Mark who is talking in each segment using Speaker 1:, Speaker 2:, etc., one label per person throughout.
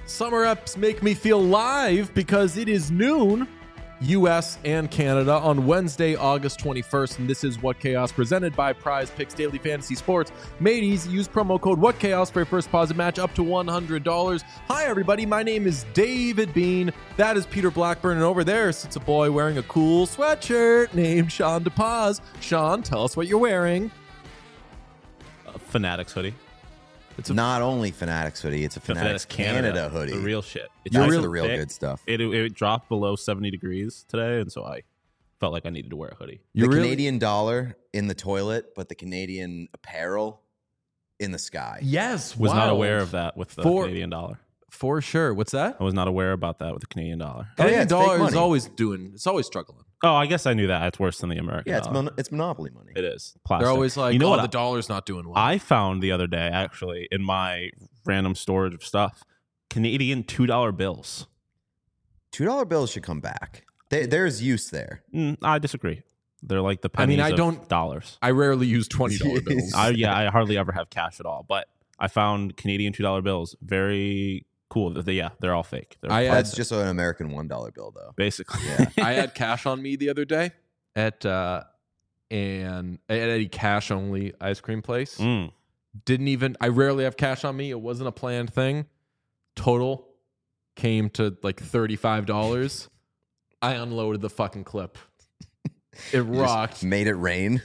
Speaker 1: Summer Eps make me feel live because it is noon, U.S. and Canada, on Wednesday, August 21st, and this is What Chaos, presented by Prize Picks Daily Fantasy Sports. Made easy. Use promo code What Chaos for your first deposit match up to $100. Hi, everybody. My name is David Bean. That is Peter Blackburn, and over there sits a boy wearing a cool sweatshirt named Sean DePaz. Sean, tell us what you're wearing.
Speaker 2: Fanatics hoodie.
Speaker 3: It's not only Fanatics hoodie, it's a Fanatics Canada hoodie.
Speaker 2: The real shit.
Speaker 3: It's the real good stuff.
Speaker 2: It dropped below 70 degrees today, and so I felt like I needed to wear a hoodie.
Speaker 3: The Canadian dollar in the toilet, but the Canadian apparel in the sky.
Speaker 1: Yes,
Speaker 2: Was not aware of that with the Canadian dollar.
Speaker 1: For sure. What's that?
Speaker 2: I was not aware about that with the Canadian dollar.
Speaker 1: Canadian dollar is always struggling.
Speaker 2: Oh, I guess I knew that. It's worse than the American dollar.
Speaker 3: Yeah, it's monopoly money.
Speaker 2: It is. Plastic.
Speaker 1: They're always like,
Speaker 2: you know what?
Speaker 1: The dollar's not doing well.
Speaker 2: I found the other day, actually, in my random storage of stuff, Canadian $2 bills.
Speaker 3: $2 bills should come back. There's use there.
Speaker 2: I disagree. They're like the pennies of dollars.
Speaker 1: I rarely use $20 bills.
Speaker 2: I hardly ever have cash at all. But I found Canadian $2 bills very cool. They're all fake.
Speaker 3: That's just an American $1 bill, though.
Speaker 2: Basically.
Speaker 3: Yeah.
Speaker 1: I had cash on me the other day at a cash only ice cream place. I rarely have cash on me. It wasn't a planned thing. Total came to like $35. I unloaded the fucking clip. It rocked.
Speaker 3: Made it rain.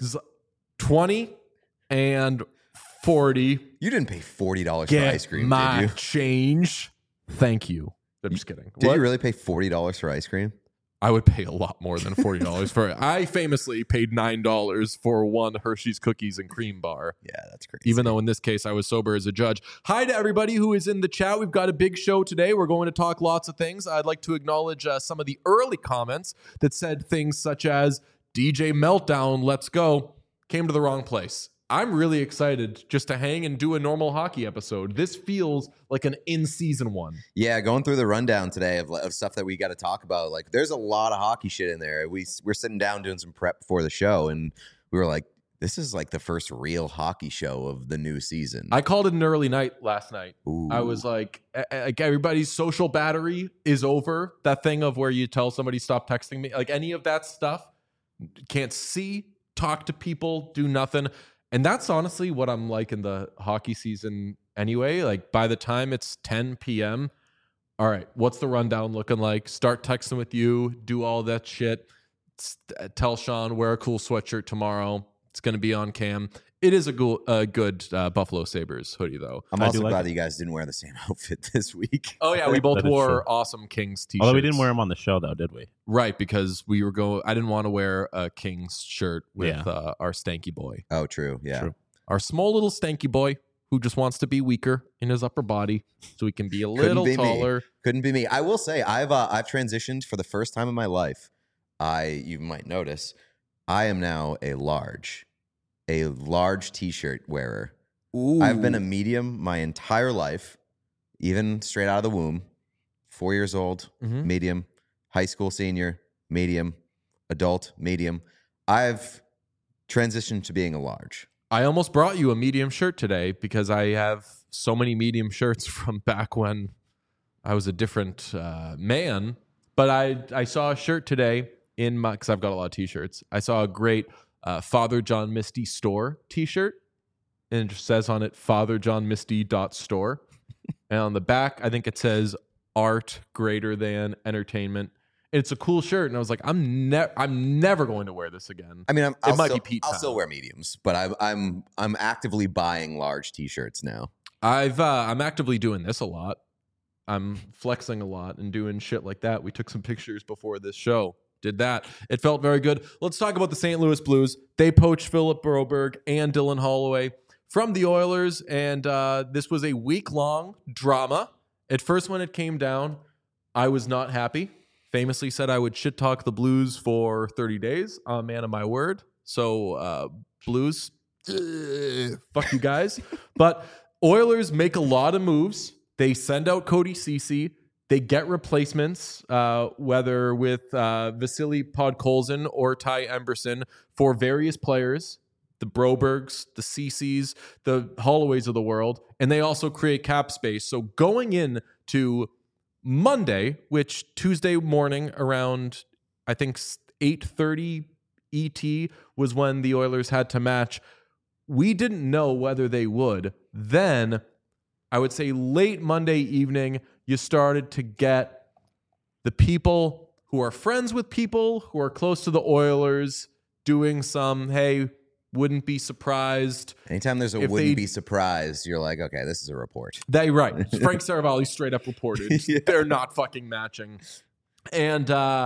Speaker 1: 20 and 40.
Speaker 3: You didn't pay $40 for ice cream,
Speaker 1: my
Speaker 3: did you?
Speaker 1: Change. Thank you. I'm just kidding.
Speaker 3: Did you really pay $40 for ice cream?
Speaker 1: I would pay a lot more than $40 for it. I famously paid $9 for one Hershey's cookies and cream bar.
Speaker 3: Yeah, that's crazy.
Speaker 1: Even though in this case I was sober as a judge. Hi to everybody who is in the chat. We've got a big show today. We're going to talk lots of things. I'd like to acknowledge some of the early comments that said things such as DJ Meltdown, let's go, came to the wrong place. I'm really excited just to hang and do a normal hockey episode. This feels like an in-season one.
Speaker 3: Yeah, going through the rundown today of stuff that we got to talk about. Like, there's a lot of hockey shit in there. We're sitting down doing some prep before the show, and we were like, this is like the first real hockey show of the new season.
Speaker 1: I called it an early night last night.
Speaker 3: Ooh.
Speaker 1: I was like everybody's social battery is over. That thing of where you tell somebody stop texting me, like any of that stuff, can't see, talk to people, do nothing. And that's honestly what I'm like in the hockey season anyway. Like by the time it's 10 p.m., all right, what's the rundown looking like? Start texting with you, do all that shit. Tell Sean, wear a cool sweatshirt tomorrow. It's going to be on cam. It is a good Buffalo Sabres hoodie, though.
Speaker 3: I'm also glad that you guys didn't wear the same outfit this week.
Speaker 1: Oh, yeah, we both wore awesome Kings t-shirts.
Speaker 2: Although we didn't wear them on the show, though, did we?
Speaker 1: Right, because I didn't want to wear a Kings shirt with our stanky boy.
Speaker 3: Oh, true, yeah.
Speaker 2: True.
Speaker 1: Our small little stanky boy who just wants to be weaker in his upper body so he can be a little taller.
Speaker 3: Couldn't be me. I will say, I've transitioned for the first time in my life. You might notice, I am now a large t-shirt wearer.
Speaker 1: Ooh.
Speaker 3: I've been a medium my entire life, even straight out of the womb. 4 years old, medium, high school senior, medium, adult, medium. I've transitioned to being a large.
Speaker 1: I almost brought you a medium shirt today because I have so many medium shirts from back when I was a different man. But I saw a shirt today because I've got a lot of t-shirts. I saw a great Father John Misty store t-shirt, and it just says on it fatherjohnmisty.store. And on the back, I think it says art greater than entertainment. It's a cool shirt, and I was like, I'm never going to wear this again.
Speaker 3: I mean,
Speaker 1: I'll
Speaker 3: still wear mediums, but I'm actively buying large t-shirts now.
Speaker 1: I'm actively doing this a lot. I'm flexing a lot and doing shit like that. We took some pictures before this show. Did that. It felt very good. Let's talk about the St. Louis Blues. They poached Philip Broberg and Dylan Holloway from the Oilers, and this was a week-long drama. At first, when it came down, I was not happy. Famously said I would shit-talk the Blues for 30 days. I'm a man of my word. So, Blues, fuck you guys. But Oilers make a lot of moves. They send out Cody Ceci. They get replacements, whether with Vasily Podkolzin or Ty Emberson, for various players the Brobergs, the Cece's, the Holloways of the world, and they also create cap space. So going in to Monday, which Tuesday morning around, I think 8:30 ET was when the Oilers had to match. We didn't know whether they would. Then I would say late Monday evening, you started to get the people who are friends with people who are close to the Oilers doing some, hey, wouldn't be surprised.
Speaker 3: Anytime there's a wouldn't be surprised, you're like, okay, this is a report.
Speaker 1: Right. Frank Saravalli straight up reported they're not fucking matching. And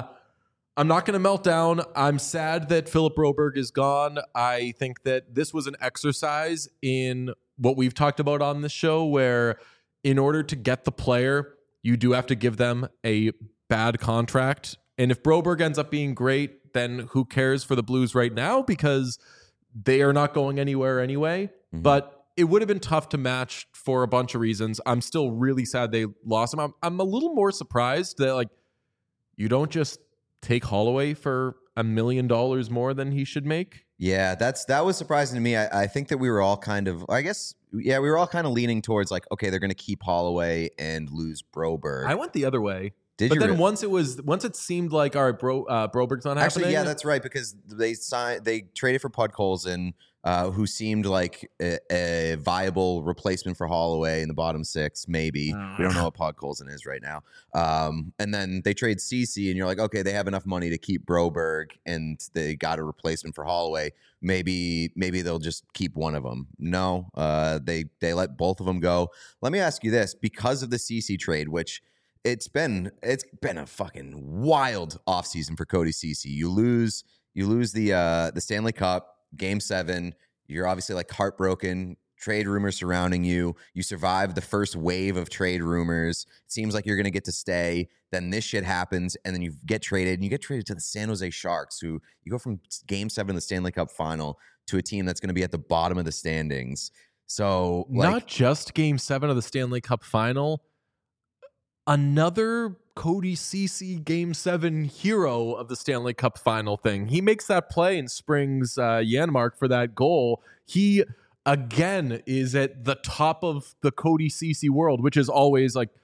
Speaker 1: I'm not going to melt down. I'm sad that Philip Broberg is gone. I think that this was an exercise in what we've talked about on this show, where in order to get the player, you do have to give them a bad contract. And if Broberg ends up being great, then who cares for the Blues right now? Because they are not going anywhere anyway. Mm-hmm. But it would have been tough to match for a bunch of reasons. I'm still really sad they lost him. I'm a little more surprised that, like, you don't just take Holloway for $1 million more than he should make.
Speaker 3: Yeah, that was surprising to me. I think that we were all kind of, we were all kind of leaning towards like, okay, they're going to keep Holloway and lose Broberg.
Speaker 1: I went the other way.
Speaker 3: But
Speaker 1: then once it seemed like, all right, Broberg's not happening.
Speaker 3: Actually, yeah, that's right, because they traded for Podkolzin, who seemed like a viable replacement for Holloway in the bottom six, maybe. We don't know what Podkolzin is right now. And then they trade Cece, and you're like, okay, they have enough money to keep Broberg, and they got a replacement for Holloway. Maybe they'll just keep one of them. No, they let both of them go. Let me ask you this: because of the Cece trade, which it's been a fucking wild offseason for Cody Cece. You lose the Stanley Cup. Game 7, you're obviously like heartbroken, trade rumors surrounding you. You survive the first wave of trade rumors. It seems like you're going to get to stay. Then this shit happens, and then you get traded, and you get traded to the San Jose Sharks, who you go from Game 7 of the Stanley Cup final to a team that's going to be at the bottom of the standings. So,
Speaker 1: not just Game 7 of the Stanley Cup final, another Cody Cece Game 7 hero of the Stanley Cup final thing. He makes that play and springs Janmark for that goal. He, again, is at the top of the Cody Cece world, which is always like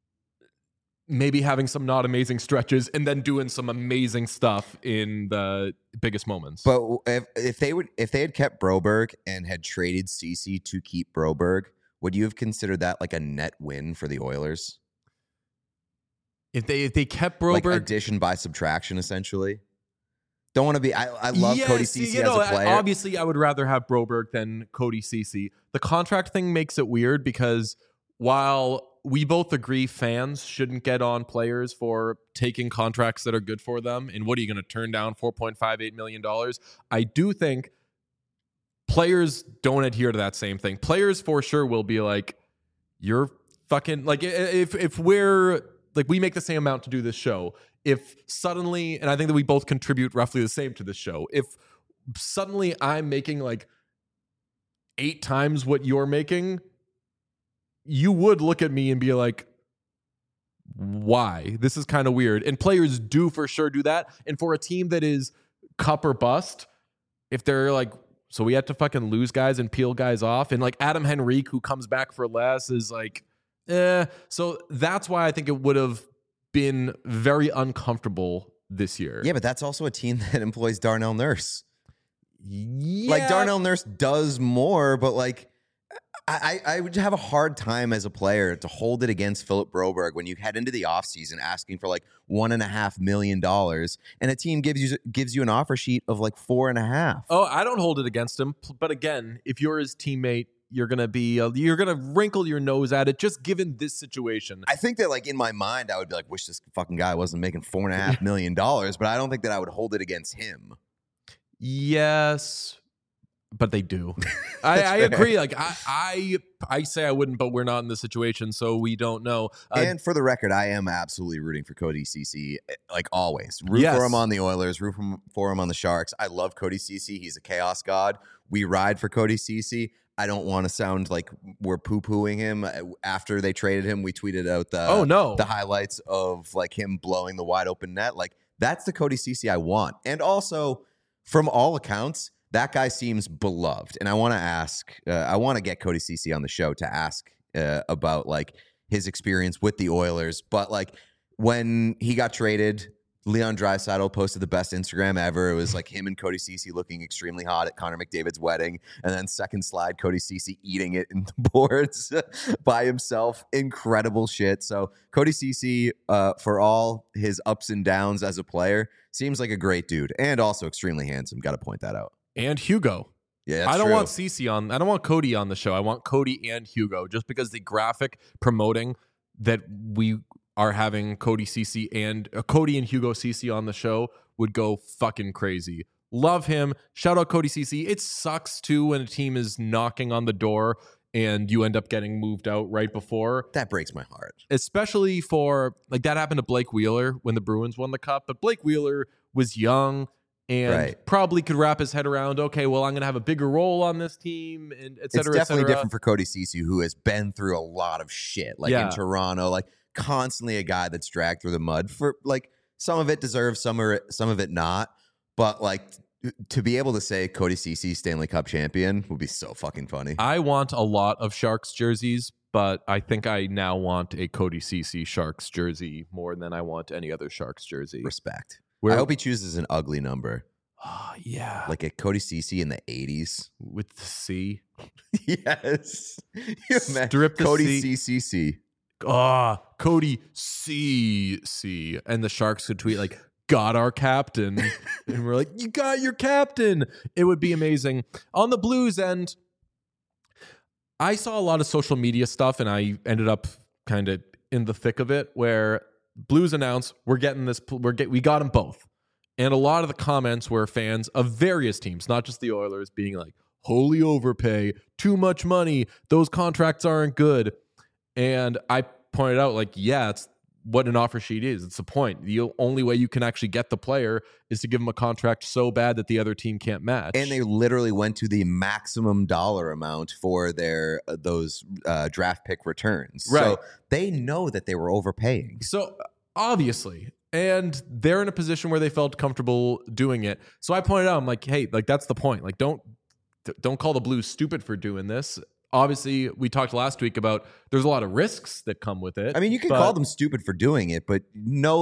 Speaker 1: maybe having some not amazing stretches and then doing some amazing stuff in the biggest moments.
Speaker 3: But if they had kept Broberg and had traded Cece to keep Broberg, would you have considered that like a net win for the Oilers?
Speaker 1: If they kept Broberg,
Speaker 3: like addition by subtraction, essentially. Don't want to be. I love Cody Cece as a player.
Speaker 1: Obviously, I would rather have Broberg than Cody Cece. The contract thing makes it weird because while we both agree fans shouldn't get on players for taking contracts that are good for them, and what are you going to turn down $4.58 million? I do think players don't adhere to that same thing. Players for sure will be like, you're fucking like if we're like we make the same amount to do this show. If suddenly, and I think that we both contribute roughly the same to this show, if suddenly I'm making like 8 times what you're making, you would look at me and be like, why? This is kind of weird. And players do for sure do that. And for a team that is cup or bust, if they're like, so we had to fucking lose guys and peel guys off, and like Adam Henrique, who comes back for less, is like, so that's why I think it would have been very uncomfortable this year.
Speaker 3: Yeah, but that's also a team that employs Darnell Nurse.
Speaker 1: Yeah.
Speaker 3: Like Darnell Nurse does more, but like I would have a hard time as a player to hold it against Philip Broberg when you head into the offseason asking for like $1.5 million and a team gives you an offer sheet of like 4.5.
Speaker 1: Oh, I don't hold it against him. But again, if you're his teammate, you're gonna wrinkle your nose at it just given this situation.
Speaker 3: I think that like in my mind, I would be like, wish this fucking guy wasn't making $4.5 million, but I don't think that I would hold it against him.
Speaker 1: Yes, but they do. I agree. Like I say I wouldn't, but we're not in this situation, so we don't know.
Speaker 3: And for the record, I am absolutely rooting for Cody Cece, like always. Root for him on the Oilers, root for him on the Sharks. I love Cody Cece. He's a chaos god. We ride for Cody Cece. I don't want to sound like we're poo-pooing him. After they traded him, we tweeted out the highlights of like him blowing the wide open net. Like that's the Cody Cece I want. And also, from all accounts, That guy seems beloved. And I want to ask, I want to get Cody Ceci on the show to ask about like his experience with the Oilers. But like when he got traded, Leon Draisaitl posted the best Instagram ever. It was like him and Cody Ceci looking extremely hot at Connor McDavid's wedding. And then second slide, Cody Ceci eating it in the boards by himself. Incredible shit. So Cody Ceci, for all his ups and downs as a player, seems like a great dude and also extremely handsome. Got to point that out.
Speaker 1: And Hugo.
Speaker 3: Yeah, that's
Speaker 1: I don't
Speaker 3: true.
Speaker 1: want Cece on. I don't want Cody on the show. I want Cody and Hugo, just because the graphic promoting that we are having Cody Ceci and Cody and Hugo Ceci on the show would go fucking crazy. Love him. Shout out Cody Ceci. It sucks too when a team is knocking on the door and you end up getting moved out right before.
Speaker 3: That breaks my heart.
Speaker 1: Especially for, like, that happened to Blake Wheeler when the Bruins won the cup. But Blake Wheeler was young and probably could wrap his head around, okay, well, I'm going to have a bigger role on this team, and et cetera,
Speaker 3: It's definitely different for Cody Ceci, who has been through a lot of shit, like in Toronto, like constantly a guy that's dragged through the mud for like some of it deserves, some of it not. But like to be able to say Cody Ceci Stanley Cup champion would be so fucking funny. I
Speaker 1: want a lot of Sharks jerseys, but I think I now want a Cody Ceci Sharks jersey more than I want any other Sharks jersey.
Speaker 3: Respect. I hope he chooses an ugly number.
Speaker 1: Oh, yeah.
Speaker 3: Like a Cody Ceci in the 80s.
Speaker 1: With the C.
Speaker 3: Yes.
Speaker 1: Strip the
Speaker 3: Cody
Speaker 1: C.
Speaker 3: CCC.
Speaker 1: Cody CC. And the Sharks could tweet like, got our captain. And we're like, you got your captain. It would be amazing. On the Blues end, I saw a lot of social media stuff, and I ended up kind of in the thick of it, where Blues announced we got them both. And a lot of the comments were fans of various teams, not just the Oilers, being like, holy overpay, too much money, those contracts aren't good. And I pointed out, like, yeah, it's what an offer sheet is. It's the point. The only way you can actually get the player is to give them a contract so bad that the other team can't match.
Speaker 3: And they literally went to the maximum dollar amount for their those draft pick returns.
Speaker 1: Right.
Speaker 3: So they know that they were overpaying.
Speaker 1: So obviously, and they're in a position where they felt comfortable doing it. So I pointed out, I'm like, hey, like, that's the point. Like, don't call the Blues stupid for doing this. Obviously, we talked last week about there's a lot of risks that come with it.
Speaker 3: I mean, you can call them stupid for doing it, but know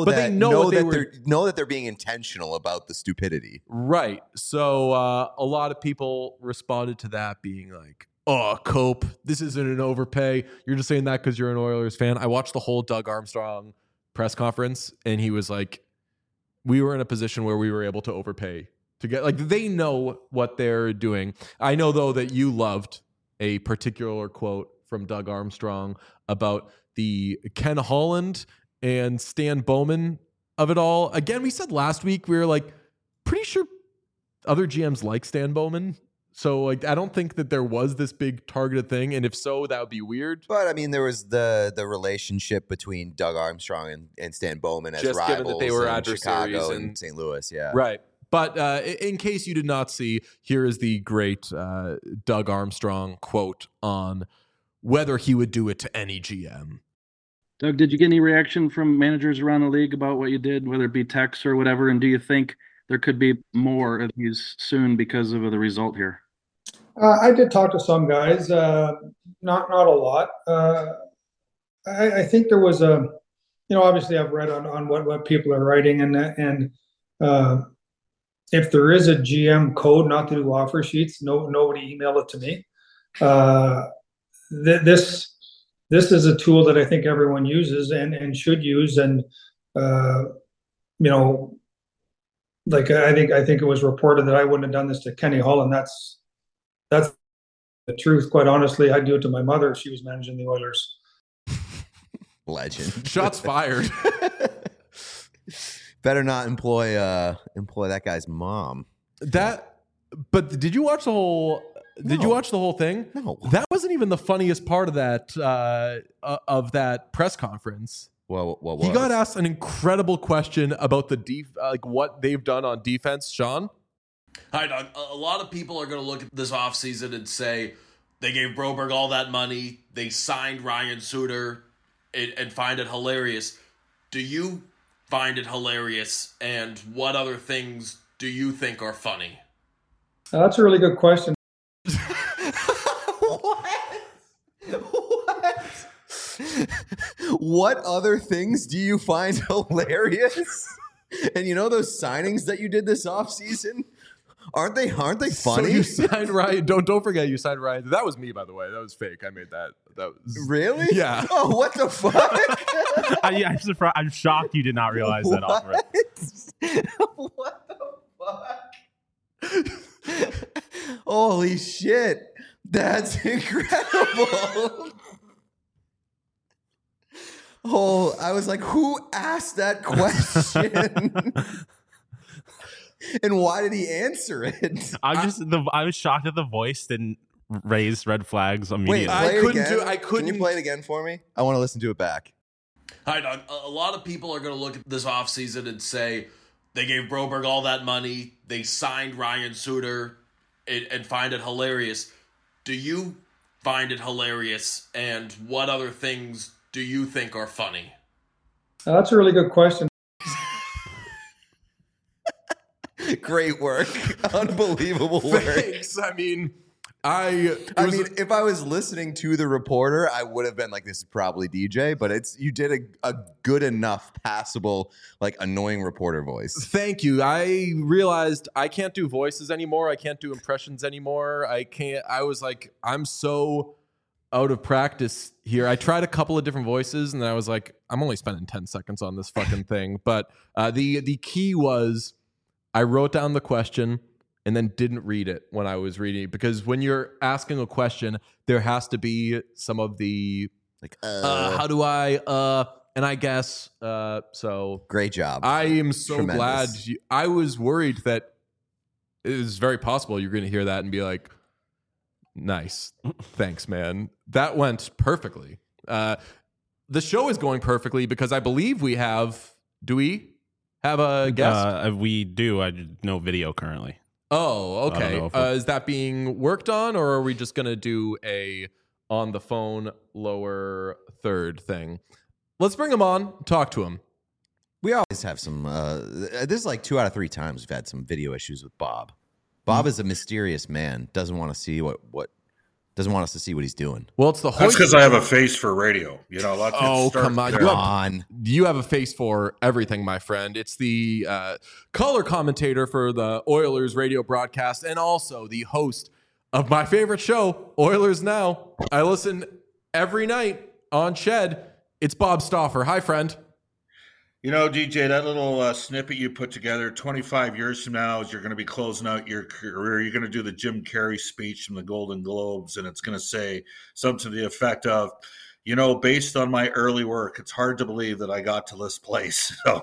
Speaker 3: that they're being intentional about the stupidity.
Speaker 1: Right. So a lot of people responded to that being like, oh, Cope, this isn't an overpay. You're just saying that because you're an Oilers fan. I watched the whole Doug Armstrong press conference, and he was like, we were in a position where we were able to overpay to get, like, they know what they're doing. I know, though, that you loved a particular quote from Doug Armstrong about the Ken Holland and Stan Bowman of it all. Again, we said last week, we were like, pretty sure other GMs like Stan Bowman. So, like, I don't think that there was this big targeted thing. And if so, that would be weird.
Speaker 3: But, I mean, there was the relationship between Doug Armstrong and Stan Bowman as
Speaker 1: just
Speaker 3: rivals,
Speaker 1: given that they were
Speaker 3: in
Speaker 1: adversaries
Speaker 3: Chicago and St. Louis, yeah.
Speaker 1: Right. But in case you did not see, here is the great Doug Armstrong quote on whether he would do it to any GM.
Speaker 4: Doug, did you get any reaction from managers around the league about what you did, whether it be text or whatever? And do you think there could be more of these soon because of the result here?
Speaker 5: I did talk to some guys, not a lot. I think there was obviously I've read on what people are writing, and if there is a GM code not to do offer sheets, nobody emailed it to me. This is a tool that I think everyone uses and should use, and like I think it was reported that I wouldn't have done this to Kenny Holland. That's the truth. Quite honestly, I'd do it to my mother if she was managing the Oilers.
Speaker 3: Legend.
Speaker 1: Shots fired.
Speaker 3: Better not employ that guy's mom.
Speaker 1: But did you watch the whole? Did you watch the whole thing?
Speaker 3: No.
Speaker 1: That wasn't even the funniest part of that press conference.
Speaker 3: Well, what was?
Speaker 1: He got asked an incredible question about the what they've done on defense. Sean?
Speaker 6: Hi, Doug. A lot of people are going to look at this offseason and say they gave Broberg all that money, they signed Ryan Suter, and find it hilarious. Do you find it hilarious, and what other things do you think are funny?
Speaker 5: That's a really good question.
Speaker 3: What other things do you find hilarious? And you know those signings that you did this offseason? Aren't they funny?
Speaker 1: So you signed Ryan. Don't forget you signed Ryan. That was me, by the way. That was fake. I made that. That was
Speaker 3: Really?
Speaker 1: Yeah.
Speaker 3: Oh, what the fuck?
Speaker 2: I'm surprised. I'm shocked you did not realize that offer.
Speaker 3: What the fuck? Holy shit. That's incredible. Oh, I was like, who asked that question? And why did he answer it?
Speaker 2: I was shocked that the voice didn't raise red flags immediately.
Speaker 3: Wait,
Speaker 1: I couldn't
Speaker 3: Can you play it again for me? I want to listen to it back.
Speaker 6: Hi, Doug. A lot of people are going to look at this offseason and say they gave Broberg all that money, they signed Ryan Suter, and find it hilarious. Do you find it hilarious? And what other things do you think are funny?
Speaker 5: That's a really good question.
Speaker 3: Great work. Unbelievable work.
Speaker 1: Thanks. I mean,
Speaker 3: if I was listening to the reporter, I would have been like, this is probably DJ, but you did a good enough, passable, like annoying reporter voice.
Speaker 1: Thank you. I realized I can't do voices anymore. I can't do impressions anymore. I was like, I'm so out of practice here. I tried a couple of different voices and I was like, I'm only spending 10 seconds on this fucking thing. But the key was I wrote down the question and then didn't read it when I was reading it, because when you're asking a question, there has to be some of the like, how do I, and I guess, so.
Speaker 3: Great job.
Speaker 1: I am so
Speaker 3: Tremendous.
Speaker 1: glad. I was worried that it is very possible you're going to hear that and be like, nice. Thanks, man. That went perfectly. The show is going perfectly because I believe we have, do we have a guest?
Speaker 2: We do. I no video currently.
Speaker 1: Oh, okay.
Speaker 2: If
Speaker 1: is that being worked on, or are we just going to do a on the phone lower third thing? Let's bring him on, talk to him.
Speaker 3: We always have some, this is like 2 out of 3 times we've had some video issues with Bob. Bob is a mysterious man. Doesn't want to see doesn't want us to see what he's doing.
Speaker 1: Well, it's the
Speaker 7: That's because I have a face for radio. You know, let's
Speaker 1: come on.
Speaker 3: There.
Speaker 1: You have a face for everything, my friend. It's the color commentator for the Oilers radio broadcast and also the host of my favorite show, Oilers Now. I listen every night on Shed. It's Bob Stauffer. Hi, friend.
Speaker 7: You know, DJ, that little snippet you put together 25 years from now, as you're going to be closing out your career, you're going to do the Jim Carrey speech from the Golden Globes, and it's going to say something to the effect of, you know, based on my early work, it's hard to believe that I got to this place. So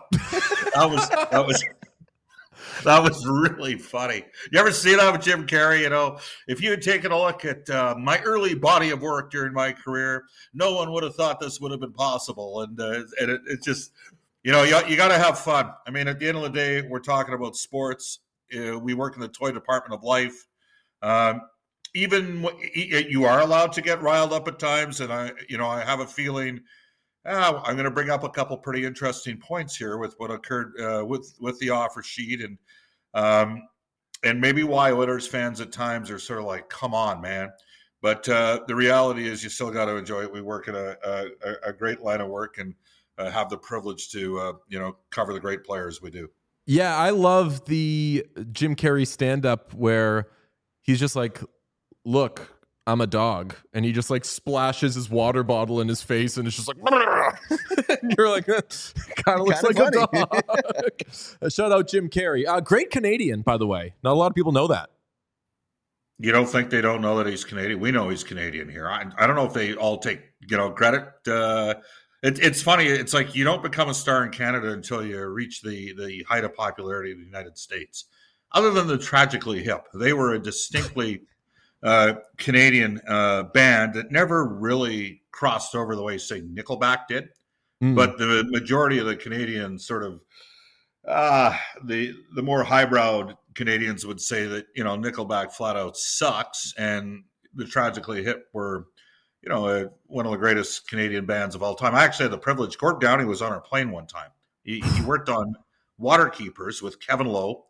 Speaker 7: that was really funny. You ever see that with Jim Carrey? You know, if you had taken a look at my early body of work during my career, no one would have thought this would have been possible. And it just... You know, you got to have fun. I mean, at the end of the day, we're talking about sports. We work in the toy department of life. Even you are allowed to get riled up at times, and I have a feeling I'm going to bring up a couple pretty interesting points here with what occurred with the offer sheet, and maybe why Oilers fans at times are sort of like, "Come on, man." But the reality is, you still got to enjoy it. We work in a great line of work, and have the privilege to cover the great players we do.
Speaker 1: Yeah, I love the Jim Carrey stand-up where he's just like, look, I'm a dog. And he just like splashes his water bottle in his face and it's just like, and you're like, kind of looks like funny. A dog. Shout out Jim Carrey. Great Canadian, by the way. Not a lot of people know that.
Speaker 7: You don't think they don't know that he's Canadian? We know he's Canadian here. I don't know if they all take credit. It's funny. It's like you don't become a star in Canada until you reach the height of popularity of the United States. Other than the Tragically Hip, they were a distinctly Canadian band that never really crossed over the way, say, Nickelback did. But the majority of the Canadians sort of the more highbrow Canadians would say that, Nickelback flat out sucks, and the Tragically Hip were one of the greatest Canadian bands of all time. I actually had the privilege. Gord Downie was on our plane one time. He worked on Waterkeepers with Kevin Lowe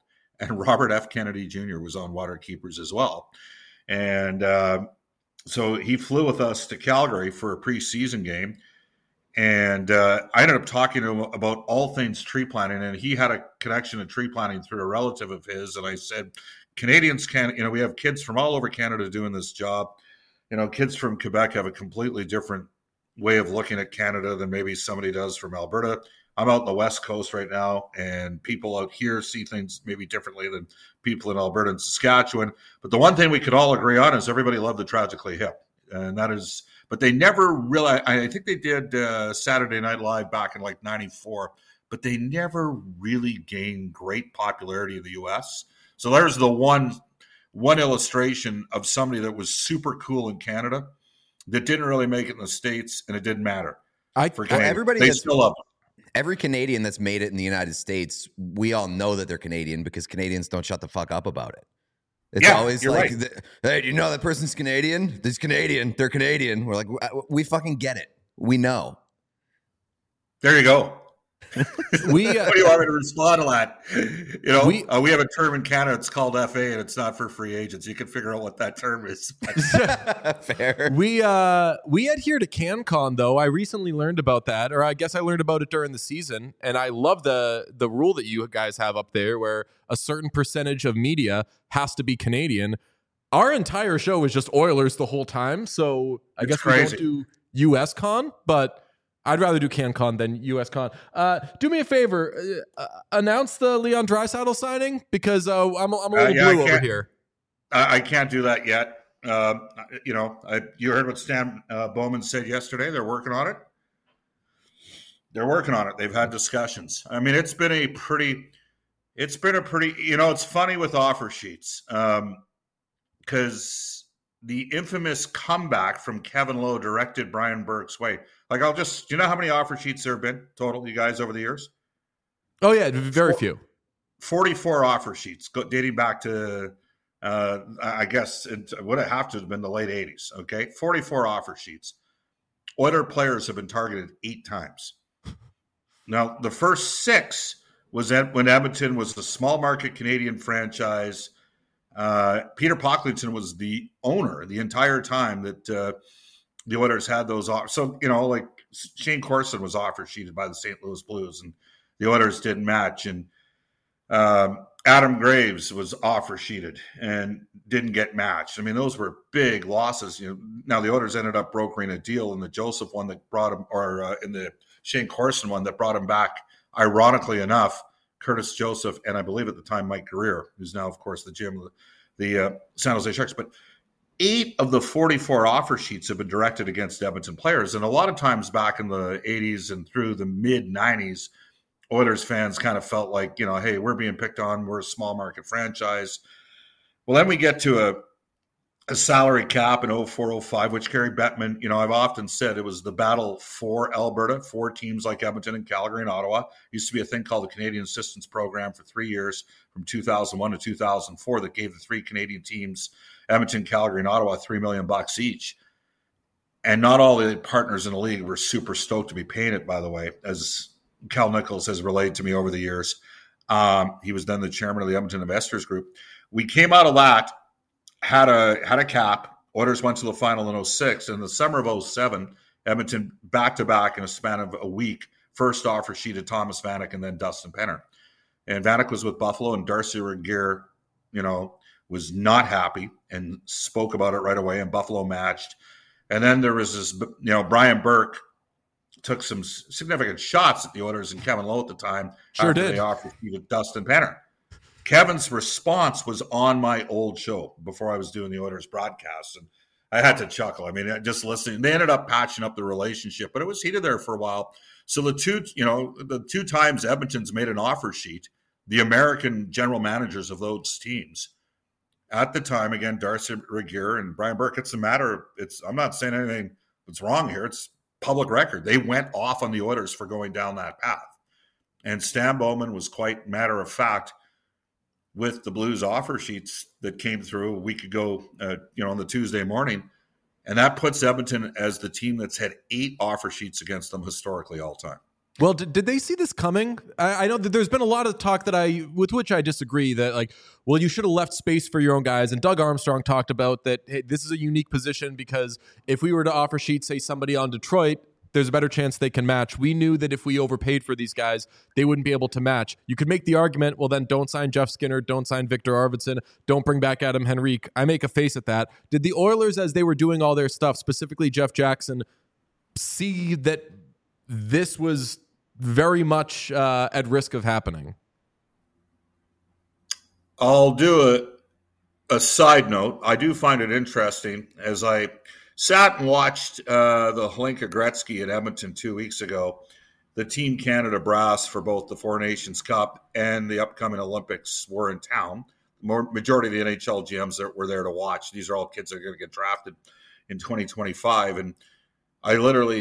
Speaker 7: and Robert F. Kennedy Jr. was on Waterkeepers as well. And so he flew with us to Calgary for a preseason game. And I ended up talking to him about all things tree planting, and he had a connection to tree planting through a relative of his. And I said, Canadians can, we have kids from all over Canada doing this job. Kids from Quebec have a completely different way of looking at Canada than maybe somebody does from Alberta. I'm out in the West Coast right now, and people out here see things maybe differently than people in Alberta and Saskatchewan. But the one thing we could all agree on is everybody loved the Tragically Hip. And that is, but they never really, I think they did Saturday Night Live back in like 94, but they never really gained great popularity in the US. So there's the one illustration of somebody that was super cool in Canada that didn't really make it in the States, and it didn't matter.
Speaker 3: Everybody
Speaker 7: still love them.
Speaker 3: Every Canadian that's made it in the United States, we all know that they're Canadian because Canadians don't shut the fuck up about it. It's always like,
Speaker 7: right.
Speaker 3: Hey, do you know that person's Canadian? This Canadian. They're Canadian. We're like, we fucking get it. We know.
Speaker 7: There you go.
Speaker 1: We
Speaker 7: what do you want me to respond to that? We have a term in Canada. It's called FA, and it's not for free agents. You can figure out what that term is.
Speaker 3: Fair.
Speaker 1: We adhere to CanCon though. I recently learned about that, or I guess I learned about it during the season, and I love the rule that you guys have up there, where a certain percentage of media has to be Canadian. Our entire show is just Oilers the whole time, so I guess
Speaker 7: crazy.
Speaker 1: We don't do US Con, but I'd rather do CanCon than US Con. Do me a favor, announce the Leon Draisaitl signing, because I'm a little blue over here.
Speaker 7: I can't do that yet. You heard what Stan Bowman said yesterday. They're working on it. They've had discussions. I mean, it's been a pretty. It's funny with offer sheets because the infamous comeback from Kevin Lowe directed Brian Burke's way. Like, do you know how many offer sheets there have been total, you guys, over the years?
Speaker 1: Oh, yeah, very few.
Speaker 7: 44 offer sheets dating back to, I guess, it would have to have been the late 80s, okay? 44 offer sheets. Oiler players have been targeted 8 times. Now, the first 6 was when Edmonton was a small market Canadian franchise. Peter Pocklington was the owner the entire time that the Oilers had those offers. So, like Shane Corson was offer sheeted by the St. Louis Blues, and the Oilers didn't match. And Adam Graves was offer sheeted and didn't get matched. I mean, those were big losses. Now the Oilers ended up brokering a deal in the Joseph one that brought him, or in the Shane Corson one that brought him back. Ironically enough, Curtis Joseph and I believe at the time Mike Greer, who's now of course the GM of the San Jose Sharks. But 8 of the 44 offer sheets have been directed against Edmonton players, and a lot of times back in the 80s and through the mid 90s. Oilers fans kind of felt like, hey, we're being picked on. We're a small market franchise. Well, then we get to a salary cap in 04-05, which Gary Bettman, I've often said it was the battle for Alberta, for teams like Edmonton and Calgary and Ottawa. Used to be a thing called the Canadian Assistance Program for 3 years from 2001 to 2004 that gave the 3 Canadian teams, Edmonton, Calgary, and Ottawa, $3 million each. And not all the partners in the league were super stoked to be paying it, by the way, as Cal Nichols has relayed to me over the years. He was then the chairman of the Edmonton Investors Group. We came out of that, had a cap. Oilers went to the final in 06. In the summer of 07, Edmonton back-to-back in a span of a week, first offer sheeted Thomas Vanek and then Dustin Penner. And Vanek was with Buffalo, and Darcy Regier, was not happy and spoke about it right away, and Buffalo matched. And then there was this, Brian Burke took some significant shots at the Oilers and Kevin Lowe at the time.
Speaker 1: Sure did.
Speaker 7: They offered to Dustin Penner. Kevin's response was on my old show before I was doing the Oilers broadcast, and I had to chuckle. I mean, just listening. They ended up patching up the relationship, but it was heated there for a while. So the two times Edmonton's made an offer sheet, the American general managers of those teams at the time, again, Darcy Regier and Brian Burke. I'm not saying anything that's wrong here. It's public record. They went off on the Oilers for going down that path. And Stan Bowman was quite matter of fact with the Blues offer sheets that came through a week ago, on the Tuesday morning. And that puts Edmonton as the team that's had 8 offer sheets against them historically all time.
Speaker 1: Well, did they see this coming? I know that there's been a lot of talk with which I disagree, that like, well, you should have left space for your own guys. And Doug Armstrong talked about that. Hey, this is a unique position because if we were to offer sheet, say somebody on Detroit, there's a better chance they can match. We knew that if we overpaid for these guys, they wouldn't be able to match. You could make the argument, well, then don't sign Jeff Skinner, don't sign Victor Arvidsson, don't bring back Adam Henrique. I make a face at that. Did the Oilers, as they were doing all their stuff, specifically Jeff Jackson, see that this was very much at risk of happening?
Speaker 7: I'll do a side note. I do find it interesting as I sat and watched the Hlinka Gretzky in Edmonton 2 weeks ago. The Team Canada brass for both the Four Nations Cup and the upcoming Olympics were in town. Majority of the NHL GMs that were there to watch. These are all kids that are going to get drafted in 2025. And I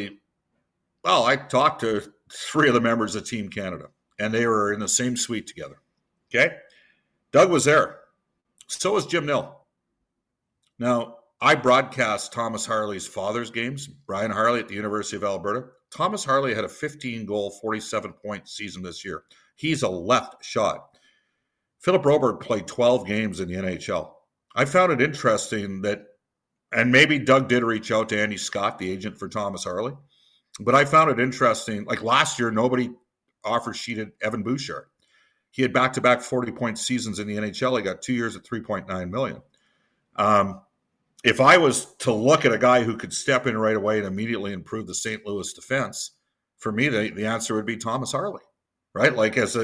Speaker 7: talked to 3 of the members of Team Canada, and they were in the same suite together. Okay? Doug was there. So was Jim Nill. Now, I broadcast Thomas Harley's father's games, Brian Harley at the University of Alberta. Thomas Harley had a 15-goal, 47-point season this year. He's a left shot. Philip Broberg played 12 games in the NHL. I found it interesting that, and maybe Doug did reach out to Andy Scott, the agent for Thomas Harley, but I found it interesting. Like last year, nobody offer sheeted Evan Bouchard. He had back-to-back 40-point seasons in the NHL. He got 2 years at $3.9 million. If I was to look at a guy who could step in right away and immediately improve the St. Louis defense, for me, the answer would be Thomas Harley, right?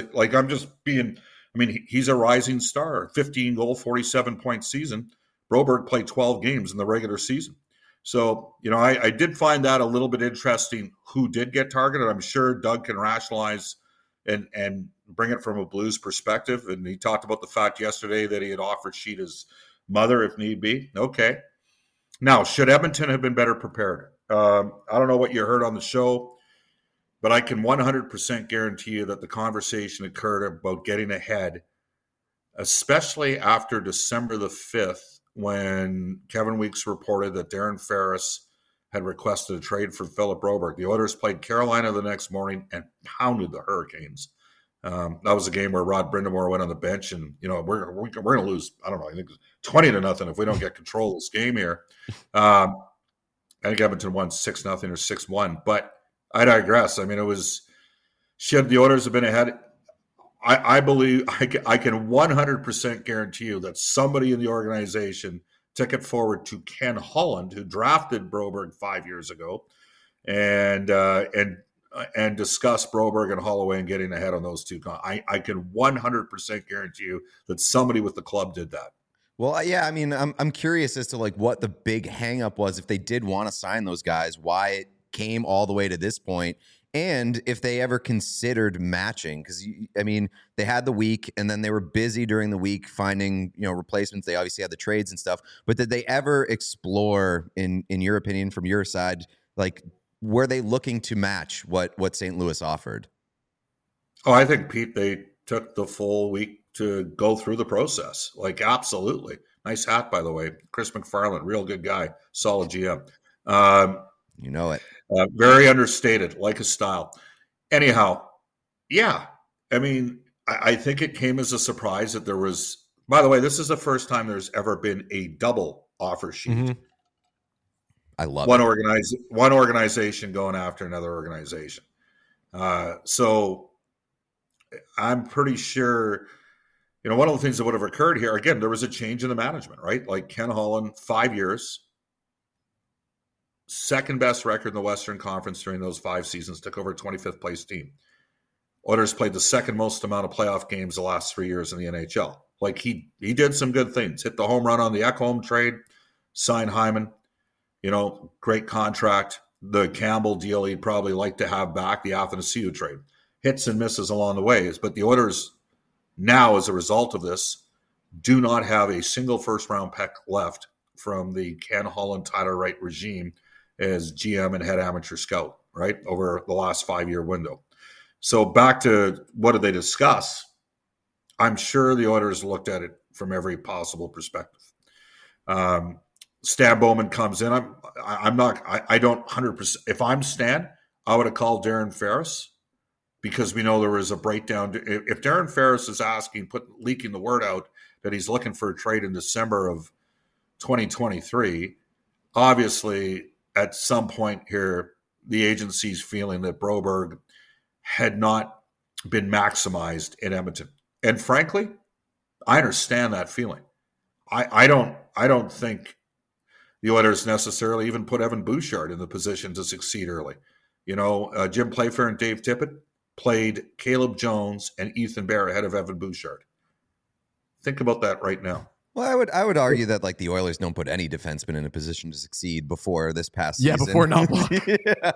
Speaker 7: He's a rising star, 15-goal, 47-point season. Broberg played 12 games in the regular season. So, I did find that a little bit interesting who did get targeted. I'm sure Doug can rationalize and bring it from a Blues perspective. And he talked about the fact yesterday that he had offered sheet his mother if need be. Okay. Now, should Edmonton have been better prepared? I don't know what you heard on the show, but I can 100% guarantee you that the conversation occurred about getting ahead, especially after December the 5th, when Kevin Weeks reported that Darren Ferris had requested a trade for Philip Broberg. The Oilers played Carolina the next morning and pounded the Hurricanes. That was a game where Rod Brindamore went on the bench, and we're going to lose. I don't know. I think 20-0 if we don't get control of this game here. I think Edmonton won 6-0 or 6-1. But I digress. I mean, it was should the Oilers have been ahead? I believe I can 100% guarantee you that somebody in the organization took it forward to Ken Holland, who drafted Broberg 5 years ago, and discuss Broberg and Holloway and getting ahead on those two. I can 100% guarantee you that somebody with the club did that.
Speaker 3: Well, yeah, I mean, I'm curious as to like what the big hang up was if they did want to sign those guys, why it came all the way to this point, and if they ever considered matching. Because, I mean, they had the week, and then they were busy during the week finding, replacements. They obviously had the trades and stuff. But did they ever explore, in your opinion, from your side, like, were they looking to match what St. Louis offered?
Speaker 7: Oh, I think, Pete, they took the full week to go through the process. Like, absolutely. Nice hat, by the way. Chris McFarland, real good guy, solid GM.
Speaker 3: You know it.
Speaker 7: Very understated, like his style. Anyhow, yeah. I mean, I think it came as a surprise that there was, by the way, this is the first time there's ever been a double offer sheet.
Speaker 3: Mm-hmm. I love
Speaker 7: one organization going after another organization. So I'm pretty sure, one of the things that would have occurred here, again, there was a change in the management, right? Like Ken Holland, 5 years, second best record in the Western Conference during those 5 seasons, took over a 25th place team. Oilers played the second most amount of playoff games the last 3 years in the NHL. Like he did some good things. Hit the home run on the Ekholm trade, signed Hyman, great contract. The Campbell deal he'd probably like to have back, the Athanasiou trade. Hits and misses along the ways. But the Oilers now, as a result of this, do not have a single first-round pick left from the Ken Holland, Tyler Wright regime as GM and head amateur scout, right, over the last 5-year window. So back to what did they discuss? I'm sure the Oilers looked at it from every possible perspective. Stan Bowman comes in. I don't 100%. If I'm Stan, I would have called Darren Ferris because we know there was a breakdown. If Darren Ferris is leaking the word out that he's looking for a trade in December of 2023, obviously at some point here, the agency's feeling that Broberg had not been maximized in Edmonton. And frankly, I understand that feeling. I don't think the Oilers necessarily even put Evan Bouchard in the position to succeed early. Jim Playfair and Dave Tippett played Caleb Jones and Ethan Bear ahead of Evan Bouchard. Think about that right now.
Speaker 3: Well, I would argue that like the Oilers don't put any defenseman in a position to succeed before this past season.
Speaker 1: Yeah, before Knoblauch.
Speaker 3: Yeah.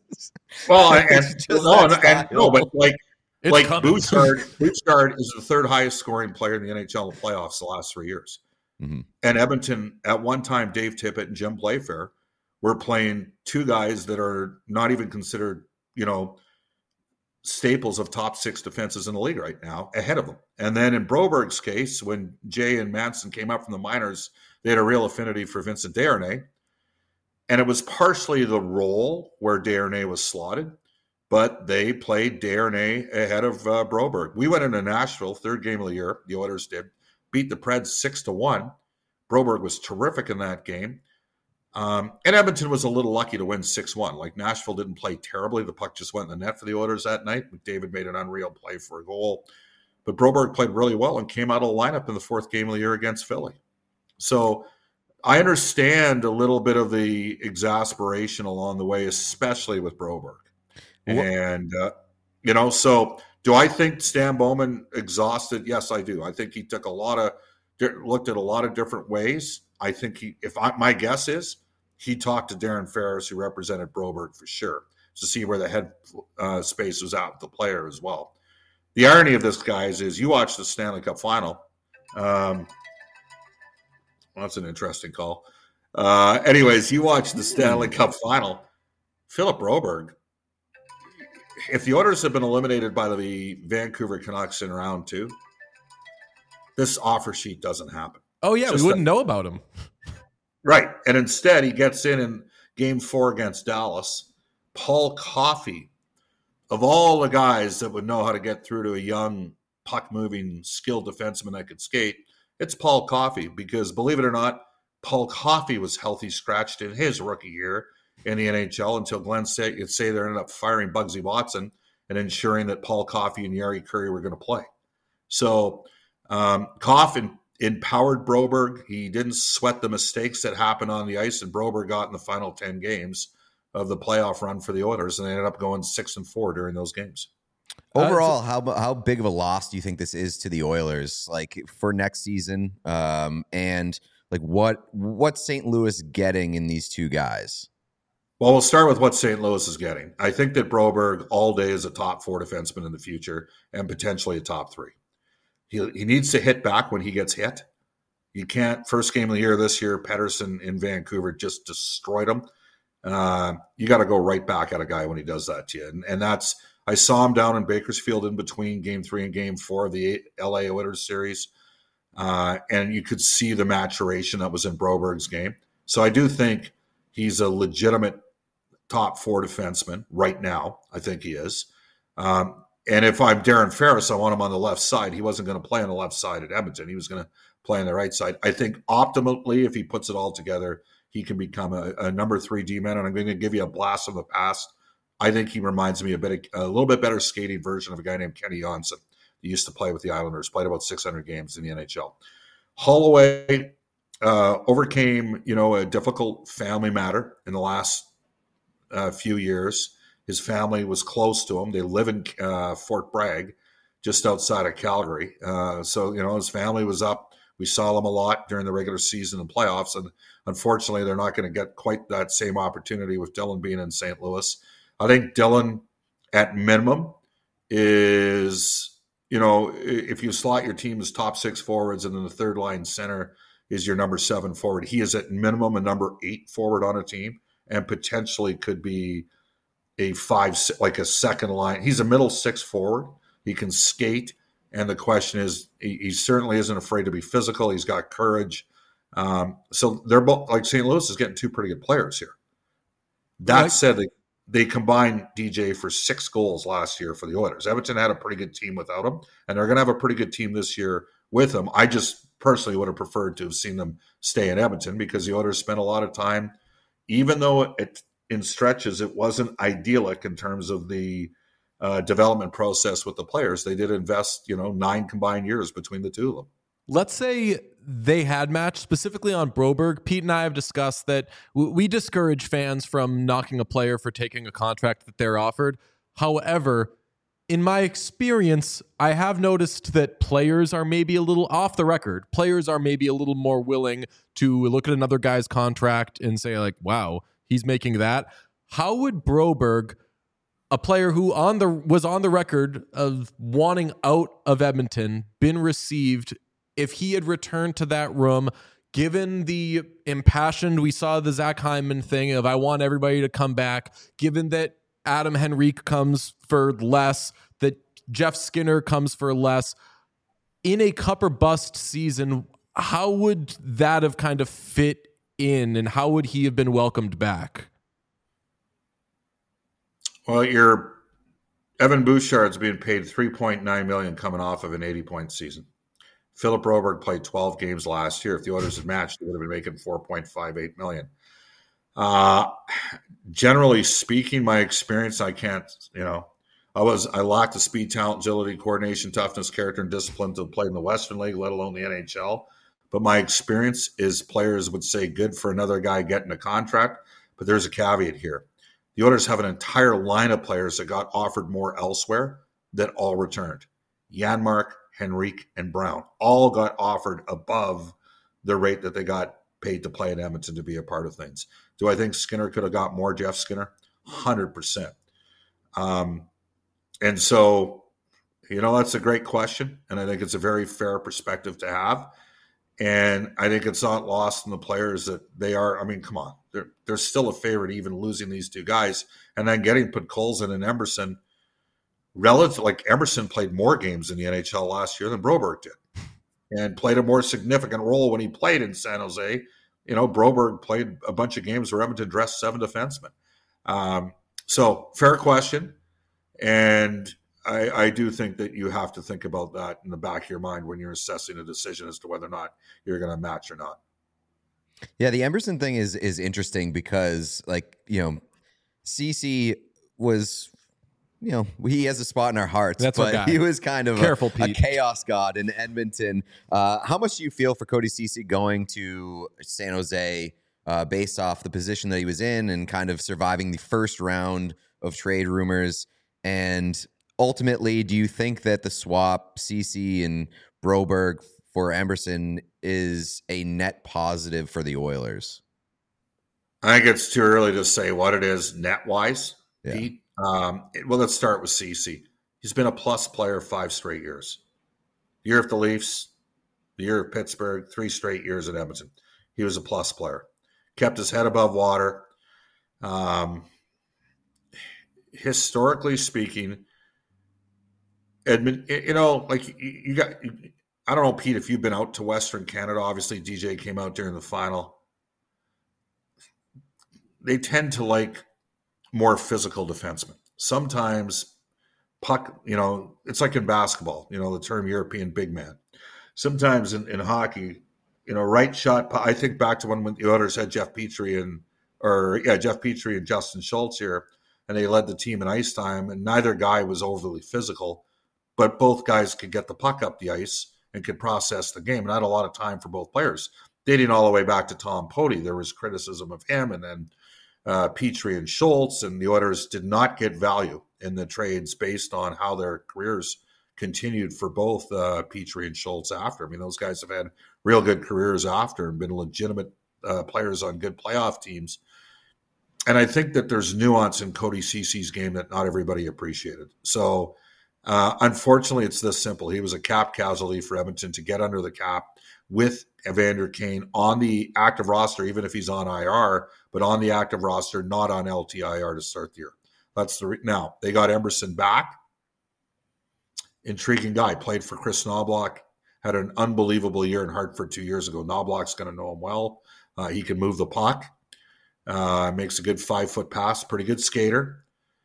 Speaker 7: Well, but like
Speaker 1: coming.
Speaker 7: Bouchard is the third highest scoring player in the NHL in the playoffs the last 3 years.
Speaker 3: Mm-hmm.
Speaker 7: And Edmonton, at one time, Dave Tippett and Jim Playfair were playing two guys that are not even considered, staples of top six defenses in the league right now ahead of them. And then in Broberg's case, when Jay and Manson came up from the minors, they had a real affinity for Vincent Desharnais. And it was partially the role where Desharnais was slotted, but they played Desharnais ahead of Broberg. We went into Nashville, third game of the year, the Oilers did, beat the Preds 6-1. Broberg was terrific in that game. And Edmonton was a little lucky to win 6-1. Like, Nashville didn't play terribly. The puck just went in the net for the Oilers that night. McDavid made an unreal play for a goal. But Broberg played really well and came out of the lineup in the fourth game of the year against Philly. So I understand a little bit of the exasperation along the way, especially with Broberg. And, so do I think Stan Bowman exhausted? Yes, I do. I think he took looked at a lot of different ways. I think my guess is he talked to Darren Ferris, who represented Broberg for sure, to see where the head space was at with the player as well. The irony of this, guys, is you watch the Stanley Cup final. Well, that's an interesting call. Anyways, you watch the Stanley Cup final. Philip Broberg, if the Oilers have been eliminated by the Vancouver Canucks in round 2, this offer sheet doesn't happen.
Speaker 1: Oh, yeah, we wouldn't know about him.
Speaker 7: Right. And instead, he gets in game 4 against Dallas. Paul Coffey, of all the guys that would know how to get through to a young, puck-moving, skilled defenseman that could skate, it's Paul Coffey. Because, believe it or not, Paul Coffey was healthy scratched in his rookie year in the NHL until Glenn Sather ended up firing Bugsy Watson and ensuring that Paul Coffey and Yari Curry were going to play. So, Coffey empowered Broberg. He didn't sweat the mistakes that happened on the ice, and Broberg got in the final 10 games of the playoff run for the Oilers, and they ended up going 6-4 during those games.
Speaker 3: Overall, how big of a loss do you think this is to the Oilers, like for next season? And like what's St. Louis getting in these two guys?
Speaker 7: Well, we'll start with what St. Louis is getting. I think that Broberg all day is a top 4 defenseman in the future and potentially a top 3. He needs to hit back when he gets hit. You can't. First game of the year this year, Pettersson in Vancouver just destroyed him. You got to go right back at a guy when he does that to you. And that's, I saw him down in Bakersfield in between game 3 and game 4 of the LA Oilers series. And you could see the maturation that was in Broberg's game. So I do think he's a legitimate top 4 defenseman right now. I think he is. And if I'm Darren Ferris, I want him on the left side. He wasn't going to play on the left side at Edmonton. He was going to play on the right side. I think optimally, if he puts it all together, he can become a number 3 D-man. And I'm going to give you a blast from the past. I think he reminds me a little bit better skating version of a guy named Kenny Johnson. He used to play with the Islanders, played about 600 games in the NHL. Holloway overcame, a difficult family matter in the last few years. His family was close to him. They live in Fort Bragg, just outside of Calgary. So his family was up. We saw them a lot during the regular season and playoffs. And unfortunately, they're not going to get quite that same opportunity with Dylan being in St. Louis. I think Dylan, at minimum, is, if you slot your team as top 6 forwards and then the third line center is your number 7 forward, he is at minimum a number 8 forward on a team and potentially could be a 5, like a second line. He's a middle 6 forward. He can skate. And the question is, he certainly isn't afraid to be physical. He's got courage. So they're both, like, St. Louis is getting 2 pretty good players here. That said, they combined DJ for 6 goals last year for the Oilers. Edmonton had a pretty good team without him, and they're going to have a pretty good team this year with him. I just personally would have preferred to have seen them stay in Edmonton because the Oilers spent a lot of time, even though in stretches it wasn't idyllic in terms of the development process with the players. They did invest, 9 combined years between the two of them.
Speaker 1: Let's say they had matched specifically on Broberg. Pete and I have discussed that we discourage fans from knocking a player for taking a contract that they're offered. However, in my experience, I have noticed that players are maybe a little off the record. Players are maybe a little more willing to look at another guy's contract and say like, wow, he's making that. How would Broberg, a player who was on the record of wanting out of Edmonton, been received if he had returned to that room, given the impassioned, we saw the Zach Hyman thing of I want everybody to come back, given that Adam Henrique comes for less, that Jeff Skinner comes for less, in a cup or bust season, how would that have kind of fit in and how would he have been welcomed back?
Speaker 7: Well, your Evan Bouchard's being paid $3.9 million coming off of an 80-point season. Philip Broberg played 12 games last year. If the Oilers had matched, they would have been making $4.58 million. Generally speaking, my experience, I can't, I lacked the speed, talent, agility, coordination, toughness, character, and discipline to play in the Western League, let alone the NHL. But my experience is players would say good for another guy getting a contract, but there's a caveat here. The Oilers have an entire line of players that got offered more elsewhere that all returned. Janmark, Henrique, and Brown all got offered above the rate that they got paid to play in Edmonton to be a part of things. Do I think Skinner could have got more, Jeff Skinner? 100%. And so, that's a great question, and I think it's a very fair perspective to have. And I think it's not lost on the players that they are. I mean, come on. They're still a favorite even losing these two guys. And then getting Podkolzin and Emerson, relative, like Emerson played more games in the NHL last year than Broberg did and played a more significant role when he played in San Jose. Broberg played a bunch of games where Edmonton dressed 7 defensemen. So fair question. And I do think that you have to think about that in the back of your mind when you're assessing a decision as to whether or not you're going to match or not.
Speaker 3: Yeah, the Emerson thing is interesting because, CeCe was, he has a spot in our hearts.
Speaker 1: That's
Speaker 3: but he was kind of a chaos god in Edmonton. How much do you feel for Cody CeCe going to San Jose based off the position that he was in and kind of surviving the first round of trade rumors? And ultimately, do you think that the swap CeCe and Broberg for Emerson is a net positive for the Oilers?
Speaker 7: I think it's too early to say what it is net-wise, Pete. Well, let's start with CeCe. He's been a plus player 5 straight years. The year of the Leafs, the year of Pittsburgh, 3 straight years at Edmonton. He was a plus player. Kept his head above water. Historically speaking, Edmonton, you got, I don't know, Pete, if you've been out to Western Canada. Obviously, DJ came out during the final. They tend to like more physical defensemen. Sometimes puck, it's like in basketball, the term European big man. Sometimes in hockey, right shot. I think back to when the Oilers had Jeff Petrie and Justin Schultz here, and they led the team in ice time, and neither guy was overly physical, but both guys could get the puck up the ice and could process the game. And I had a lot of time for both players. Dating all the way back to Tom Poti, there was criticism of him, and then Petrie and Schultz, and the Oilers did not get value in the trades based on how their careers continued for both Petrie and Schultz after. I mean, those guys have had real good careers after and been legitimate players on good playoff teams. And I think that there's nuance in Cody CeCe's game that not everybody appreciated. So, unfortunately, it's this simple. He was a cap casualty for Edmonton to get under the cap with Evander Kane on the active roster, even if he's on IR, but on the active roster, not on LTIR to start the year. That's now they got Emerson back. Intriguing guy. Played for Chris Knoblauch. Had an unbelievable year in Hartford 2 years ago. Knoblauch's going to know him well. He can move the puck. Makes a good 5-foot pass, pretty good skater.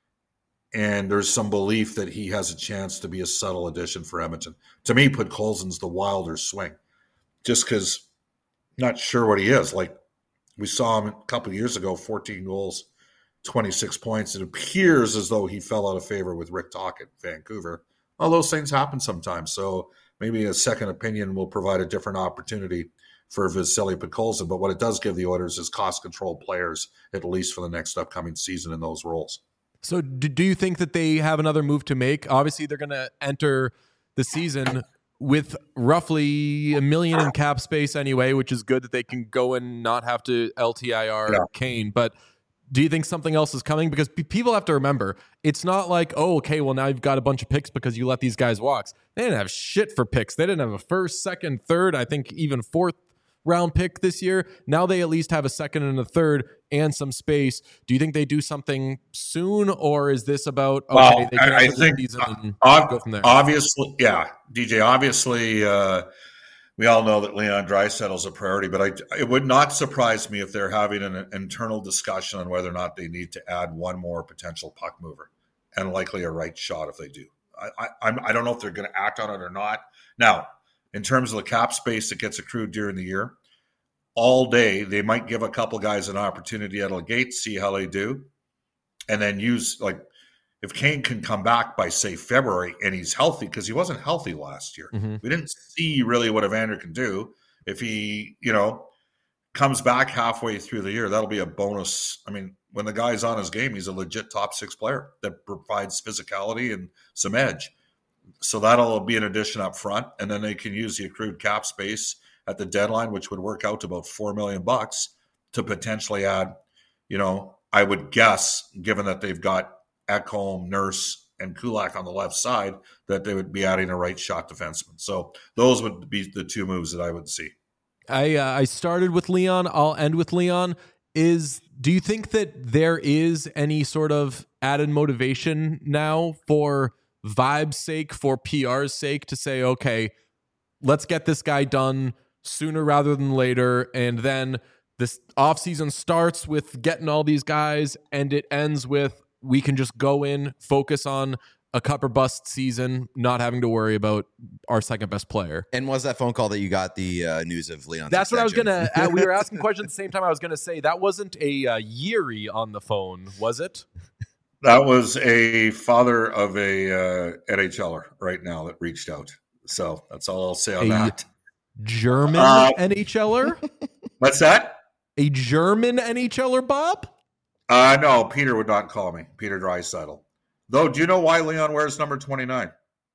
Speaker 7: And there's some belief that he has a chance to be a subtle addition for Edmonton. To me, Podkolzin's the wilder swing, just because not sure what he is. Like, we saw him a couple of years ago, 14 goals, 26 points. It appears as though he fell out of favor with Rick Tocchet, Vancouver. All those things happen sometimes. So maybe a second opinion will provide a different opportunity for Vasily Podkolzin. But what it does give the Oilers is cost-control players, at least for the next upcoming season in those roles.
Speaker 1: So do you think that they have another move to make? Obviously, they're going to enter the season with roughly $1 million in cap space anyway, which is good that they can go and not have to LTIR Kane. But do you think something else is coming? Because people have to remember, it's not like, oh, okay, well, now you've got a bunch of picks because you let these guys walk. They didn't have shit for picks. They didn't have a first, second, third, I think even fourth round pick this year. Now they at least have a second and a third and some space. Do you think they do something soon, or is this about
Speaker 7: they
Speaker 1: can
Speaker 7: I think
Speaker 1: the season and go from there?
Speaker 7: Obviously, yeah, DJ. Obviously, we all know that Leon Draisaitl is a priority, but it would not surprise me if they're having an internal discussion on whether or not they need to add one more potential puck mover, and likely a right shot if they do. I don't know if they're going to act on it or not. Now, in terms of the cap space that gets accrued during the year, all day they might give a couple guys an opportunity out of the gate, see how they do, and then use, like, if Kane can come back by, say, February and he's healthy, because he wasn't healthy last year.
Speaker 1: Mm-hmm.
Speaker 7: We didn't see really what Evander can do. If he, comes back halfway through the year, that'll be a bonus. I mean, when the guy's on his game, he's a legit top 6 player that provides physicality and some edge. So that'll be an addition up front, and then they can use the accrued cap space at the deadline, which would work out to about $4 million to potentially add, I would guess, given that they've got Ekholm, Nurse, and Kulak on the left side, that they would be adding a right shot defenseman. So those would be the two moves that I would see.
Speaker 1: I started with Leon. I'll end with Leon. Do you think that there is any sort of added motivation now for vibe's sake, for PR's sake, to say, okay, let's get this guy done sooner rather than later, and then this offseason starts with getting all these guys, and it ends with we can just go in, focus on a cup or bust season, not having to worry about our second best player.
Speaker 3: And was that phone call that you got the news of Leon's
Speaker 1: That's
Speaker 3: extension?
Speaker 1: what I was going to we were asking questions at the same time. I was going to say that wasn't a Yeary on the phone, was it?
Speaker 7: That was a father of a NHLer right now that reached out. So that's all I'll say on that.
Speaker 1: German NHLer?
Speaker 7: What's that?
Speaker 1: A German NHLer, Bob?
Speaker 7: No, Peter would not call me. Peter Draisaitl. Though, do you know why Leon wears number 29?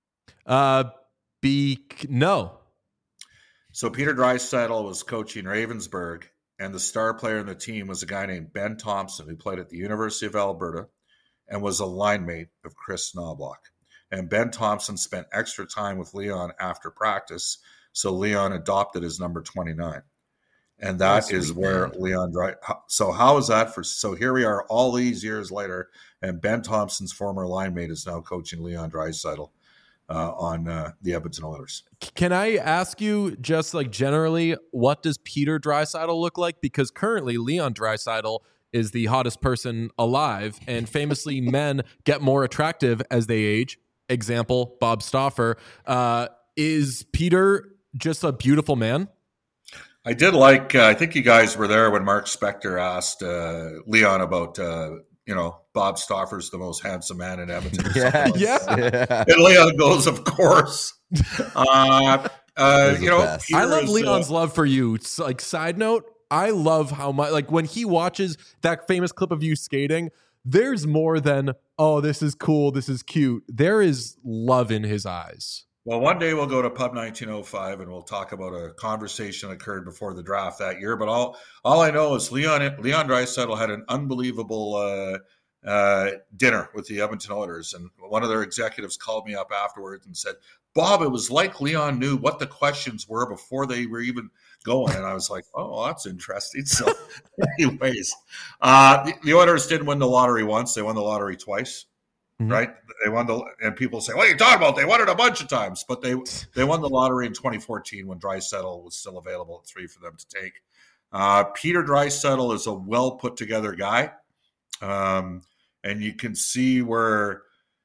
Speaker 1: No.
Speaker 7: So Peter Draisaitl was coaching Ravensburg, and the star player in the team was a guy named Ben Thompson, who played at the University of Alberta and was a line mate of Chris Knobloch. And Ben Thompson spent extra time with Leon after practice, so Leon adopted his number 29. And that is where Leon So how is that so here we are all these years later, and Ben Thompson's former line mate is now coaching Leon Draisaitl on the Edmonton Oilers.
Speaker 1: Can I ask you, just like generally, what does Peter Draisaitl look like? Because currently Leon Draisaitl is the hottest person alive, and famously men get more attractive as they age. Example, Bob Stauffer. Is Peter just a beautiful man?
Speaker 7: I did like, I think you guys were there when Mark Spector asked Leon about, Bob Stauffer's the most handsome man in Edmonton.
Speaker 1: Yeah.
Speaker 7: And Leon goes, of course.
Speaker 1: I love
Speaker 7: Peter's,
Speaker 1: Leon's love for you. It's like, side note, I love how much, like, when he watches that famous clip of you skating, there's more than, oh, this is cool, this is cute. There is love in his eyes.
Speaker 7: Well, one day we'll go to Pub 1905 and we'll talk about a conversation that occurred before the draft that year. But all I know is Leon Draisaitl had an unbelievable dinner with the Edmonton Oilers, and one of their executives called me up afterwards and said, "Bob, it was like Leon knew what the questions were before they were even going." And I was like, "Oh, that's interesting." So, anyways, the Oilers didn't win the lottery once; they won the lottery twice. Mm-hmm. Right? They won and people say, "What are you talking about? They won it a bunch of times." But they won the lottery in 2014 when Draisaitl was still available at 3 for them to take. Peter Draisaitl is a well put together guy, and you can see where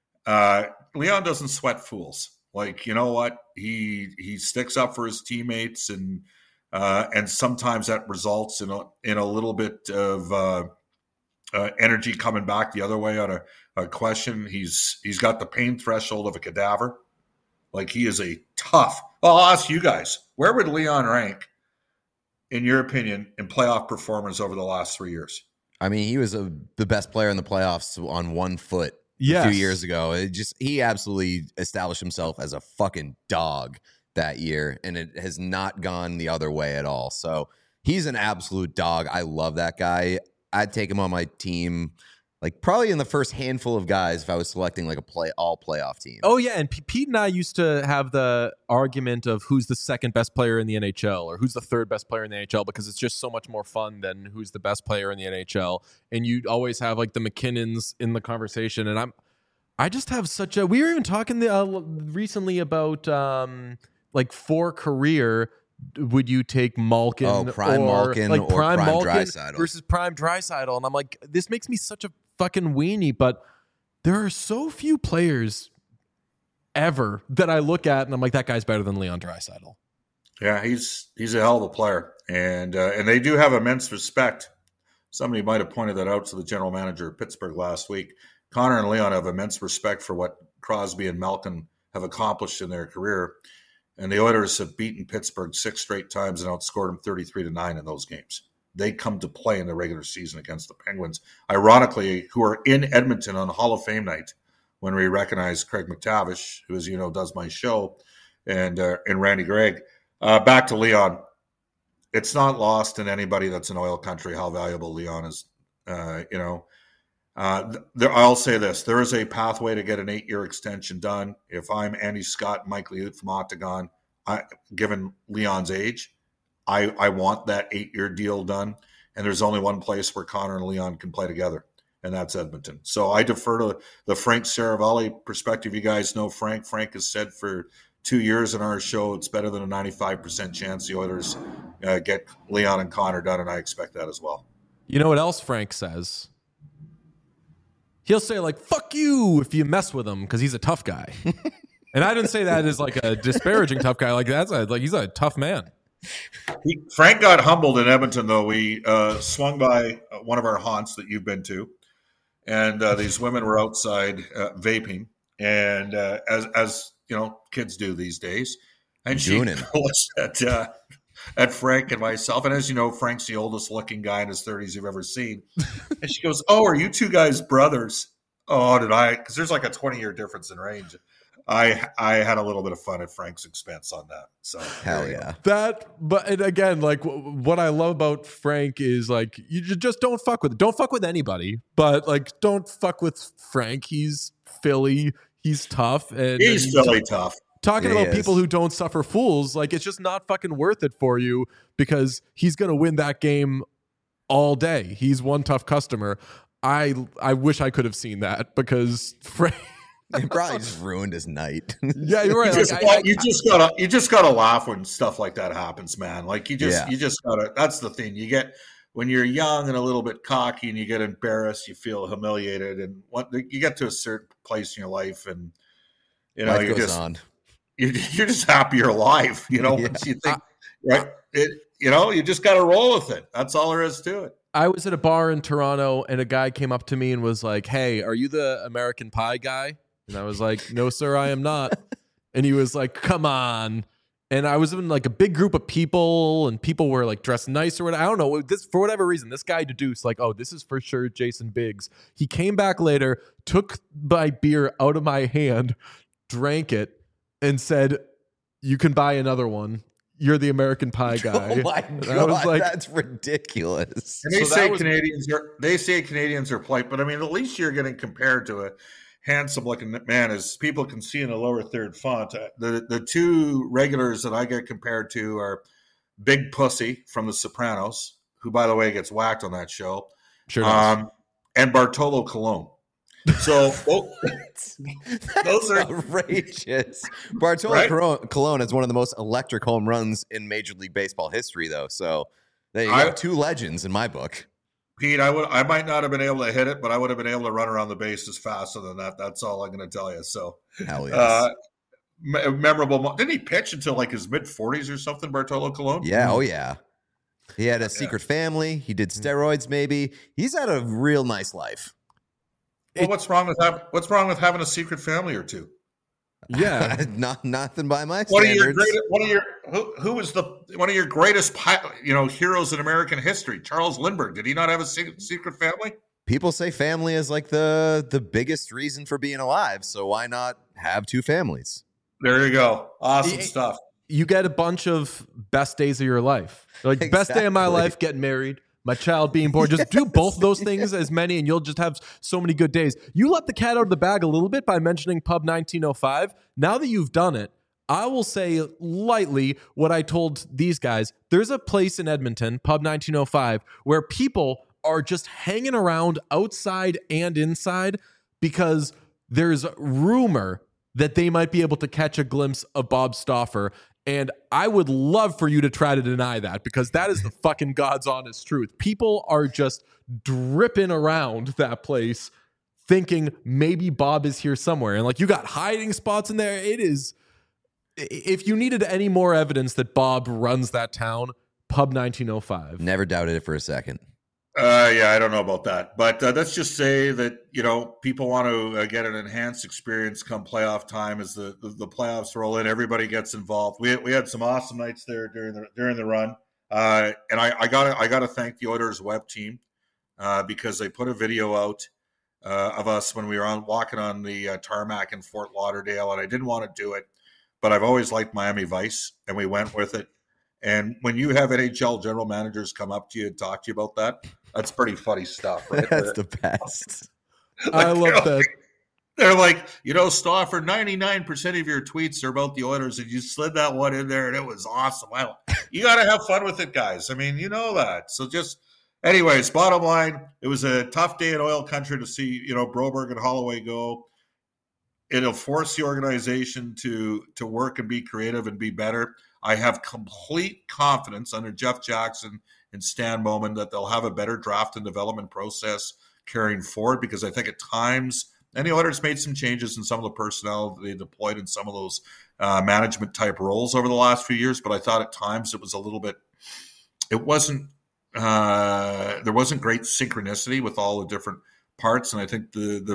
Speaker 7: Leon doesn't sweat fools. Like, you know what, he sticks up for his teammates, and sometimes that results in a little bit of energy coming back the other way on a question. He's got the pain threshold of a cadaver. Like, he is a tough. Well, I'll ask you guys, where would Leon rank, in your opinion, in playoff performance over the last 3 years?
Speaker 3: I mean, he was the best player in the playoffs on one foot a few years ago. He absolutely established himself as a fucking dog that year, and it has not gone the other way at all. So he's an absolute dog. I love that guy. I'd take him on my team, like probably in the first handful of guys if I was selecting like all playoff team.
Speaker 1: Oh yeah, and Pete and I used to have the argument of who's the second best player in the NHL or who's the third best player in the NHL, because it's just so much more fun than who's the best player in the NHL. And you always have like the McKinnons in the conversation. And I just have such a. We were even talking recently about like for career. Would you take Malkin
Speaker 3: Prime Malkin
Speaker 1: like
Speaker 3: or
Speaker 1: Prime Malkin
Speaker 3: Draisaitl
Speaker 1: versus Prime Draisaitl? And I'm like, this makes me such a fucking weenie, but there are so few players ever that I look at and I'm like, that guy's better than Leon Draisaitl.
Speaker 7: Yeah, he's a hell of a player, and they do have immense respect. Somebody might have pointed that out to the general manager of Pittsburgh last week. Connor and Leon have immense respect for what Crosby and Malkin have accomplished in their career. And the Oilers have beaten Pittsburgh 6 straight times and outscored them 33-9 in those games. They come to play in the regular season against the Penguins, ironically, who are in Edmonton on Hall of Fame night when we recognize Craig McTavish, who, as you know, does my show, and Randy Gregg. Back to Leon. It's not lost in anybody that's in oil country how valuable Leon is. I'll say this. There is a pathway to get an 8-year extension done. If I'm Andy Scott and Mike Liut from Octagon, given Leon's age, I want that 8-year deal done. And there's only one place where Connor and Leon can play together, and that's Edmonton. So I defer to the Frank Saravalli perspective. You guys know Frank. Frank has said for 2 years in our show, it's better than a 95% chance the Oilers get Leon and Connor done, and I expect that as well.
Speaker 1: You know what else Frank says? He'll say like, fuck you if you mess with him because he's a tough guy. And I didn't say that as like a disparaging tough guy. Like he's a tough man.
Speaker 7: Frank got humbled in Edmonton, though. We swung by one of our haunts that you've been to, and these women were outside vaping, and as you know, kids do these days. And she looked at Frank and myself, and as you know, Frank's the oldest looking guy in his 30s you've ever seen. And she goes, "Oh, are you two guys brothers?" Oh, did I? Because there's like a 20-year difference in range. I had a little bit of fun at Frank's expense on that. So
Speaker 3: hell yeah.
Speaker 1: But again, like what I love about Frank is like you just don't fuck with anybody, but like don't fuck with Frank. He's Philly. He's tough, and
Speaker 7: he's Philly tough.
Speaker 1: Talking about people who don't suffer fools, like it's just not fucking worth it for you because he's going to win that game all day. He's one tough customer. I wish I could have seen that because Frank
Speaker 3: it probably just ruined his night.
Speaker 1: Yeah, you're right.
Speaker 7: You just gotta laugh when stuff like that happens, man. Like you just gotta. That's the thing. You get when you're young and a little bit cocky, and you get embarrassed, you feel humiliated, and you get to a certain place in your life, and you know
Speaker 3: life goes on.
Speaker 7: You're just happy you're alive, you know. Once you think, right? You just got to roll with it. That's all there is to it.
Speaker 1: I was at a bar in Toronto, and a guy came up to me and was like, "Hey, are you the American Pie guy?" And I was like, "No, sir, I am not." And he was like, "Come on." And I was in like a big group of people, and people were like dressed nice or whatever. I don't know. For whatever reason, this guy deduced like, "Oh, this is for sure Jason Biggs." He came back later, took my beer out of my hand, drank it, and said, "You can buy another one. You're the American Pie guy."
Speaker 3: Oh my God, I was like, that's ridiculous.
Speaker 7: And they say Canadians are polite, but I mean, at least you're getting compared to a handsome looking man, as people can see in the lower third font. The two regulars that I get compared to are Big Pussy from The Sopranos, who, by the way, gets whacked on that show.
Speaker 1: Sure does.
Speaker 7: And Bartolo Colon. So those are
Speaker 3: outrageous. Bartolo Colon is one of the most electric home runs in Major League Baseball history, though. So There you go. Two legends in my book.
Speaker 7: Pete, I might not have been able to hit it, but I would have been able to run around the bases faster than that. That's all I'm going to tell you. So,
Speaker 3: hell yes.
Speaker 7: Memorable. Didn't he pitch until like his mid-40s or something, Bartolo Colon?
Speaker 3: Yeah, oh yeah. He had a secret family. He did steroids maybe. He's had a real nice life.
Speaker 7: Well, what's wrong with having a secret family or two?
Speaker 1: Yeah.
Speaker 3: Nothing by my
Speaker 7: One
Speaker 3: standards.
Speaker 7: Who was one of your greatest heroes in American history? Charles Lindbergh. Did he not have a secret family?
Speaker 3: People say family is like the biggest reason for being alive, so why not have two families?
Speaker 7: There you go. Awesome stuff.
Speaker 1: You get a bunch of best days of your life. Like, best day of my life, getting married, my child being born. Just do both those things as many, and you'll just have so many good days. You let the cat out of the bag a little bit by mentioning Pub 1905. Now that you've done it, I will say lightly what I told these guys. There's a place in Edmonton, Pub 1905, where people are just hanging around outside and inside because there's rumor that they might be able to catch a glimpse of Bob Stauffer. And I would love for you to try to deny that, because that is the fucking God's honest truth. People are just dripping around that place thinking maybe Bob is here somewhere. And like, you got hiding spots in there. It is, if you needed any more evidence that Bob runs that town, Pub 1905.
Speaker 3: Never doubted it for a second.
Speaker 7: Yeah, I don't know about that, but let's just say that people want to get an enhanced experience come playoff time as the playoffs roll in. Everybody gets involved. We had some awesome nights there during the run, and I gotta thank the Oilers web team because they put a video out of us when we were walking on the tarmac in Fort Lauderdale, and I didn't want to do it, but I've always liked Miami Vice, and we went with it. And when you have NHL general managers come up to you and talk to you about that, that's pretty funny stuff, right?
Speaker 3: That's the best.
Speaker 1: I love that.
Speaker 7: They're like, Stauffer, 99% of your tweets are about the Oilers, and you slid that one in there, and it was awesome. You got to have fun with it, guys. I mean, you know that. So anyways, bottom line, it was a tough day in oil country to see, Broberg and Holloway go. It'll force the organization to work and be creative and be better. I have complete confidence under Jeff Jackson and Stan Bowman that they'll have a better draft and development process carrying forward, because I think at times, and the Oilers made some changes in some of the personnel they deployed in some of those management type roles over the last few years, but I thought at times it was a little bit, there wasn't great synchronicity with all the different parts, and I think the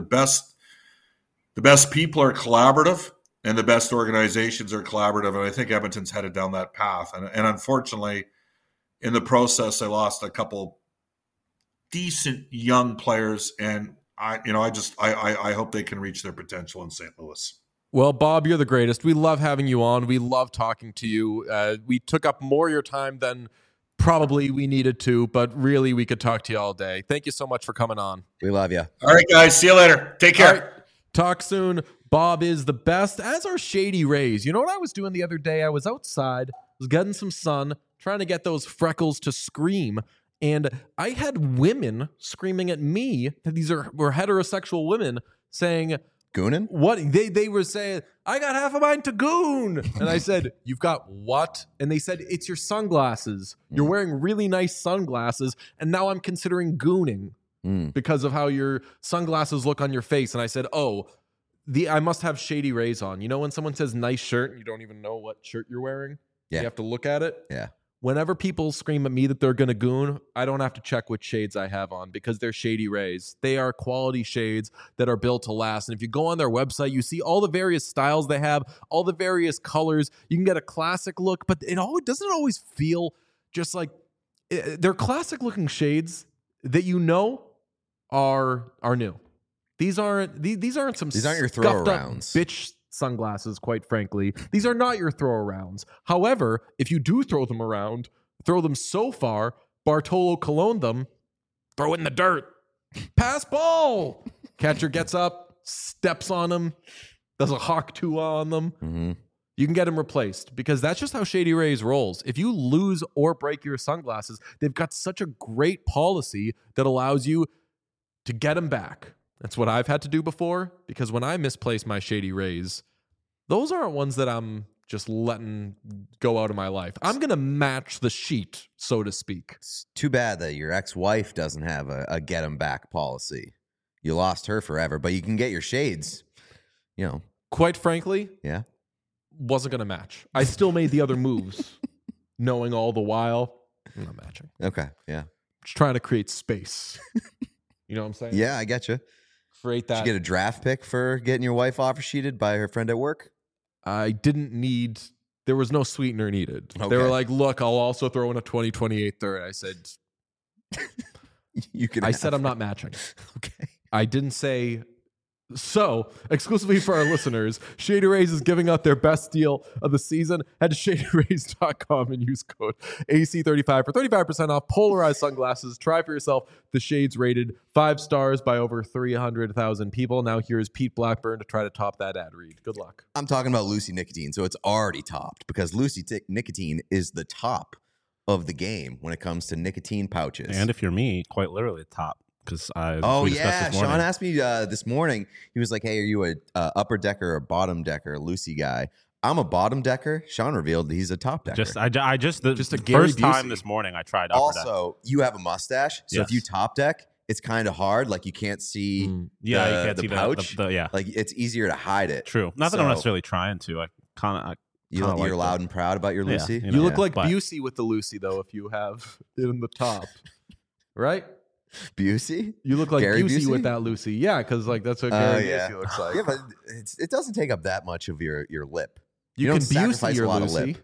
Speaker 7: best people are collaborative, and the best organizations are collaborative, and I think Edmonton's headed down that path. And unfortunately, in the process, I lost a couple decent young players, and I hope they can reach their potential in St. Louis.
Speaker 1: Well, Bob, you're the greatest. We love having you on. We love talking to you. We took up more of your time than probably we needed to, but really we could talk to you all day. Thank you so much for coming on.
Speaker 3: We love you.
Speaker 7: All right, guys. See you later. Take care.
Speaker 1: All right. Talk soon. Bob is the best, as are Shady Rays. You know what I was doing the other day? I was outside, was getting some sun, trying to get those freckles to scream, and I had women screaming at me. These were heterosexual women saying,
Speaker 3: "Goonin'?"
Speaker 1: What? They were saying, "I got half of mine to goon," and I said, "You've got what?" And they said, "It's your sunglasses. You're wearing really nice sunglasses, and now I'm considering gooning because of how your sunglasses look on your face." And I said, "Oh." I must have Shady Rays on. You know when someone says nice shirt and you don't even know what shirt you're wearing?
Speaker 3: Yeah.
Speaker 1: You have to look at it?
Speaker 3: Yeah.
Speaker 1: Whenever people scream at me that they're going to goon, I don't have to check which shades I have on because they're Shady Rays. They are quality shades that are built to last. And if you go on their website, you see all the various styles they have, all the various colors. You can get a classic look, but it doesn't always feel just like they're classic looking shades that are new. These aren't your throw-arounds. Bitch sunglasses, quite frankly. These are not your throw-arounds. However, if you do throw them around, throw them so far, Bartolo Colon them, throw it in the dirt. Pass ball. Catcher gets up, steps on them, does a hawk tua on them.
Speaker 3: Mm-hmm.
Speaker 1: You can get them replaced because that's just how Shady Rays rolls. If you lose or break your sunglasses, they've got such a great policy that allows you to get them back. That's what I've had to do before, because when I misplace my Shady Rays, those aren't ones that I'm just letting go out of my life. I'm going to match the sheet, so to speak.
Speaker 3: It's too bad that your ex-wife doesn't have a get 'em back policy. You lost her forever, but you can get your shades. You know,
Speaker 1: Quite frankly,
Speaker 3: yeah.
Speaker 1: wasn't going to match. I still made the other moves, knowing all the while, I'm not matching.
Speaker 3: Okay, yeah.
Speaker 1: Just trying to create space. You know what I'm saying?
Speaker 3: Yeah, I get you.
Speaker 1: Create
Speaker 3: Did
Speaker 1: that.
Speaker 3: you get a draft pick for getting your wife offer sheeted by her friend at work?
Speaker 1: I didn't need, there was no sweetener needed. They
Speaker 3: Okay.
Speaker 1: were like, look, I'll also throw in a 2028 third. I said,
Speaker 3: You can.
Speaker 1: I
Speaker 3: have
Speaker 1: said I'm
Speaker 3: it.
Speaker 1: not matching.
Speaker 3: Okay.
Speaker 1: I didn't say. So, exclusively for our listeners, Shady Rays is giving out their best deal of the season. Head to shadyrays.com and use code AC35 for 35% off polarized sunglasses. Try for yourself the shades rated 5 stars by over 300,000 people. Now here's Pete Blackburn to try to top that ad read. Good luck.
Speaker 3: I'm talking about Lucy Nicotine, so it's already topped because Lucy Nicotine is the top of the game when it comes to nicotine pouches.
Speaker 2: And if you're me, quite literally the top. Because
Speaker 3: oh yeah, Sean asked me this morning. He was like, "Hey, are you a upper decker or bottom decker, Lucy guy?" I'm a bottom decker. Sean revealed he's a top decker.
Speaker 2: Just the
Speaker 1: a Gary
Speaker 2: first time
Speaker 1: Busey.
Speaker 2: this morning I tried upper deck.
Speaker 3: Also, you have a mustache, so if
Speaker 2: Yes.
Speaker 3: you top deck, it's kind of hard. Like you can't see.
Speaker 2: Yeah, you can't
Speaker 3: the
Speaker 2: see
Speaker 3: pouch.
Speaker 2: the yeah.
Speaker 3: Like it's easier to hide it.
Speaker 2: True. Not that I'm
Speaker 3: So-
Speaker 2: necessarily trying to. I kind of.
Speaker 3: You're
Speaker 2: like
Speaker 3: loud and proud about your
Speaker 2: Yeah,
Speaker 3: Lucy.
Speaker 2: you
Speaker 1: You look
Speaker 2: Yeah,
Speaker 1: like
Speaker 2: but-
Speaker 1: Busey with the Lucy, though, if you have it in the top. Right?
Speaker 3: Busey.
Speaker 1: You look like
Speaker 3: Gary
Speaker 1: Busey
Speaker 3: Busey?
Speaker 1: with that Lucy. Yeah, because like that's what
Speaker 3: Oh,
Speaker 1: Gary
Speaker 3: yeah.
Speaker 1: Busey looks like.
Speaker 3: Yeah, but it doesn't take up that much of your lip.
Speaker 1: You
Speaker 3: don't
Speaker 1: can Busey
Speaker 3: sacrifice
Speaker 1: your
Speaker 3: a lot
Speaker 1: Lucy.
Speaker 3: of lip.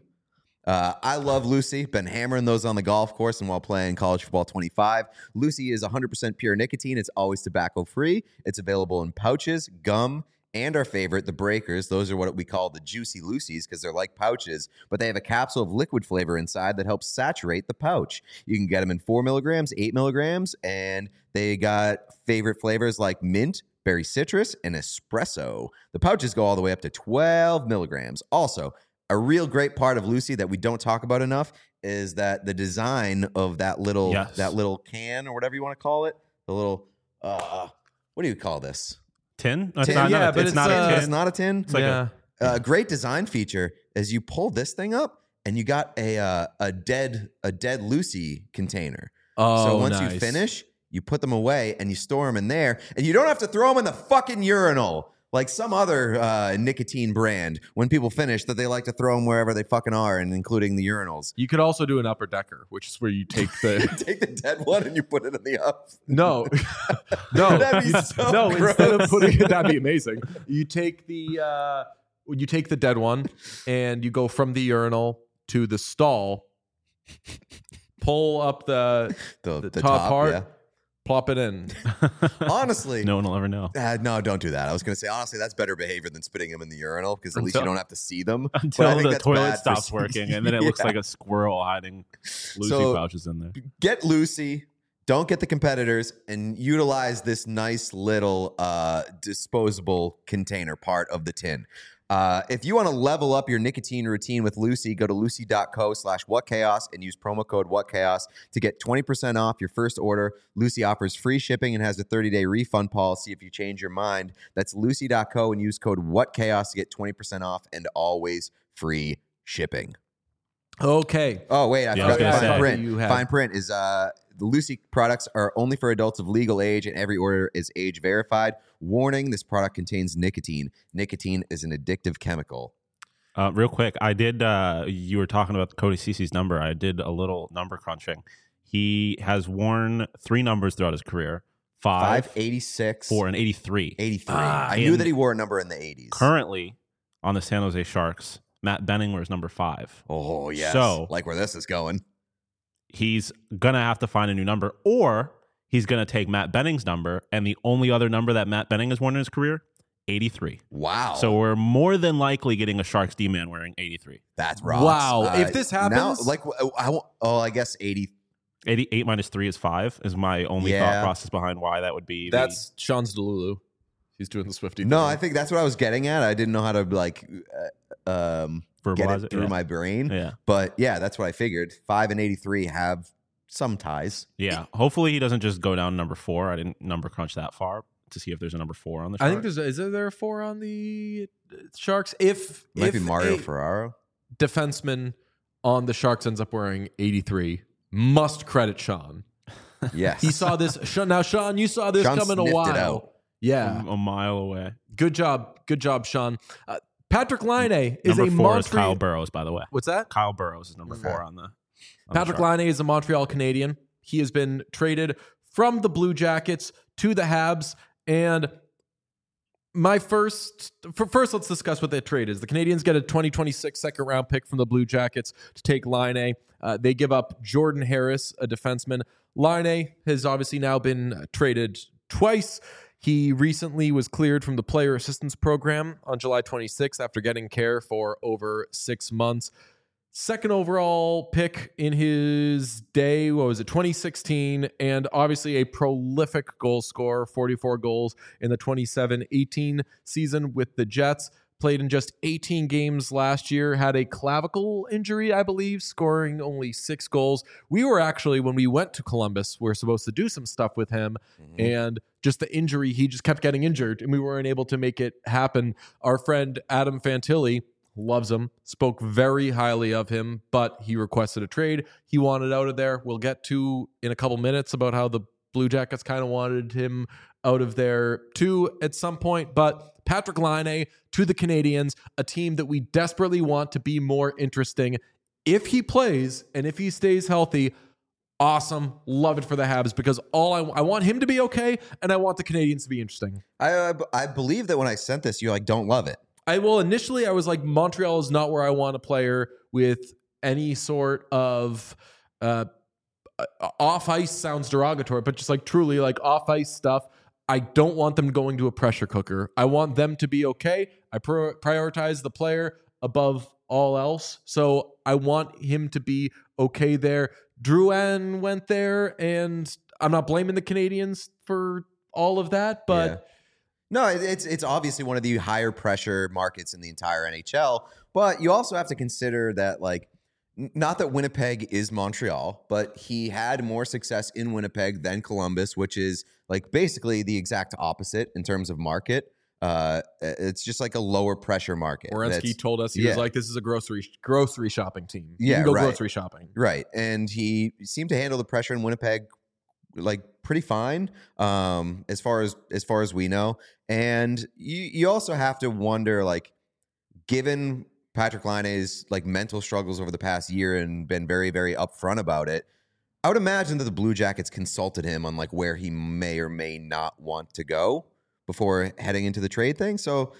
Speaker 3: I love Lucy. Been hammering those on the golf course and while playing college football 25. Lucy is 100% pure nicotine. It's always tobacco free. It's available in pouches, gum, and our favorite, the breakers. Those are what we call the juicy Lucies because they're like pouches, but they have a capsule of liquid flavor inside that helps saturate the pouch. You can get them in 4 milligrams, 8 milligrams, and they got favorite flavors like mint, berry citrus, and espresso. The pouches go all the way up to 12 milligrams. Also, a real great part of Lucy that we don't talk about enough is that the design of that little
Speaker 2: Yes.
Speaker 3: can or whatever you want to call it, the little what do you call this?
Speaker 2: Tin? No,
Speaker 3: Tin.
Speaker 1: Yeah, but
Speaker 2: it's not
Speaker 1: it's,
Speaker 2: a tin.
Speaker 3: It's not a tin.
Speaker 2: It's like
Speaker 1: yeah.
Speaker 3: A great design feature is you pull this thing up and you got a dead Lucy container.
Speaker 1: Oh,
Speaker 3: So once
Speaker 1: nice.
Speaker 3: you finish, you put them away and you store them in there, and you don't have to throw them in the fucking urinal like some other nicotine brand. When people finish, that they like to throw them wherever they fucking are, and including the urinals.
Speaker 1: You could also do an upper decker, which is where you take the
Speaker 3: Take the dead one and you put it in the up.
Speaker 1: no, no,
Speaker 3: That'd be so
Speaker 1: no. Instead of
Speaker 3: gross.
Speaker 1: putting it, that'd be amazing. You take the dead one and you go from the urinal to the stall, pull up the top part,
Speaker 3: yeah.
Speaker 1: plop it in.
Speaker 3: Honestly,
Speaker 2: No one will ever know.
Speaker 3: no, don't do that. I was going to say, honestly, that's better behavior than spitting them in the urinal because at least you
Speaker 2: Until-
Speaker 3: don't have to see them. But I
Speaker 2: Until
Speaker 3: think
Speaker 2: the
Speaker 3: that's
Speaker 2: toilet
Speaker 3: bad for
Speaker 2: stops
Speaker 3: some-
Speaker 2: working, and then it looks
Speaker 3: Yeah.
Speaker 2: like a squirrel hiding Lucy
Speaker 3: So-
Speaker 2: pouches in there.
Speaker 3: Get Lucy. Don't get the competitors and utilize this nice little disposable container part of the tin. If you want to level up your nicotine routine with Lucy, go to lucy.co/whatchaos and use promo code whatchaos to get 20% off your first order. Lucy offers free shipping and has a 30-day refund policy if you change your mind. That's lucy.co and use code whatchaos to get 20% off and always free shipping.
Speaker 1: Okay.
Speaker 3: Oh, wait, I
Speaker 2: Yeah, I was
Speaker 3: forgot
Speaker 2: gonna
Speaker 3: the fine
Speaker 2: say.
Speaker 3: print.
Speaker 1: You have-
Speaker 3: Fine print is the Lucy products are only for adults of legal age, and every order is age verified. Warning, this product contains nicotine. Nicotine is an addictive chemical.
Speaker 2: Real quick, I did. You were talking about Cody Cece's number. I did a little number crunching. He has worn 3 numbers throughout his career: 5,
Speaker 3: 586,
Speaker 2: 4, and 83.
Speaker 3: 83.
Speaker 1: Ah,
Speaker 3: I knew
Speaker 2: and
Speaker 3: that he wore a number in the 80s.
Speaker 2: Currently, on the San Jose Sharks, Matt Benning wears number 5.
Speaker 3: Oh, yes.
Speaker 2: So-
Speaker 3: like where this is going.
Speaker 2: He's gonna have to find a new number, or he's gonna take Matt Benning's number, and the only other number that Matt Benning has worn in his career, 83.
Speaker 3: Wow.
Speaker 2: So we're more than likely getting a Sharks D-man wearing 83.
Speaker 3: that's rocks.
Speaker 1: Wow. If this
Speaker 3: Now,
Speaker 1: happens-
Speaker 3: like, I guess 80.
Speaker 2: 88 minus 3 is 5 is my only
Speaker 3: Yeah.
Speaker 2: thought process behind why that would be.
Speaker 1: That's Sean's Delulu. He's doing the Swifty.
Speaker 3: No,
Speaker 1: thing.
Speaker 3: I think that's what I was getting at. I didn't know how to, like, get
Speaker 2: verbalize
Speaker 3: it through
Speaker 2: yeah.
Speaker 3: my brain.
Speaker 2: Yeah.
Speaker 3: But yeah, that's what I figured. 5 and 83 have some ties.
Speaker 2: Yeah. Hopefully he doesn't just go down number 4. I didn't number crunch that far. to see if there's a number 4 on the
Speaker 1: I
Speaker 2: Sharks.
Speaker 1: think is there a 4 on the Sharks? If
Speaker 3: Might be Mario
Speaker 1: a
Speaker 3: Ferraro.
Speaker 1: defenseman on the Sharks ends up wearing 83, must credit Sean.
Speaker 3: Yes.
Speaker 1: He saw this. Now, Sean, you saw this
Speaker 3: Sean
Speaker 1: coming a
Speaker 3: sniffed it
Speaker 1: while.
Speaker 3: out.
Speaker 1: Yeah.
Speaker 2: a mile away.
Speaker 1: Good job, Sean. Patrick Laine is
Speaker 2: Number
Speaker 1: a
Speaker 2: 4 is
Speaker 1: Montreal.
Speaker 2: Kyle Burrows, by the way.
Speaker 1: What's that?
Speaker 2: Kyle Burrows is number
Speaker 3: Okay.
Speaker 2: 4 on the
Speaker 1: Patrick
Speaker 2: Sharks.
Speaker 1: Laine is a Montreal Canadian. He has been traded from the Blue Jackets to the Habs. And first, let's discuss what that trade is. The Canadians get a 2026 second round pick from the Blue Jackets to take Laine. They give up Jordan Harris, a defenseman. Laine has obviously now been traded twice. He recently was cleared from the player assistance program on July 26th after getting care for over 6 months. Second overall pick in his day, 2016, and obviously a prolific goal scorer, 44 goals in the 27-18 season with the Jets. Played in just 18 games last year, had a clavicle injury, I believe, scoring only 6 goals. We were actually, when we went to Columbus, we were supposed to do some stuff with him, and just the injury, he just kept getting injured, and we weren't able to make it happen. Our friend Adam Fantilli loves him, spoke very highly of him, but he requested a trade. He wanted out of there. We'll get to in a couple minutes about how the Blue Jackets kind of wanted him out of there too at some point. But Patrick Laine to the Canadians, a team that we desperately want to be more interesting. If he plays and if he stays healthy, awesome. Love it for the Habs because I want him to be okay and I want the Canadians to be interesting.
Speaker 3: I believe that when I sent this, you don't love it.
Speaker 1: Initially I was like, Montreal is not where I want a player with any sort of off ice sounds derogatory, but just like truly like off ice stuff. I don't want them going to a pressure cooker. I want them to be okay. I prioritize the player above all else. So I want him to be okay there. Drouin went there, and I'm not blaming the Canadians for all of that, but
Speaker 3: Yeah. No, it's obviously one of the higher pressure markets in the entire NHL. But you also have to consider that, like, not that Winnipeg is Montreal, but he had more success in Winnipeg than Columbus, which is like basically the exact opposite in terms of market. It's just like a lower pressure market.
Speaker 1: Werenski told us he was like, this is a grocery shopping team. You
Speaker 3: Yeah,
Speaker 1: can go
Speaker 3: right.
Speaker 1: grocery shopping.
Speaker 3: Right. And he seemed to handle the pressure in Winnipeg like pretty fine, as far as we know. And you also have to wonder, like, given Patrick Laine's like mental struggles over the past year and been very, very upfront about it, I would imagine that the Blue Jackets consulted him on like where he may or may not want to go before heading into the trade thing. So,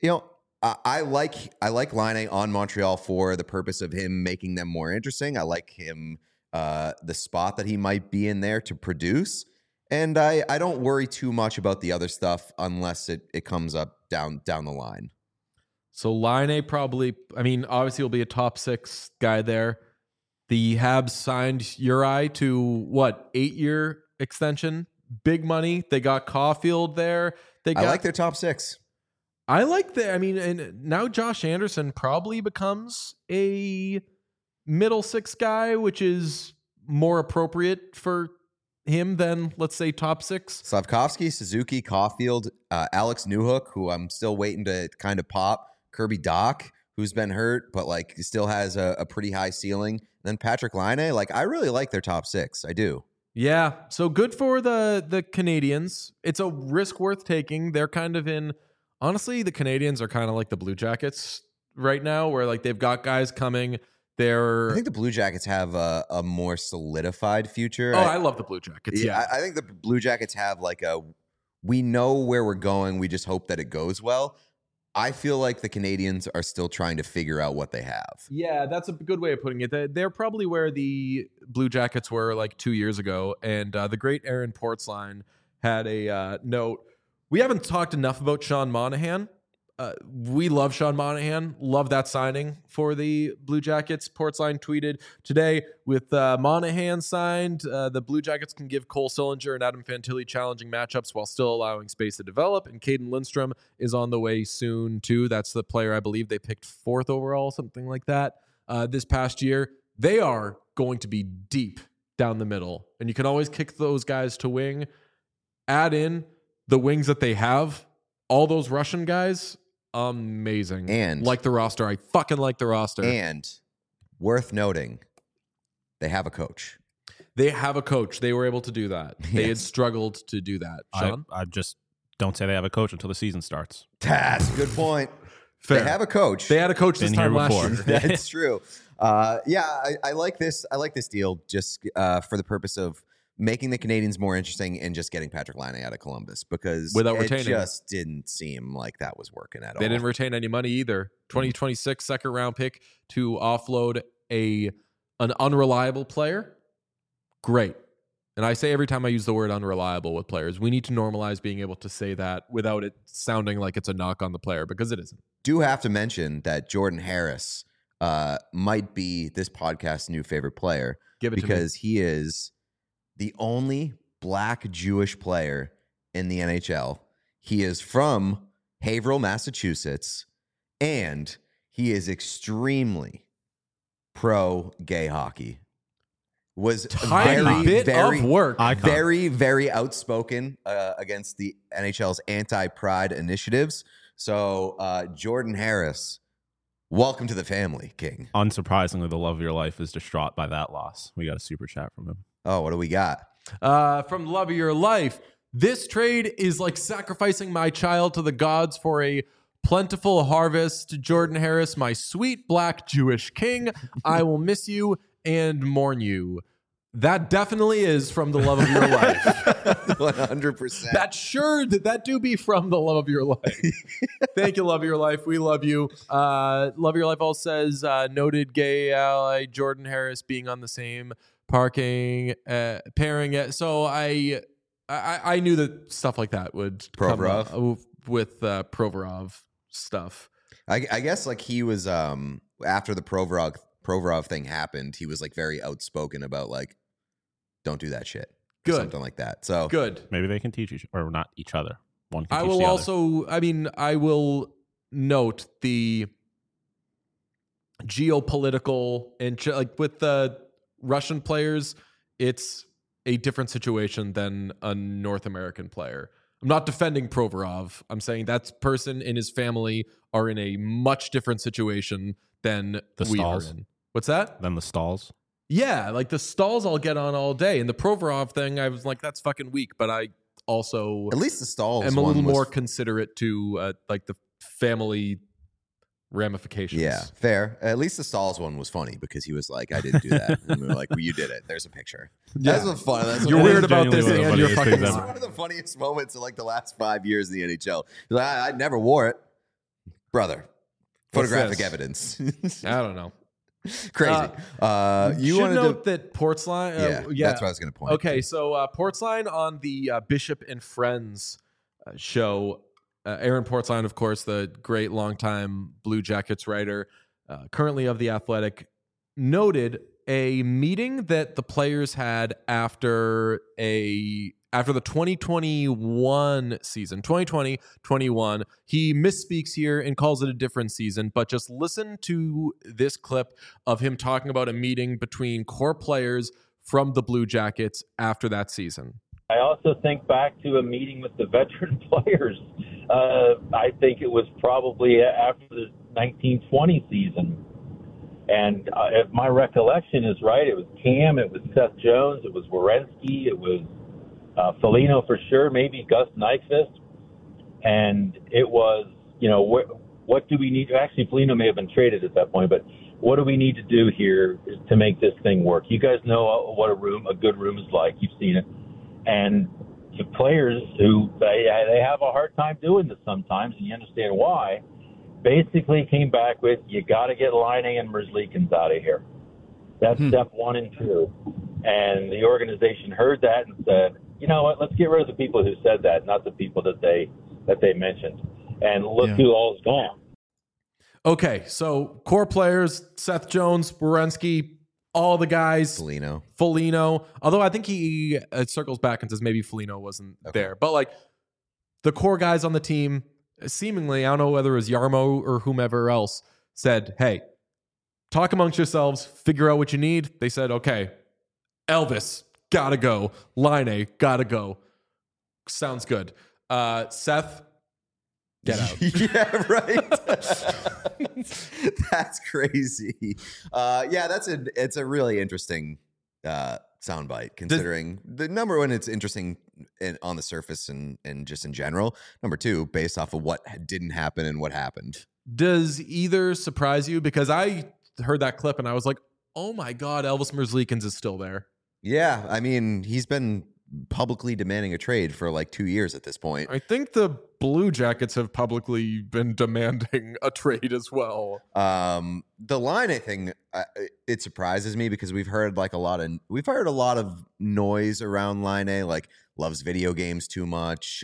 Speaker 3: I like Laine on Montreal for the purpose of him making them more interesting. I like him, the spot that he might be in there to produce. And I don't worry too much about the other stuff unless it comes up down the line.
Speaker 1: So Laine probably, obviously he'll be a top 6 guy there. The Habs signed Uri to 8-year extension, big money. They got Caulfield there.
Speaker 3: I like their top 6.
Speaker 1: I like and now Josh Anderson probably becomes a middle 6 guy, which is more appropriate for him than, let's say, top 6.
Speaker 3: Slavkovsky, Suzuki, Caulfield, Alex Newhook, who I'm still waiting to kind of pop. Kirby Doc, who's been hurt, but like still has a pretty high ceiling. And then Patrick Laine, like I really like their top 6. I do.
Speaker 1: Yeah, so good for the Canadians. It's a risk worth taking. They're kind of in, honestly, the Canadians are kind of like the Blue Jackets right now, where like they've got guys coming.
Speaker 3: I think the Blue Jackets have a more solidified future.
Speaker 1: I love the Blue Jackets. Yeah.
Speaker 3: I think the Blue Jackets have like we know where we're going. We just hope that it goes well. I feel like the Canadians are still trying to figure out what they have.
Speaker 1: Yeah, that's a good way of putting it. They're probably where the Blue Jackets were like 2 years ago. And the great Aaron Portzline had a note. We haven't talked enough about Sean Monahan. We love Sean Monahan. Love that signing for the Blue Jackets. Portzline tweeted today, with Monahan signed, the Blue Jackets can give Cole Sillinger and Adam Fantilli challenging matchups while still allowing space to develop. And Caden Lindstrom is on the way soon, too. That's the player I believe they picked 4th overall, something like that, this past year. They are going to be deep down the middle. And you can always kick those guys to wing. Add in the wings that they have, all those Russian guys, amazing.
Speaker 3: And
Speaker 1: like the roster. I fucking like the roster.
Speaker 3: And worth noting, they have a coach.
Speaker 1: They have a coach. They were able to do that. They had
Speaker 3: Yes.
Speaker 1: struggled to do that. Sean?
Speaker 2: I just don't say they have a coach until the season starts.
Speaker 3: That's a good point.
Speaker 1: Fair.
Speaker 3: They have a coach.
Speaker 1: They had a coach this
Speaker 2: Been here
Speaker 1: time last
Speaker 2: before.
Speaker 1: year.
Speaker 3: That's true. I like this. I like this deal just for the purpose of making the Canadians more interesting and just getting Patrick Laine out of Columbus because
Speaker 1: Without
Speaker 3: it
Speaker 1: retaining him.
Speaker 3: just didn't seem like that was working at all.
Speaker 1: They didn't retain any money either. 2026 second round pick to offload an unreliable player. Great. And I say every time I use the word unreliable with players, we need to normalize being able to say that without it sounding like it's a knock on the player because it isn't.
Speaker 3: Do have to mention that Jordan Harris might be this podcast's new favorite player
Speaker 1: Give it
Speaker 3: because he is the only black Jewish player in the NHL. He is from Haverhill, Massachusetts, and he is extremely pro gay hockey. Was
Speaker 1: Tiny bit of work.
Speaker 2: Icon.
Speaker 3: very, very outspoken against the NHL's anti-pride initiatives. So Jordan Harris, welcome to the family, King.
Speaker 2: Unsurprisingly, the love of your life is distraught by that loss. We got a super chat from him.
Speaker 3: Oh, what do we got?
Speaker 1: From Love of Your Life, this trade is like sacrificing my child to the gods for a plentiful harvest. Jordan Harris, my sweet black Jewish king, I will miss you and mourn you. That definitely is from the Love of Your Life.
Speaker 3: 100%.
Speaker 1: That do be from the Love of Your Life. Thank you, Love of Your Life. We love you. Love of Your Life also says noted gay ally Jordan Harris being on the same pairing. So I knew that stuff like that would
Speaker 3: Provorov?
Speaker 1: come up with Provorov stuff.
Speaker 3: I guess like he was after the Provorov thing happened, he was like very outspoken about like, don't do that shit.
Speaker 1: Good.
Speaker 3: Something like that. So
Speaker 1: Good.
Speaker 2: Maybe they can teach or not each other. One can
Speaker 1: I
Speaker 2: teach
Speaker 1: will
Speaker 2: the other.
Speaker 1: also, I will note the geopolitical and like with the Russian players, it's a different situation than a North American player. I'm not defending Provorov. I'm saying that person and his family are in a much different situation than
Speaker 2: The
Speaker 1: we
Speaker 2: Stalls.
Speaker 1: are in. What's that?
Speaker 2: Then the stalls.
Speaker 1: Yeah, like the Stalls I'll get on all day. And the Provorov thing, I was like, that's fucking weak. But I also
Speaker 3: at least the Stalls
Speaker 1: am a
Speaker 3: one
Speaker 1: little
Speaker 3: was-
Speaker 1: more considerate to like the family ramifications.
Speaker 3: Yeah, fair. At least the Stalls one was funny because he was like, I didn't do that. And we were like, well, you did it. There's a picture.
Speaker 1: Yeah.
Speaker 3: That's what's fun. That's
Speaker 1: You're
Speaker 3: what-
Speaker 1: weird
Speaker 2: is
Speaker 1: about this
Speaker 2: genuinely one of
Speaker 1: and
Speaker 2: the
Speaker 1: you're
Speaker 2: funniest
Speaker 1: fucking
Speaker 2: things
Speaker 3: It's
Speaker 2: ever.
Speaker 1: smart.
Speaker 3: one of the funniest moments in like the last 5 years in the NHL. He's like, I never wore it. Brother, photographic
Speaker 1: this?
Speaker 3: evidence.
Speaker 1: I don't know.
Speaker 3: Crazy. You
Speaker 1: should
Speaker 3: wanted
Speaker 1: note
Speaker 3: to...
Speaker 1: that Portsline.
Speaker 3: Yeah, that's what I was going to point.
Speaker 1: Okay, so Portsline on the Bishop and Friends show. Aaron Portsline, of course, the great longtime Blue Jackets writer, currently of The Athletic, noted a meeting that the players had after the 2021 season, 2020-21. He misspeaks here and calls it a different season, but just listen to this clip of him talking about a meeting between core players from the Blue Jackets after that season.
Speaker 8: I also think back to a meeting with the veteran players. I think it was probably after the 1920 season. And if my recollection is right, it was Cam, it was Seth Jones, it was Werenski, it was Foligno for sure, maybe Gus Nyquist. And it was, what do we need? Actually, Foligno may have been traded at that point, but what do we need to do here to make this thing work? You guys know what a good room is like. You've seen it. And the players who they have a hard time doing this sometimes, and you understand why, basically came back with, you got to get Laine and Merzlikins out of here. That's step 1 and 2. And the organization heard that and said, you know what, let's get rid of the people who said that, not the people that they mentioned. And look who all's gone.
Speaker 1: Okay, so core players, Seth Jones, Werenski, all the guys, Foligno. Although I think he circles back and says maybe Foligno wasn't there. But like the core guys on the team, seemingly, I don't know whether it was Yarmo or whomever else, said, hey, talk amongst yourselves, figure out what you need. They said, okay, Elvis, gotta go. Laine, gotta go. Sounds good. Seth, get out.
Speaker 3: Yeah, right. That's crazy. It's a really interesting soundbite, considering the number one, it's interesting on the surface and just in general. Number two, based off of what didn't happen and what happened.
Speaker 1: Does either surprise you? Because I heard that clip and I was like, oh my God, Elvis Merzlikins is still there.
Speaker 3: Yeah, I mean, he's been publicly demanding a trade for like 2 years at this point.
Speaker 1: I think the Blue Jackets have publicly been demanding a trade as well.
Speaker 3: The Line, I think, it surprises me because we've heard a lot of noise around Line, like loves video games too much.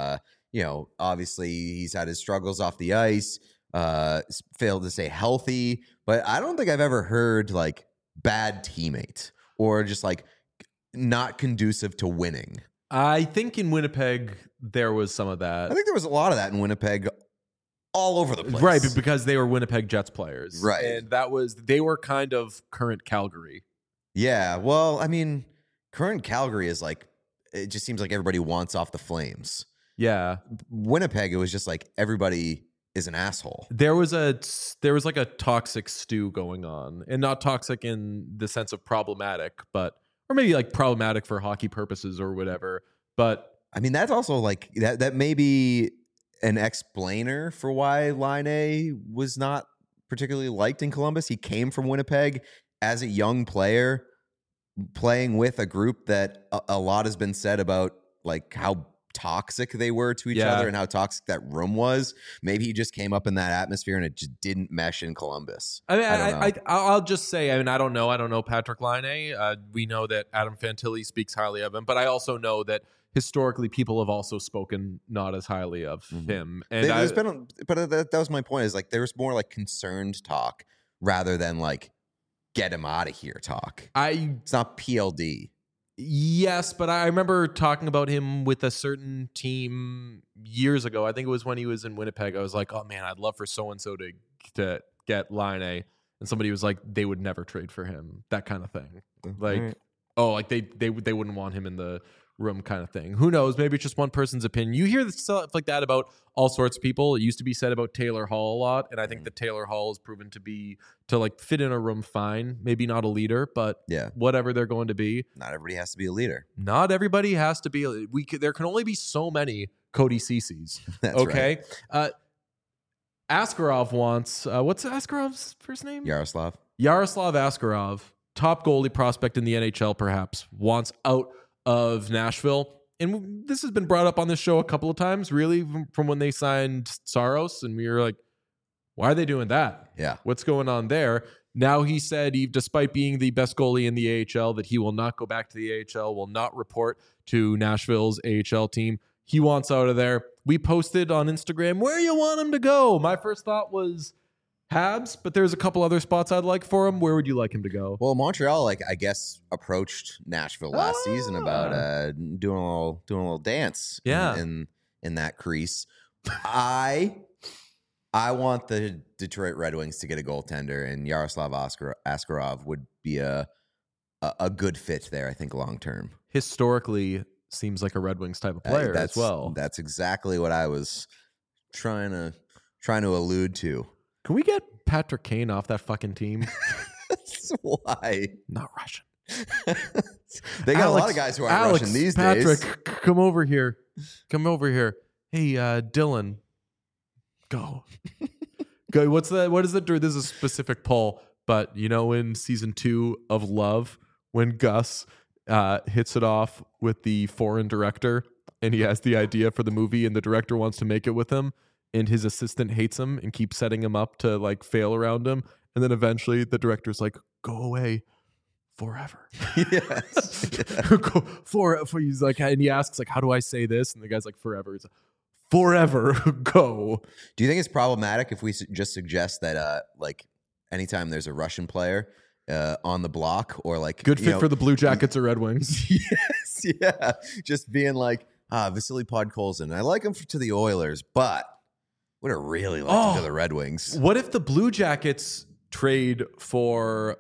Speaker 3: Obviously he's had his struggles off the ice, failed to stay healthy, but I don't think I've ever heard like bad teammate or just like not conducive to winning.
Speaker 1: I think in Winnipeg there was some of that.
Speaker 3: I think there was a lot of that in Winnipeg, all over the place.
Speaker 1: Right, because they were Winnipeg Jets players.
Speaker 3: Right.
Speaker 1: And they were kind of current Calgary.
Speaker 3: Yeah, well, I mean, current Calgary is like, it just seems like everybody wants off the Flames.
Speaker 1: Yeah.
Speaker 3: Winnipeg, it was just like everybody is an asshole.
Speaker 1: There was like a toxic stew going on, and not toxic in the sense of problematic, but or maybe like problematic for hockey purposes or whatever. But
Speaker 3: I mean, that's also like that may be an explainer for why Line was not particularly liked in Columbus. He came from Winnipeg as a young player, playing with a group that a lot has been said about, like how toxic they were to each other and how toxic that room was. Maybe he just came up in that atmosphere and it just didn't mesh in Columbus.
Speaker 1: I mean, I'll just say, I mean, I don't know Patrick Laine. We know that Adam Fantilli speaks highly of him, but I also know that historically people have also spoken not as highly of him. And
Speaker 3: that was my point, is like there was more like concerned talk rather than like get him out of here talk. It's not PLD.
Speaker 1: Yes, but I remember talking about him with a certain team years ago. I think it was when he was in Winnipeg. I was like, oh man, I'd love for so-and-so to get Line A. And somebody was like, they would never trade for him. That kind of thing. Like, like they wouldn't want him in the room kind of thing. Who knows? Maybe it's just one person's opinion. You hear stuff like that about all sorts of people. It used to be said about Taylor Hall a lot, and I think that Taylor Hall has proven to like fit in a room fine. Maybe not a leader, but whatever they're going to be.
Speaker 3: Not everybody has to be a leader.
Speaker 1: Not everybody has to be. There can only be so many Cody Cece's.
Speaker 3: That's
Speaker 1: okay. Right. Askarov wants what's Askarov's first name?
Speaker 3: Yaroslav
Speaker 1: Askarov, top goalie prospect in the NHL, perhaps, wants out of Nashville. And this has been brought up on this show a couple of times, really, from when they signed Saros. And we were like, why are they doing that?
Speaker 3: Yeah.
Speaker 1: What's going on there? Now he said, despite being the best goalie in the AHL, that he will not go back to the AHL, will not report to Nashville's AHL team. He wants out of there. We posted on Instagram, where you want him to go? My first thought was Habs, but there's a couple other spots I'd like for him. Where would you like him to go?
Speaker 3: Well, Montreal, I guess, approached Nashville last season about doing a little dance in that crease. I want the Detroit Red Wings to get a goaltender, and Yaroslav Askarov would be a good fit there, I think, long term.
Speaker 1: Historically, seems like a Red Wings type of player as well.
Speaker 3: That's exactly what I was trying to allude to.
Speaker 1: Can we get Patrick Kane off that fucking team?
Speaker 3: Why?
Speaker 1: Not Russian.
Speaker 3: They got a lot of guys who aren't Russian these days.
Speaker 1: Patrick, come over here. Hey, Dylan, go. Go. What is the? This is a specific poll, but in season 2 of Love, when Gus hits it off with the foreign director, and he has the idea for the movie, and the director wants to make it with him, and his assistant hates him and keeps setting him up to like fail around him, and then eventually the director's like, "Go away forever."
Speaker 3: Yes.
Speaker 1: Go for he's like, and he asks like, "How do I say this?" And the guy's like, "Forever." He's like, "Forever, go."
Speaker 3: Do you think it's problematic if we just suggest that like anytime there's a Russian player on the block, or like
Speaker 1: good fit for the Blue Jackets or Red Wings?
Speaker 3: Yes, yeah, just being like, Vasily Podkolzin, I like him to the Oilers, but would have really liked him to the Red Wings.
Speaker 1: What if the Blue Jackets trade for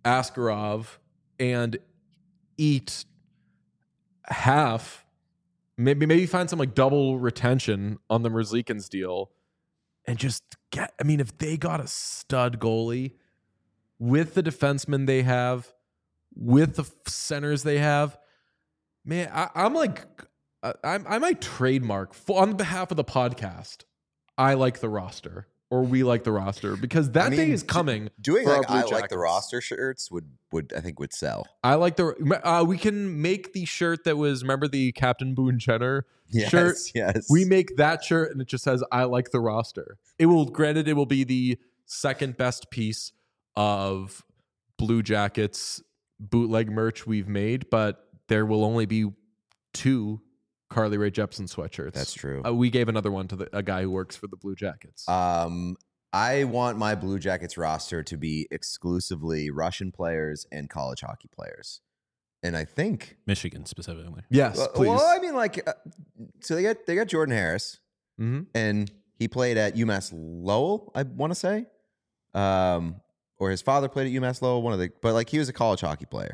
Speaker 1: Askarov and eat half Maybe find some like double retention on the Merzlikins deal and just get, I mean, if they got a stud goalie with the defensemen they have, with the centers they have, man, I'm like, I might trademark on behalf of the podcast. I like the roster, or we like the roster, because that day is coming.
Speaker 3: Doing
Speaker 1: for
Speaker 3: like
Speaker 1: our
Speaker 3: I
Speaker 1: Blue
Speaker 3: like the
Speaker 1: Jackets.
Speaker 3: roster shirts would I think would sell.
Speaker 1: I like the. We can make the shirt that was, remember the Captain Boone Jenner
Speaker 3: Yes,
Speaker 1: shirt.
Speaker 3: yes.
Speaker 1: We make that shirt and it just says "I like the roster." It will, granted, it will be the second best piece of Blue Jackets bootleg merch we've made, but there will only be 2 Carly Rae Jepsen sweatshirts.
Speaker 3: That's true.
Speaker 1: We gave another one to a guy who works for the Blue Jackets.
Speaker 3: I want my Blue Jackets roster to be exclusively Russian players and college hockey players, and I think
Speaker 2: Michigan specifically.
Speaker 1: Yes, please.
Speaker 3: Well, I mean, like, so they got Jordan Harris,
Speaker 1: Mhm.
Speaker 3: and he played at UMass Lowell, I want to say, or his father played at UMass Lowell. But like he was a college hockey player.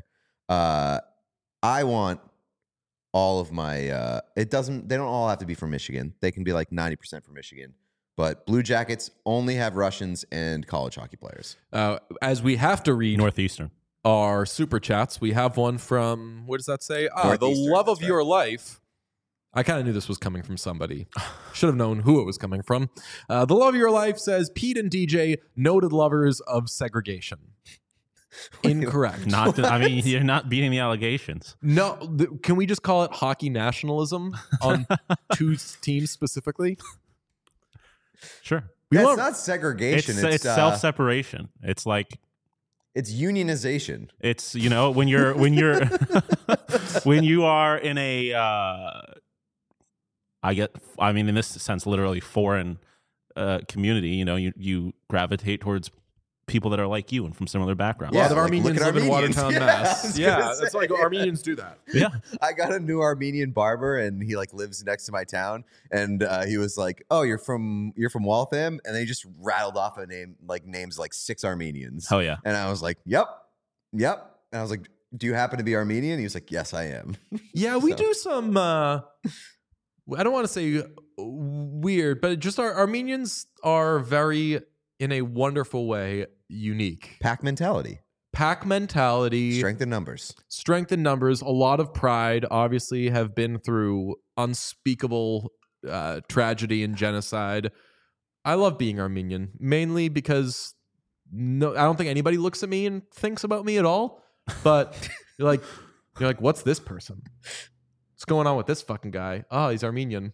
Speaker 3: I want all of my. They don't all have to be from Michigan. They can be like 90% from Michigan. But Blue Jackets only have Russians and college hockey players.
Speaker 1: As we have to read
Speaker 2: Northeastern.
Speaker 1: our super chats, we have one from, what does that say? The
Speaker 3: Northeastern,
Speaker 1: love of
Speaker 3: that's
Speaker 1: your life. I kind of knew this was coming from somebody. Should have known who it was coming from. The love of your life says Pete and DJ, noted lovers of segregation. Incorrect.
Speaker 2: Not. I mean, you're not beating the allegations.
Speaker 1: No, can we just call it hockey nationalism on 2 teams specifically?
Speaker 2: Sure.
Speaker 3: It's not segregation.
Speaker 2: It's self-separation. It's like
Speaker 3: it's unionization.
Speaker 2: it's when you're when you are in a I mean in this sense literally foreign community. You gravitate towards people that are like you and from similar backgrounds.
Speaker 1: A lot of
Speaker 3: like,
Speaker 1: Armenians
Speaker 3: look at
Speaker 1: live in
Speaker 3: Armenians.
Speaker 1: Watertown,
Speaker 3: Yeah,
Speaker 1: Mass.
Speaker 3: I was
Speaker 1: Yeah,
Speaker 3: gonna
Speaker 1: it's like
Speaker 3: say.
Speaker 1: Armenians do that.
Speaker 2: Yeah.
Speaker 3: I got a new Armenian barber, and he like lives next to my town. And he was like, "Oh, you're from Waltham," and then he just rattled off names like 6 Armenians.
Speaker 2: Oh yeah.
Speaker 3: And I was like, "Yep." And I was like, "Do you happen to be Armenian?" He was like, "Yes, I am."
Speaker 1: Yeah, we
Speaker 3: So-
Speaker 1: do some. I don't want to say weird, but just our Armenians are very, in a wonderful way, unique.
Speaker 3: Pack mentality,
Speaker 1: Pack mentality,
Speaker 3: strength in numbers.
Speaker 1: strength in numbers, a lot of pride. Obviously, have been through unspeakable tragedy and genocide. I love being Armenian, mainly because I don't think anybody looks at me and thinks about me at all. But you're like, what's this person? What's going on with this fucking guy? Oh, he's Armenian.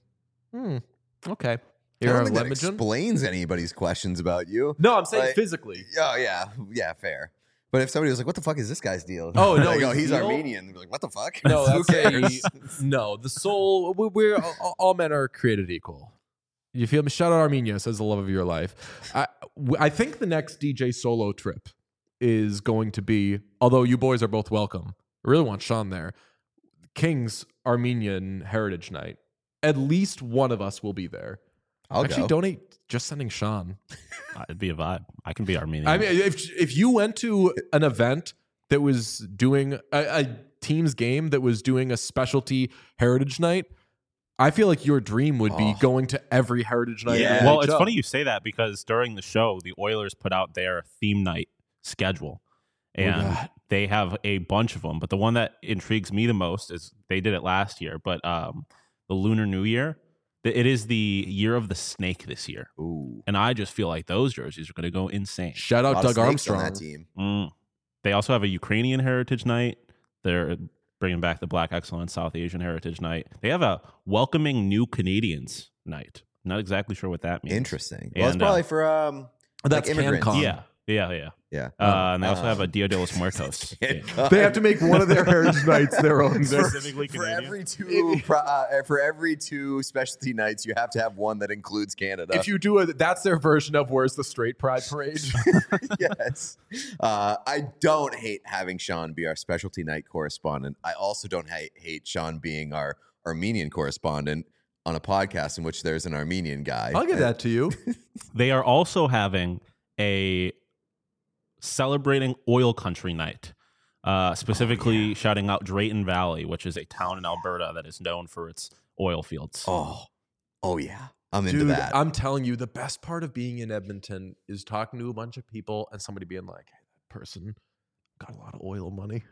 Speaker 1: Okay.
Speaker 3: I
Speaker 1: Here
Speaker 3: don't
Speaker 1: are
Speaker 3: think that
Speaker 1: Lemingen.
Speaker 3: explains anybody's questions about you.
Speaker 1: No, I'm saying
Speaker 3: Like-
Speaker 1: physically.
Speaker 3: Oh yeah, fair. But if somebody was like, "What the fuck is this guy's deal?"
Speaker 1: Oh, no,
Speaker 3: like,
Speaker 1: his
Speaker 3: he's
Speaker 1: deal?
Speaker 3: Armenian. We're like, "What the fuck?"
Speaker 1: No,
Speaker 3: Who
Speaker 1: that's
Speaker 3: cares?
Speaker 1: no. The soul. We're all men are created equal. You feel me? Shout out Armenia, says the love of your life. I think the next DJ solo trip is going to be, although you boys are both welcome. I really want Sean there. King's Armenian Heritage Night. At least one of us will be there.
Speaker 3: I'll
Speaker 1: Actually,
Speaker 3: go.
Speaker 1: donate just sending Sean.
Speaker 2: It'd be a vibe. I can be Armenian.
Speaker 1: I mean, if you went to an event that was doing a team's game that was doing a specialty Heritage Night, I feel like your dream would be going to every Heritage Night.
Speaker 3: Yeah.
Speaker 1: in the
Speaker 2: Well, it's
Speaker 1: NHL.
Speaker 2: funny you say that because during the show, the Oilers put out their theme night schedule, and
Speaker 1: God.
Speaker 2: they have a bunch of them. But the one that intrigues me the most is they did it last year, but the Lunar New Year. It is the year of the snake this year,
Speaker 3: Ooh,
Speaker 2: and I just feel like those jerseys are going to go insane.
Speaker 1: Shout
Speaker 3: a
Speaker 1: out
Speaker 3: lot of
Speaker 1: Doug
Speaker 3: snakes on
Speaker 1: Armstrong.
Speaker 3: that team.
Speaker 2: They also have a Ukrainian Heritage Night. They're bringing back the Black Excellence South Asian Heritage Night. They have a welcoming new Canadians night. Not exactly sure what that means.
Speaker 3: Interesting. Well, it's
Speaker 2: And,
Speaker 3: probably for
Speaker 1: That's
Speaker 3: like immigrants.
Speaker 1: CanCon.
Speaker 2: Yeah.
Speaker 3: Yeah.
Speaker 2: And they also have a Dia de los Muertos.
Speaker 1: They have to make one of their Heritage Nights their own.
Speaker 2: Specifically
Speaker 3: for
Speaker 2: Canadian.
Speaker 3: every two specialty nights, you have to have one that includes Canada.
Speaker 1: If you do that's their version of Where's the Straight Pride Parade.
Speaker 3: Yes. I don't hate having Sean be our specialty night correspondent. I also don't hate Sean being our Armenian correspondent on a podcast in which there's an Armenian guy.
Speaker 1: I'll give that to you.
Speaker 2: They are also having a celebrating oil country night, specifically shouting out Drayton Valley, which is a town in Alberta that is known for its oil fields.
Speaker 3: Oh yeah, I'm into
Speaker 1: Dude,
Speaker 3: that.
Speaker 1: I'm telling you, the best part of being in Edmonton is talking to a bunch of people and somebody being like, "Hey, that person got a lot of oil money."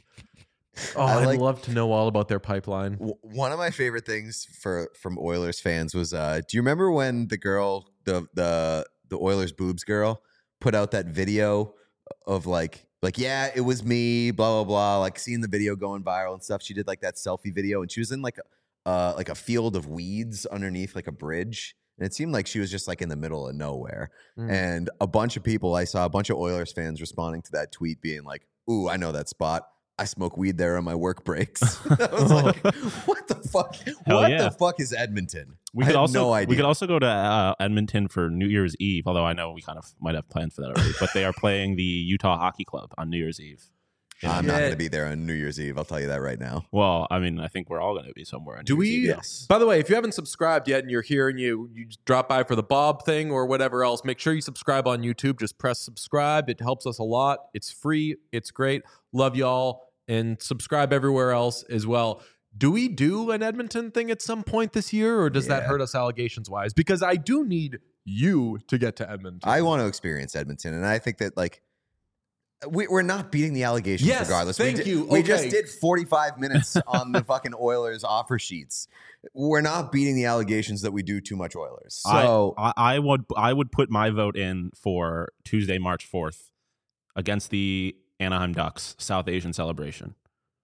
Speaker 1: Oh, I'd love to know all about their pipeline.
Speaker 3: One of my favorite things from Oilers fans was, do you remember when the girl, the Oilers boobs girl, put out that video of like yeah, it was me, blah blah blah, like seeing the video going viral and stuff. She did like that selfie video, and she was in like a field of weeds underneath like a bridge, and it seemed like she was just like in the middle of nowhere. And a bunch of people, I saw a bunch of Oilers fans responding to that tweet, being like, "Ooh, I know that spot. I smoke weed there on my work breaks." I was like, "What the fuck? The fuck is Edmonton?"
Speaker 2: We
Speaker 3: I
Speaker 2: could
Speaker 3: had
Speaker 2: also
Speaker 3: no idea.
Speaker 2: we could also go to Edmonton for New Year's Eve. Although I know we kind of might have plans for that already. But they are playing the Utah Hockey Club on New Year's Eve.
Speaker 3: I'm not going to be there on New Year's Eve. I'll tell you that right now.
Speaker 2: Well, I mean, I think we're all going to be somewhere. On
Speaker 1: Do
Speaker 2: New
Speaker 1: we?
Speaker 2: Year's Eve.
Speaker 3: Yes.
Speaker 1: By the way, if you haven't subscribed yet and you're here and you just drop by for the Bob thing or whatever else, make sure you subscribe on YouTube. Just press subscribe. It helps us a lot. It's free. It's great. Love y'all. And subscribe everywhere else as well. Do we do an Edmonton thing at some point this year, or does that hurt us allegations wise? Because I do need you to get to Edmonton.
Speaker 3: I want to experience Edmonton, and I think that like we're not beating the allegations
Speaker 1: Yes,
Speaker 3: regardless.
Speaker 1: thank you.
Speaker 3: We
Speaker 1: Okay.
Speaker 3: just did 45 minutes on the fucking Oilers offer sheets. We're not beating the allegations that we do too much Oilers. So
Speaker 2: I would put my vote in for Tuesday, March 4th against the Anaheim Ducks South Asian celebration.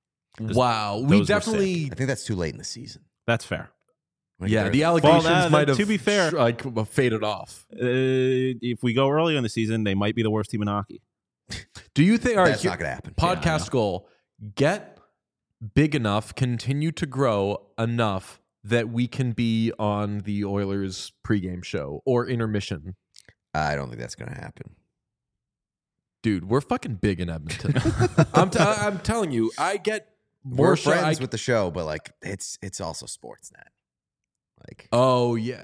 Speaker 1: Wow.
Speaker 2: Those
Speaker 1: We
Speaker 2: were
Speaker 1: definitely.
Speaker 3: I think that's too late in the season.
Speaker 2: That's fair.
Speaker 1: Yeah, the allegations might have
Speaker 2: to be fair,
Speaker 1: faded off.
Speaker 2: If we go early in the season, they might be the worst team in hockey.
Speaker 1: Do you think? All right,
Speaker 3: That's not going to happen.
Speaker 1: Podcast goal: get big enough, continue to grow enough that we can be on the Oilers pregame show or intermission.
Speaker 3: I don't think that's going to happen.
Speaker 1: Dude, we're fucking big in Edmonton. I'm telling you, I get more
Speaker 3: We're friends with the show, but like it's also Sportsnet. Like,
Speaker 1: oh yeah,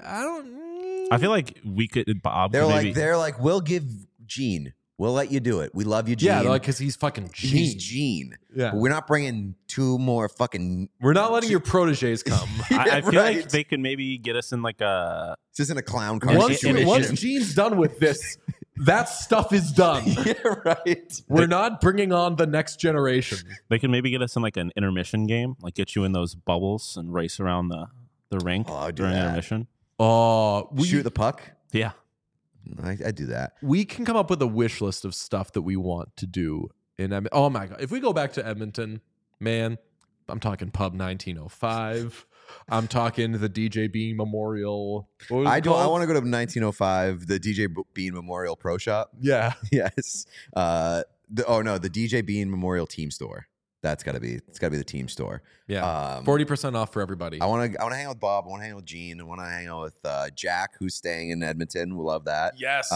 Speaker 2: I feel like we could. Bob.
Speaker 3: they're like, we'll give Gene. We'll let you do it. We love you, Gene.
Speaker 1: Yeah, like because he's fucking Gene.
Speaker 3: He's Gene.
Speaker 1: Yeah,
Speaker 3: but we're not bringing two more fucking.
Speaker 1: We're not letting your proteges come.
Speaker 2: I feel like they could maybe get us in like a.
Speaker 3: This isn't a clown car.
Speaker 1: Once Gene's done with this, that stuff is done.
Speaker 3: Yeah, right.
Speaker 1: We're not bringing on the next generation.
Speaker 2: They can maybe get us in like an intermission game, like get you in those bubbles and race around the rink during intermission.
Speaker 1: Oh,
Speaker 3: Shoot the puck.
Speaker 2: Yeah.
Speaker 3: I do that.
Speaker 1: We can come up with a wish list of stuff that we want to do in Edmonton. Oh my god! If we go back to Edmonton, man, I'm talking Pub 1905. I'm talking the DJ Bean Memorial.
Speaker 3: I want to go to 1905, the DJ Bean Memorial Pro Shop.
Speaker 1: Yeah.
Speaker 3: Yes. The DJ Bean Memorial Team Store. It's got to be the team store.
Speaker 1: Yeah. 40% off for everybody.
Speaker 3: I want to hang out with Bob. I want to hang out with Gene. I want to hang out with Jack, who's staying in Edmonton. We love that.
Speaker 1: Yes.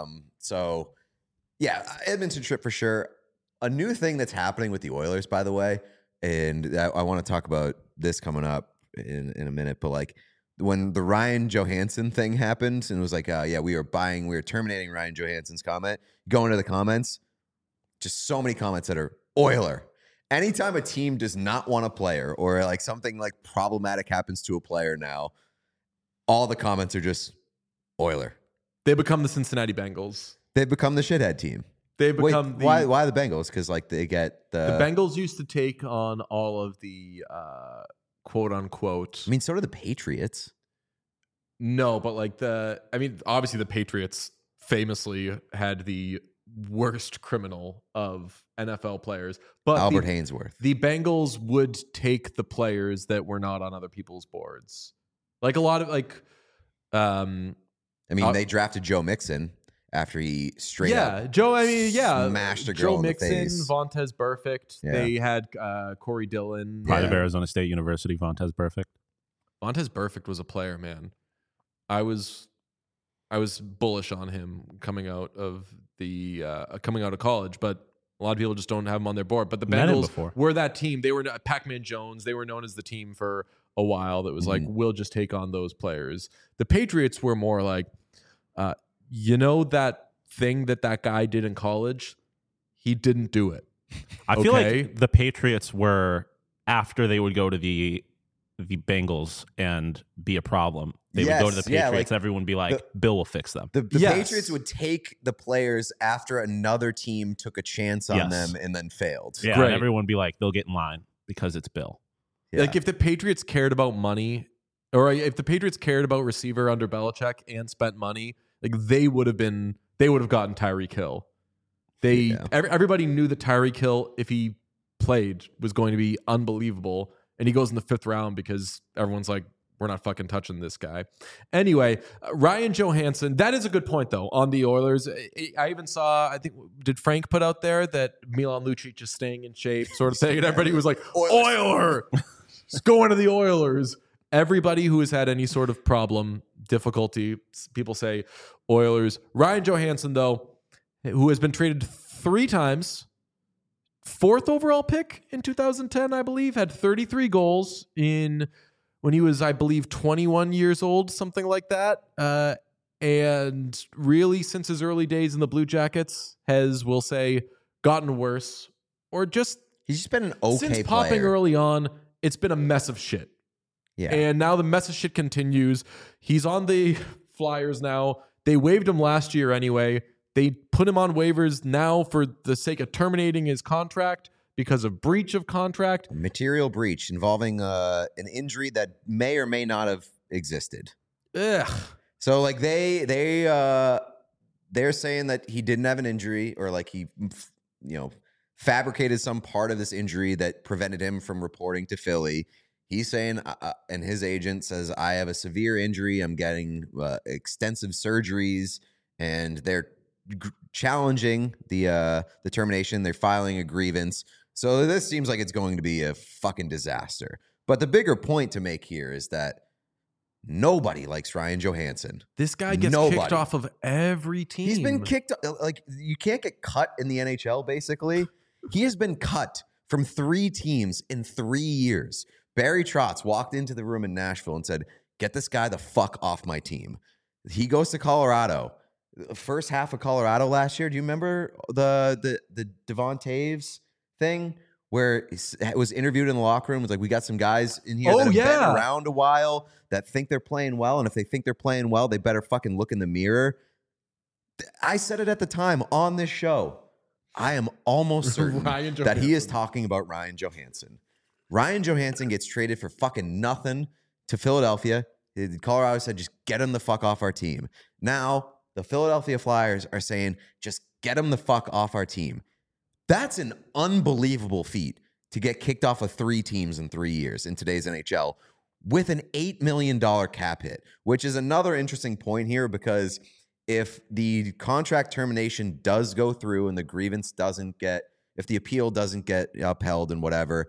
Speaker 3: So yeah, Edmonton trip for sure. A new thing that's happening with the Oilers, by the way, and I want to talk about this coming up in a minute, but like when the Ryan Johansson thing happened and it was like, we were terminating Ryan Johansson's comment, go into the comments, just so many comments that are Oiler. Anytime a team does not want a player or like something like problematic happens to a player now, all the comments are just Oiler.
Speaker 1: They become the Cincinnati Bengals.
Speaker 3: They've become the shithead team.
Speaker 1: They become
Speaker 3: why the Bengals? Because like they get
Speaker 1: the Bengals used to take on all of the quote unquote.
Speaker 3: I mean, so do the Patriots.
Speaker 1: No, but like obviously the Patriots famously had the worst criminal of NFL players, but
Speaker 3: Albert Hainsworth.
Speaker 1: The Bengals would take the players that were not on other people's boards. Like a lot of
Speaker 3: they drafted Joe Mixon after he straight up smashed a girl
Speaker 1: Joe
Speaker 3: in
Speaker 1: Mixon,
Speaker 3: the face.
Speaker 1: Vontez Burfict. Yeah. They had Corey Dillon.
Speaker 2: Pride of Arizona State University, Vontez Burfict.
Speaker 1: Vontez Burfict was a player, man. I was bullish on him coming out of college, but a lot of people just don't have him on their board. But the Bengals were that team. They were Pac-Man Jones. They were known as the team for a while that was like, we'll just take on those players. The Patriots were more like, that thing that guy did in college, he didn't do it.
Speaker 2: I feel like the Patriots were, after they would go to the the Bengals and be a problem. They would go to the
Speaker 3: Yes, yeah,
Speaker 2: Patriots.
Speaker 3: like
Speaker 2: Everyone would be like, Bill will fix them.
Speaker 3: The
Speaker 1: Yes.
Speaker 3: Patriots would take the players after another team took a chance on
Speaker 2: Yes.
Speaker 3: them and then failed.
Speaker 2: Yeah,
Speaker 1: Great.
Speaker 2: and everyone would be like, they'll get in line because it's Bill.
Speaker 3: Yeah.
Speaker 1: Like if the Patriots cared about money, or if the Patriots cared about receiver under Belichick and spent money, like they would have gotten Tyreek Hill. Everybody knew that Tyreek Hill, if he played, was going to be unbelievable, and he goes in the 5th round because everyone's like, we're not fucking touching this guy. Anyway, Ryan Johansson, that is a good point though on the Oilers. I even saw, I think, did Frank put out there that Milan Lucic is staying in shape, sort of thing, and everybody was like, Oiler, it's going to the Oilers. Everybody who has had any sort of problem, difficulty, people say Oilers. Ryan Johansson, though, who has been traded 3 times, 4th overall pick in 2010, I believe, had 33 goals when he was, I believe, 21 years old, something like that. And really, since his early days in the Blue Jackets, has, we'll say, gotten worse. Or just
Speaker 3: He's just been an okay
Speaker 1: since popping
Speaker 3: player.
Speaker 1: early on, it's been a mess of shit.
Speaker 3: Yeah.
Speaker 1: And now the mess of shit continues. He's on the Flyers now. They waived him last year anyway. They put him on waivers now for the sake of terminating his contract because of breach of contract.
Speaker 3: Material breach involving an injury that may or may not have existed.
Speaker 1: Ugh.
Speaker 3: So like they're saying that he didn't have an injury, or like he fabricated some part of this injury that prevented him from reporting to Philly. He's saying, and his agent says, I have a severe injury. I'm getting extensive surgeries, and they're challenging the termination. They're filing a grievance. So this seems like it's going to be a fucking disaster. But the bigger point to make here is that nobody likes Ryan Johansson.
Speaker 1: This guy gets kicked off of every team.
Speaker 3: He's been kicked. Like, you can't get cut in the NHL, basically. He has been cut from 3 teams in 3 years. Barry Trotz walked into the room in Nashville and said, get this guy the fuck off my team. He goes to Colorado. The first half of Colorado last year, do you remember the Devon Taves thing where it was interviewed in the locker room? It was like, we got some guys in here that have been around a while that think they're playing well, and if they think they're playing well, they better fucking look in the mirror. I said it at the time on this show. I am almost certain that he is talking about Ryan Johansson. Ryan Johansson gets traded for fucking nothing to Philadelphia. Colorado said, just get him the fuck off our team. Now, the Philadelphia Flyers are saying, just get him the fuck off our team. That's an unbelievable feat to get kicked off of 3 teams in 3 years in today's NHL with an $8 million cap hit, which is another interesting point here, because if the contract termination does go through and the grievance doesn't get, if the appeal doesn't get upheld and whatever,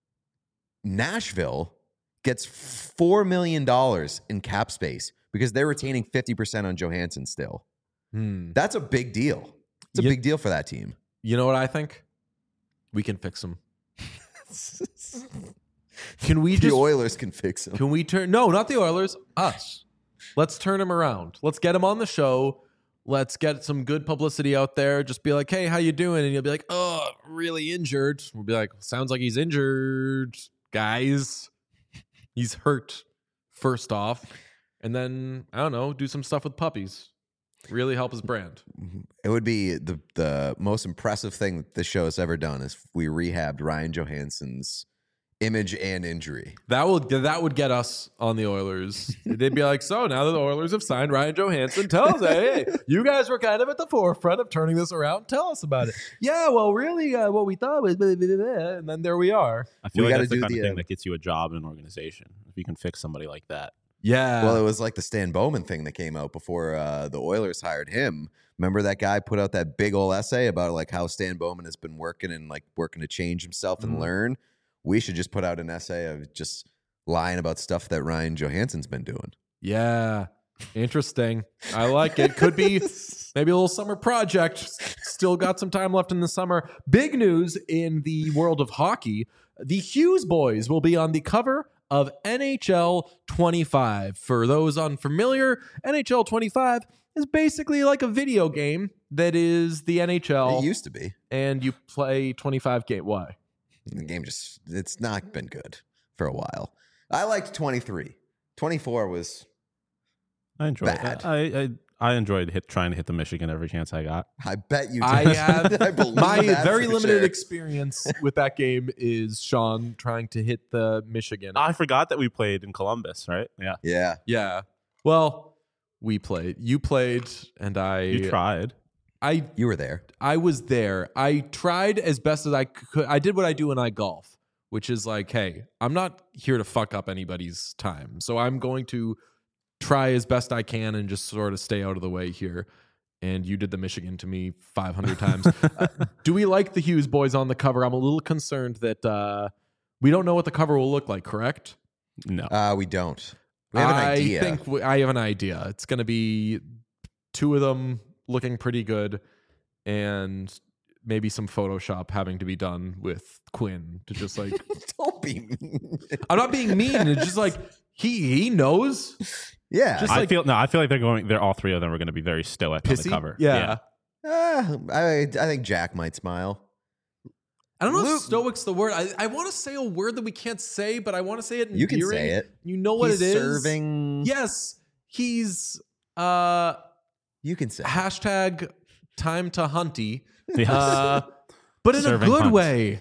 Speaker 3: Nashville gets $4 million in cap space because they're retaining 50% on Johansson still. That's a big deal. It's a big deal for that team.
Speaker 1: You know what I think? We can fix him. Can we
Speaker 3: The
Speaker 1: just
Speaker 3: Oilers can fix him.
Speaker 1: Can we turn? No, not the Oilers. Us. Let's turn him around. Let's get him on the show. Let's get some good publicity out there. Just be like, hey, how you doing? And you'll be like, oh, really injured. We'll be like, sounds like he's injured, guys. He's hurt, first off. And then, I don't know, do some stuff with puppies. Really help his brand.
Speaker 3: It would be the most impressive thing that this show has ever done is if we rehabbed Ryan Johansson's image and injury.
Speaker 1: That would get us on the Oilers. They'd be like, so now that the Oilers have signed Ryan Johansson, tell us, hey, you guys were kind of at the forefront of turning this around. Tell us about it. Yeah, well, really, what we thought was, blah, blah, blah, blah, and then there we are.
Speaker 2: I feel
Speaker 3: We
Speaker 2: like
Speaker 3: gotta
Speaker 2: that's the
Speaker 3: do
Speaker 2: kind of
Speaker 3: the,
Speaker 2: thing that gets you a job in an organization. If you can fix somebody like that.
Speaker 1: Yeah.
Speaker 3: Well, it was like the Stan Bowman thing that came out before the Oilers hired him. Remember that guy put out that big old essay about like how Stan Bowman has been working to change himself and learn. We should just put out an essay of just lying about stuff that Ryan Johansson's been doing.
Speaker 1: Yeah. Interesting. I like it. Could be maybe a little summer project. Still got some time left in the summer. Big news in the world of hockey. The Hughes boys will be on the cover of NHL 25. For those unfamiliar, NHL 25 is basically like a video game that is the NHL.
Speaker 3: It used to be.
Speaker 1: And you play 25 game. Why?
Speaker 3: The game it's not been good for a while. I liked 23. 24 was
Speaker 2: I enjoyed
Speaker 3: bad.
Speaker 2: it. I enjoyed trying to hit the Michigan every chance I got.
Speaker 3: I bet you did.
Speaker 1: I have
Speaker 3: I believe
Speaker 1: my
Speaker 3: that
Speaker 1: very
Speaker 3: for
Speaker 1: limited
Speaker 3: sure.
Speaker 1: experience with that game is Sean trying to hit the Michigan.
Speaker 2: I forgot that we played in Columbus, right? Yeah.
Speaker 3: Yeah.
Speaker 1: Yeah. Well, we played. You played, and
Speaker 2: You tried.
Speaker 3: You were there.
Speaker 1: I was there. I tried as best as I could. I did what I do when I golf, which is like, hey, I'm not here to fuck up anybody's time. So I'm going to try as best I can and just sort of stay out of the way here. And you did the Michigan to me 500 times. Do we like the Hughes boys on the cover? I'm a little concerned that we don't know what the cover will look like, correct?
Speaker 2: No.
Speaker 3: We don't. We have an idea.
Speaker 1: I think I have an idea. It's going to be two of them looking pretty good and maybe some Photoshop having to be done with Quinn to just like
Speaker 3: Don't be mean.
Speaker 1: I'm not being mean. It's just like he knows.
Speaker 3: Yeah.
Speaker 1: Just
Speaker 2: I
Speaker 1: like
Speaker 2: feel like they're all three of them are going to be very stoic on the
Speaker 1: pissy.
Speaker 2: cover.
Speaker 1: Yeah.
Speaker 3: I think Jack might smile.
Speaker 1: I don't know
Speaker 3: Luke-
Speaker 1: if stoic's the word. I want to say a word that we can't say, but I want to say it.
Speaker 3: You can
Speaker 1: endearing.
Speaker 3: say it.
Speaker 1: You know what
Speaker 3: He's
Speaker 1: it is.
Speaker 3: Serving.
Speaker 1: Yes, he's
Speaker 3: You can say it.
Speaker 1: hashtag time to hunty.
Speaker 2: Yes.
Speaker 1: But in
Speaker 2: Serving
Speaker 1: a good
Speaker 2: hunts.
Speaker 1: way.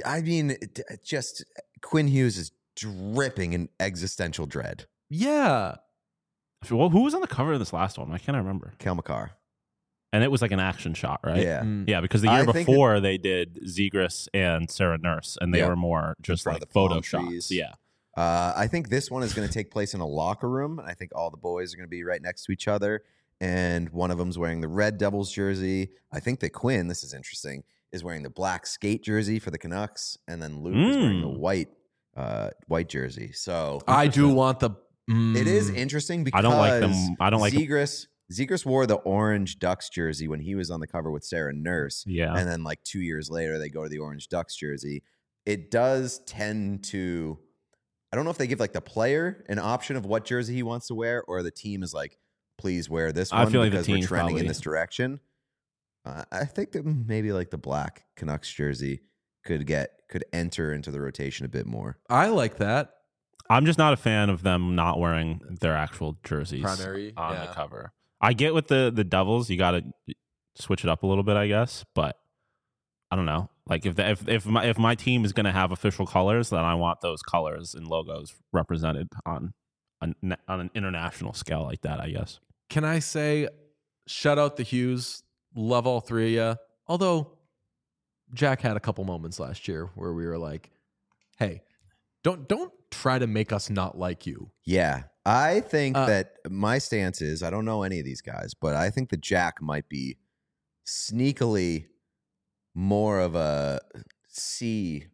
Speaker 3: Just Quinn Hughes is dripping in existential dread.
Speaker 1: Yeah.
Speaker 2: Well, who was on the cover of this last one? I can't remember.
Speaker 3: Kel McCarr.
Speaker 2: And it was like an action shot, right?
Speaker 3: Yeah.
Speaker 1: Mm.
Speaker 2: Yeah, because the
Speaker 3: I
Speaker 2: year
Speaker 3: think
Speaker 2: before they did Zegras and Sarah Nurse, and they
Speaker 3: Yep.
Speaker 2: were more just
Speaker 3: front of
Speaker 2: like
Speaker 3: the palm
Speaker 2: photo shots.
Speaker 3: trees.
Speaker 2: Yeah.
Speaker 3: I think this one is going to take place in a locker room. I think all the boys are going to be right next to each other. And one of them's wearing the red Devils jersey. I think that Quinn, this is interesting, is wearing the black skate jersey for the Canucks. And then Luke is wearing the white jersey. So
Speaker 1: I do want the.
Speaker 3: it is interesting because
Speaker 2: I don't like them. I don't like.
Speaker 3: Zegras wore the orange Ducks jersey when he was on the cover with Sarah Nurse.
Speaker 2: Yeah.
Speaker 3: And then like 2 years later, they go to the orange Ducks jersey. It does tend to, I don't know if they give like the player an option of what jersey he wants to wear, or the team is like, please wear this one
Speaker 2: I feel like the
Speaker 3: because we're
Speaker 2: team's
Speaker 3: trending in
Speaker 2: probably-
Speaker 3: this direction. I think that maybe like the black Canucks jersey could enter into the rotation a bit more.
Speaker 1: I like that.
Speaker 2: I'm just not a fan of them not wearing their actual jerseys
Speaker 1: Primary,
Speaker 2: on
Speaker 1: yeah.
Speaker 2: the cover. I get with the Devils, you got to switch it up a little bit, I guess, but I don't know. Like if my team is going to have official colors, then I want those colors and logos represented on an international scale like that, I guess.
Speaker 1: Can I say, shout out the Hughes, love all three of you. Although Jack had a couple moments last year where we were like, hey, don't try to make us not like you.
Speaker 3: Yeah. I think that my stance is, I don't know any of these guys, but I think that Jack might be sneakily more of a C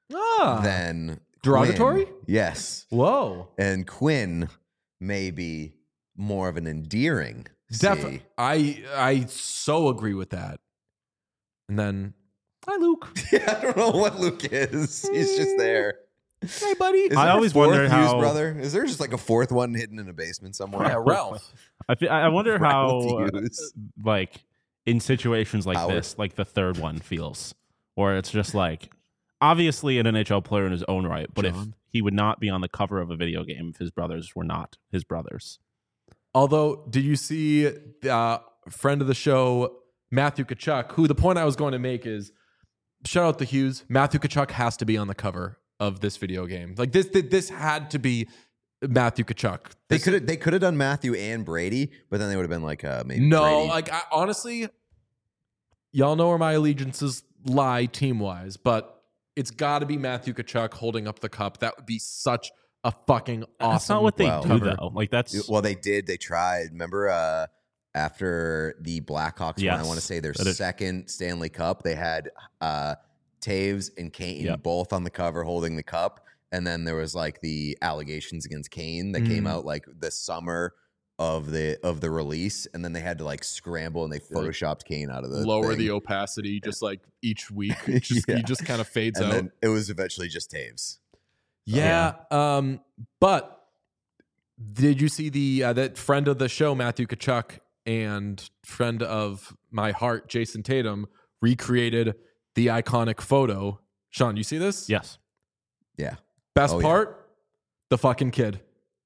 Speaker 3: than
Speaker 1: derogatory?
Speaker 3: Quinn. Yes.
Speaker 1: Whoa.
Speaker 3: And Quinn may be more of an endearing C.
Speaker 1: I so agree with that. And then, hi, Luke.
Speaker 3: Yeah, I don't know what Luke is. He's just there.
Speaker 1: Hey, buddy.
Speaker 3: Is
Speaker 2: I
Speaker 3: there
Speaker 2: always
Speaker 3: a fourth
Speaker 2: wonder
Speaker 3: Hughes
Speaker 2: how-
Speaker 3: brother? Is there just like a fourth one hidden in a basement somewhere?
Speaker 1: Yeah, Ralph.
Speaker 2: I wonder how,
Speaker 3: Ralph Hughes.
Speaker 2: like, in situations like
Speaker 3: Howard.
Speaker 2: this, like the third one feels, or it's just like, obviously an NHL player in his own right, but if
Speaker 1: John.
Speaker 2: he would not be on the cover of a video game if his brothers were not his brothers.
Speaker 1: Although, did you see friend of the show, Matthew Tkachuk, who the point I was going to make is, shout out to Hughes, Matthew Tkachuk has to be on the cover of this video game. Like this had to be Matthew Tkachuk.
Speaker 3: They could have done Matthew and Brady, but then they would have been like maybe
Speaker 1: No,
Speaker 3: Brady.
Speaker 1: like honestly, y'all know where my allegiances lie team wise, but it's got to be Matthew Tkachuk holding up the cup. That would be such a fucking awesome.
Speaker 2: That's not what they
Speaker 3: Well,
Speaker 2: do,
Speaker 1: cover.
Speaker 2: though. Like, that's
Speaker 3: Well, they did. They tried. Remember after the Blackhawks won, I
Speaker 2: Yes.
Speaker 3: want to say their
Speaker 2: That is-
Speaker 3: second Stanley Cup, they had Taves and Kane
Speaker 2: Yep.
Speaker 3: both on the cover holding the cup. And then there was like the allegations against Kane that came out like the summer of the release, and then they had to like scramble and they photoshopped Kane out of the
Speaker 1: lower
Speaker 3: thing.
Speaker 1: the opacity just like each week.
Speaker 3: Yeah.
Speaker 1: He just kind of fades
Speaker 3: and
Speaker 1: out.
Speaker 3: then it was eventually just Taves.
Speaker 1: Yeah. But did you see the that friend of the show, Matthew Tkachuk, and friend of my heart, Jason Tatum, recreated the iconic photo? Sean, you see this?
Speaker 2: yes.
Speaker 3: Yeah.
Speaker 1: Best
Speaker 3: Oh, yeah.
Speaker 1: part, The fucking kid.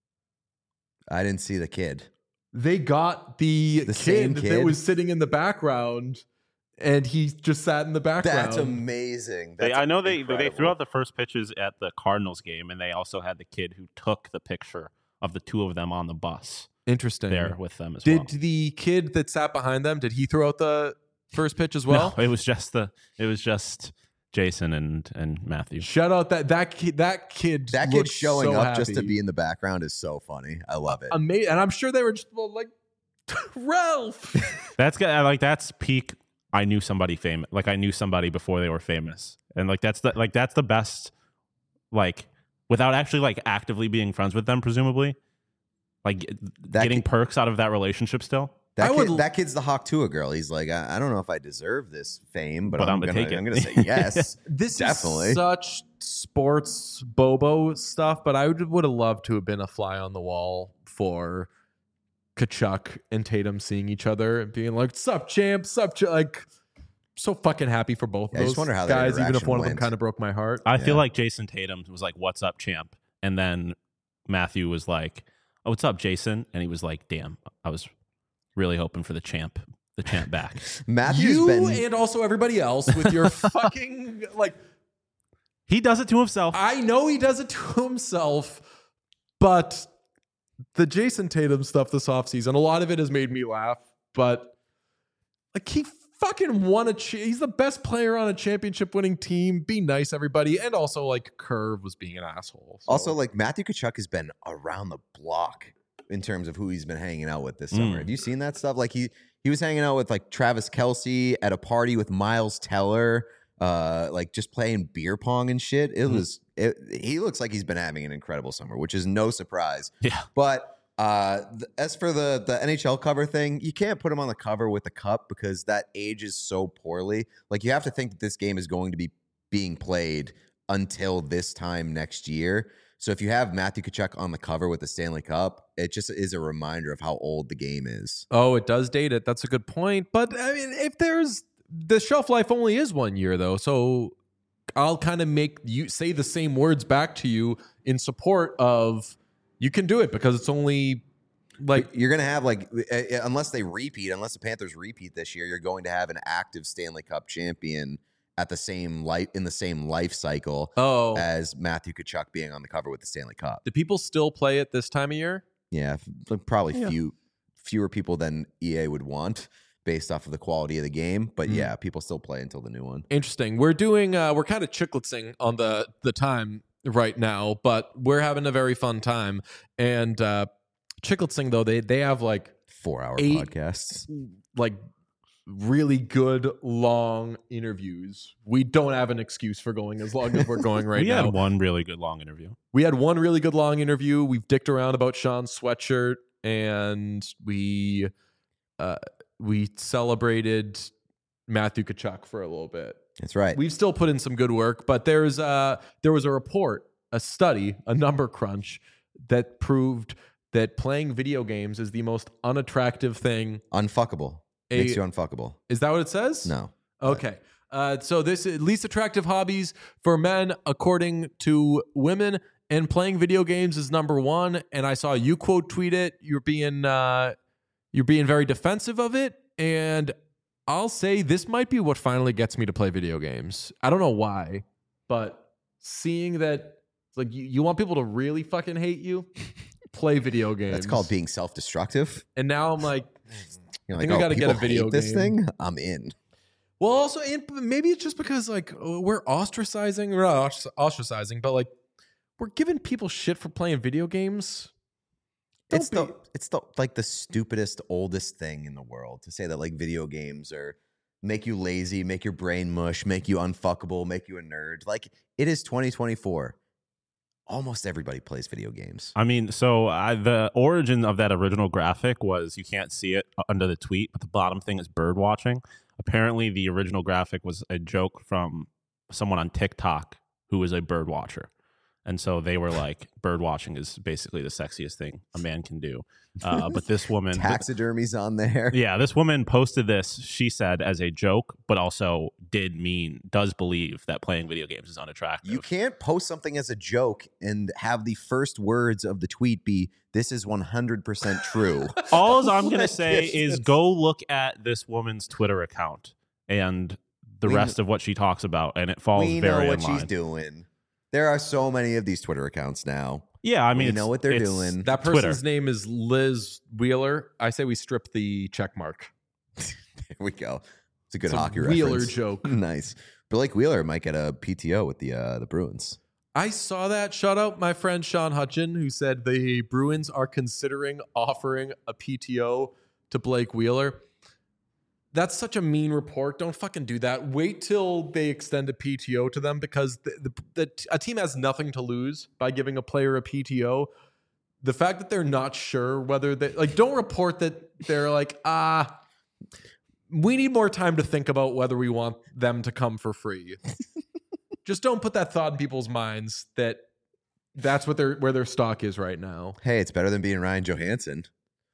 Speaker 3: I didn't see the kid.
Speaker 1: They got the
Speaker 3: same
Speaker 1: kid
Speaker 3: kid
Speaker 1: that was sitting in the background, and he just sat in the background.
Speaker 3: That's amazing.
Speaker 2: I know they
Speaker 3: incredible.
Speaker 2: threw out the first pitches at the Cardinals game, and they also had the kid who took the picture of the two of them on the bus
Speaker 1: Interesting.
Speaker 2: there with them as well.
Speaker 1: Did the kid that sat behind them, did he throw out the first pitch as well?
Speaker 2: No, it was just Jason and Matthew.
Speaker 1: Shout out that kid. That kid
Speaker 3: showing
Speaker 1: so
Speaker 3: up just to
Speaker 1: happy.
Speaker 3: be in the background is so funny. I love it.
Speaker 1: Amazing. And I'm sure they were just like, Ralph.
Speaker 2: That's peak. I knew somebody famous. Like I knew somebody before they were famous, and that's the best. Like without actually like actively being friends with them, presumably, like getting perks out of that relationship still.
Speaker 3: That kid's the Hawk Tua girl. He's like, I don't know if I deserve this fame, but I'm gonna
Speaker 2: take it.
Speaker 3: I'm gonna say yes.
Speaker 1: This
Speaker 3: definitely
Speaker 1: is such sports bobo stuff, but I would have loved to have been a fly on the wall for Kachuk and Tatum seeing each other and being like, "Sup, champ? Sup, like." So fucking happy for both of those
Speaker 3: I just wonder how that
Speaker 1: guys, even if
Speaker 3: interaction
Speaker 1: one of them
Speaker 3: went.
Speaker 1: kind of broke my heart.
Speaker 2: I feel like Jason Tatum was like, "What's up, champ?" And then Matthew was like, "Oh, what's up, Jason?" And he was like, "Damn, I was really hoping for the champ back."
Speaker 3: Matthew's
Speaker 1: You
Speaker 3: been
Speaker 1: and also everybody else with your fucking like.
Speaker 2: He does it to himself.
Speaker 1: I know he does it to himself, but the Jason Tatum stuff this offseason, a lot of it has made me laugh. But like he fucking won he's the best player on a championship-winning team. Be nice, everybody, and also like Curve was being an asshole. So.
Speaker 3: Also, like Matthew Kachuk has been around the block in terms of who he's been hanging out with this summer. Have you seen that stuff? Like he was hanging out with like Travis Kelce at a party with Miles Teller, like just playing beer pong and shit. He looks like he's been having an incredible summer, which is no surprise.
Speaker 2: Yeah.
Speaker 3: But as for the NHL cover thing, you can't put him on the cover with the cup because that ages so poorly. Like you have to think that this game is going to be being played until this time next year. So if you have Matthew Kachuk on the cover with the Stanley Cup, it just is a reminder of how old the game is.
Speaker 1: Oh, it does date it. That's a good point. But I mean, if there's the shelf life only is 1 year though, so I'll kind of make you say the same words back to you in support of you can do it because it's only like
Speaker 3: you're going to have like unless the Panthers repeat this year, you're going to have an active Stanley Cup champion at the same life cycle as Matthew Kachuk being on the cover with the Stanley Cup.
Speaker 1: Do people still play it this time of year?
Speaker 3: Yeah, probably fewer people than EA would want based off of the quality of the game. But yeah, people still play until the new one.
Speaker 1: Interesting. We're doing we're kind of chicklitzing on the time right now, but we're having a very fun time. And chicklitzing though, they have like
Speaker 3: 4-hour podcasts,
Speaker 1: like really good long interviews. We don't have an excuse for going as long as we're going right now.
Speaker 2: We had one really good long interview.
Speaker 1: We've dicked around about Sean's sweatshirt, and we celebrated Matthew Kachuk for a little bit.
Speaker 3: That's right.
Speaker 1: We've still put in some good work, but there was a report, a study, a number crunch that proved that playing video games is the most unattractive thing.
Speaker 3: Unfuckable. Makes you unfuckable.
Speaker 1: Is that what it says?
Speaker 3: No.
Speaker 1: Okay. So this is least attractive hobbies for men according to women, and playing video games is number one. And I saw you quote tweet it. You're being very defensive of it, and I'll say this might be what finally gets me to play video games. I don't know why, but seeing that it's like you want people to really fucking hate you, play video games.
Speaker 3: That's called being self-destructive.
Speaker 1: And now I'm like,
Speaker 3: You're
Speaker 1: I think I got to get a video
Speaker 3: this
Speaker 1: game.
Speaker 3: thing. I'm in.
Speaker 1: Well, also, and maybe it's just because like we're ostracizing, we're not ostracizing, but like we're giving people shit for playing video games.
Speaker 3: It's the like the stupidest, oldest thing in the world to say that like video games are make you lazy, make your brain mush, make you unfuckable, make you a nerd. Like it is 2024. Almost everybody plays video games.
Speaker 2: I mean, so the origin of that original graphic was, you can't see it under the tweet, but the bottom thing is bird watching. Apparently, the original graphic was a joke from someone on TikTok who is a bird watcher. And so they were like, bird watching is basically the sexiest thing a man can do. But this woman,
Speaker 3: Taxidermy's on there.
Speaker 2: yeah, this woman posted this, she said, as a joke, but also does believe that playing video games is unattractive.
Speaker 3: You can't post something as a joke and have the first words of the tweet be, "This is 100% true."
Speaker 2: All I'm going to say is go look at this woman's Twitter account and the rest of what she talks about, and it falls
Speaker 3: We
Speaker 2: very
Speaker 3: know what
Speaker 2: in line.
Speaker 3: she's doing. There are so many of these Twitter accounts now.
Speaker 2: Yeah, I mean,
Speaker 3: we know what they're doing.
Speaker 1: That person's
Speaker 2: Twitter.
Speaker 1: name is Liz Wheeler. I say we strip the check mark.
Speaker 3: There we go. It's a good
Speaker 1: Some
Speaker 3: hockey
Speaker 1: Wheeler
Speaker 3: reference.
Speaker 1: joke.
Speaker 3: Nice. Blake Wheeler might get a PTO with the Bruins.
Speaker 1: I saw that. Shout out my friend Sean Hutchin, who said the Bruins are considering offering a PTO to Blake Wheeler. That's such a mean report. Don't fucking do that. Wait till they extend a PTO to them, because a team has nothing to lose by giving a player a PTO. The fact that they're not sure whether they don't report that they're like, we need more time to think about whether we want them to come for free. Just don't put that thought in people's minds that that's what where their stock is right now.
Speaker 3: Hey, it's better than being Ryan Johansson.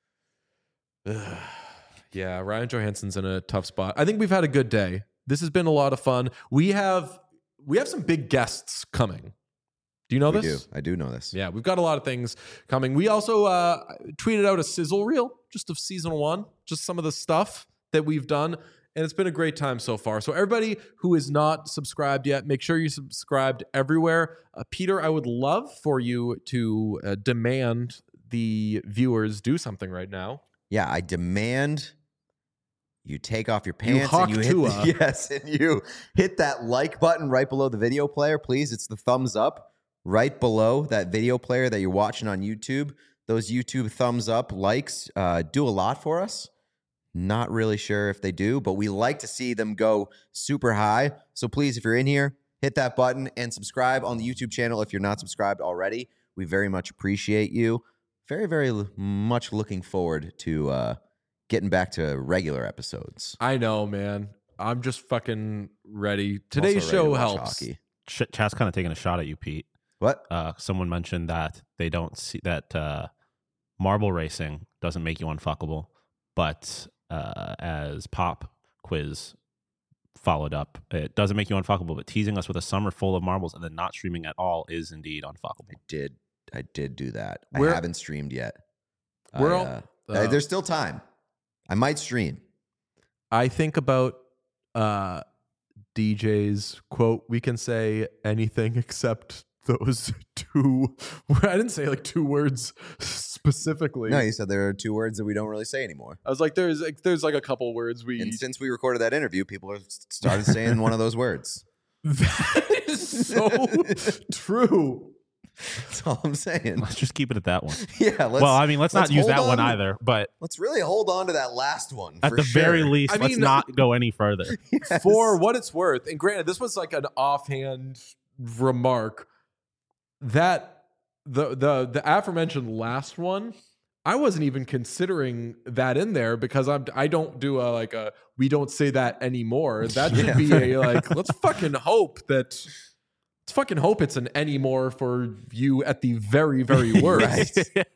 Speaker 1: Yeah, Ryan Johansson's in a tough spot. I think we've had a good day. This has been a lot of fun. We have some big guests coming. Do you know this?
Speaker 3: I do know this.
Speaker 1: Yeah, we've got a lot of things coming. We also tweeted out a sizzle reel just of season 1, just some of the stuff that we've done. And it's been a great time so far. So everybody who is not subscribed yet, make sure you subscribed everywhere. Peter, I would love for you to demand the viewers do something right now.
Speaker 3: Yeah, I demand you take off your pants
Speaker 1: hawk
Speaker 3: and you hit that like button right below the video player, please. It's the thumbs up right below that video player that you're watching on YouTube. Those YouTube thumbs up likes do a lot for us. Not really sure if they do, but we like to see them go super high. So please, if you're in here, hit that button and subscribe on the YouTube channel if you're not subscribed already. We very much appreciate you. Very, very much looking forward to getting back to regular episodes.
Speaker 1: I know, man. I'm just fucking ready. Today's show helps.
Speaker 3: Hockey.
Speaker 2: Chat's kind of taking a shot at you, Pete.
Speaker 3: What?
Speaker 2: Someone mentioned that they don't see that marble racing doesn't make you unfuckable, but as Pop Quiz followed up, it doesn't make you unfuckable, but teasing us with a summer full of marbles and then not streaming at all is indeed unfuckable.
Speaker 3: I did do that. I
Speaker 1: We're-
Speaker 3: haven't streamed yet.
Speaker 1: There's
Speaker 3: There's still time. I might stream.
Speaker 1: I think about DJ's quote, "We can say anything except those two." I didn't say like 2 words specifically.
Speaker 3: No, you said there are 2 words that we don't really say anymore.
Speaker 1: I was like, there's like a couple words we.
Speaker 3: And since we recorded that interview, people have started saying one of those words.
Speaker 1: That is so true.
Speaker 3: That's all I'm saying.
Speaker 2: Let's just keep it at that one.
Speaker 3: Yeah.
Speaker 2: Well, I mean, let's not use
Speaker 3: hold
Speaker 2: that one
Speaker 3: on.
Speaker 2: either, but
Speaker 3: Let's really hold on to that last one.
Speaker 2: at
Speaker 3: for
Speaker 2: the very
Speaker 3: sure.
Speaker 2: least,
Speaker 1: I
Speaker 2: let's
Speaker 1: mean-
Speaker 2: not go any further.
Speaker 3: Yes.
Speaker 1: For what it's worth, and granted, this was like an offhand remark, that the aforementioned last one, I wasn't even considering that in there because I don't do a we don't say that anymore. That should be a let's fucking hope it's an anymore for you at the very, very worst.
Speaker 3: Right.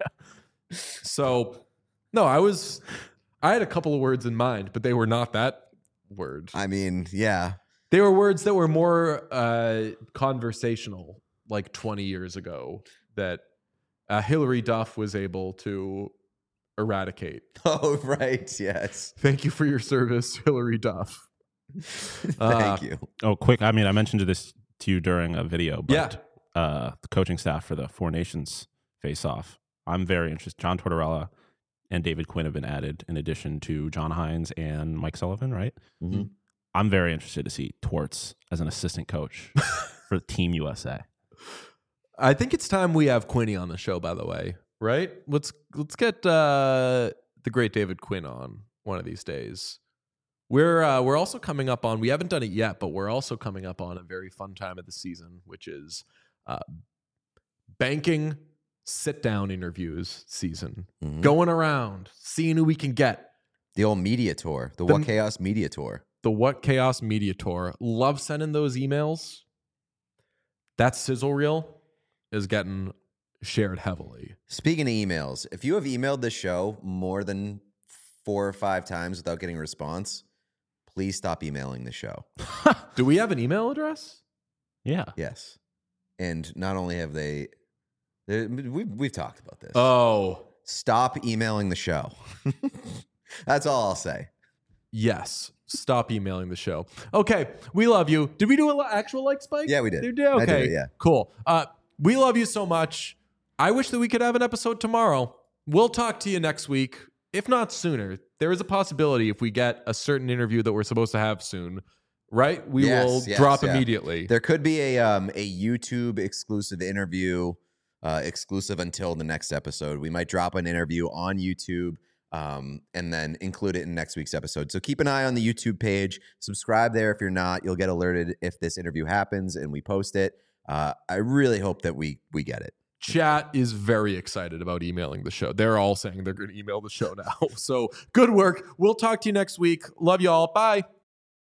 Speaker 1: So no, I had a couple of words in mind, but they were not that word.
Speaker 3: I mean, yeah.
Speaker 1: They were words that were more conversational, like 20 years ago, that Hillary Duff was able to eradicate.
Speaker 3: Oh, right. Yes.
Speaker 1: Thank you for your service, Hillary Duff.
Speaker 3: Thank you.
Speaker 2: Oh, quick. I mean, I mentioned this to you during a video, but
Speaker 1: Yeah.
Speaker 2: the coaching staff for the Four Nations face-off, I'm very interested. John Tortorella and David Quinn have been added in addition to John Hines and Mike Sullivan, right?
Speaker 3: Mhm.
Speaker 2: I'm very interested to see Torts as an assistant coach for Team USA.
Speaker 1: I think it's time we have Quinny on the show, by the way, right? Let's get the great David Quinn on one of these days. We're also coming up on, we haven't done it yet, but we're also coming up on a very fun time of the season, which is banking sit-down interviews season.
Speaker 3: Mhm.
Speaker 1: Going around, seeing who we can get.
Speaker 3: The old media tour, the
Speaker 1: The-
Speaker 3: What Chaos media tour.
Speaker 1: The What Chaos Media Tour. Love sending those emails. That sizzle reel is getting shared heavily.
Speaker 3: Speaking of emails, if you have emailed the show more than 4 or 5 times without getting a response, please stop emailing the show.
Speaker 1: Do we have an email address?
Speaker 2: Yeah.
Speaker 3: Yes. And not only have we've talked about this.
Speaker 1: Oh,
Speaker 3: Stop emailing the show. That's all I'll say.
Speaker 1: yes. Stop emailing the show. Okay. We love you. Did we do an actual like spike?
Speaker 3: Yeah, we did.
Speaker 1: You did? Okay.
Speaker 3: I did, yeah.
Speaker 1: Cool. We love you so much. I wish that we could have an episode tomorrow. We'll talk to you next week, if not sooner. There is a possibility if we get a certain interview that we're supposed to have soon, right? We will drop immediately.
Speaker 3: There could be a YouTube exclusive interview, exclusive until the next episode. We might drop an interview on YouTube and then include it in next week's episode. So keep an eye on the YouTube page. Subscribe there if you're not. You'll get alerted if this interview happens and we post it. I really hope that we get it.
Speaker 1: Chat is very excited about emailing the show. They're all saying they're going to email the show now. So good work. We'll talk to you next week. Love you all. Bye.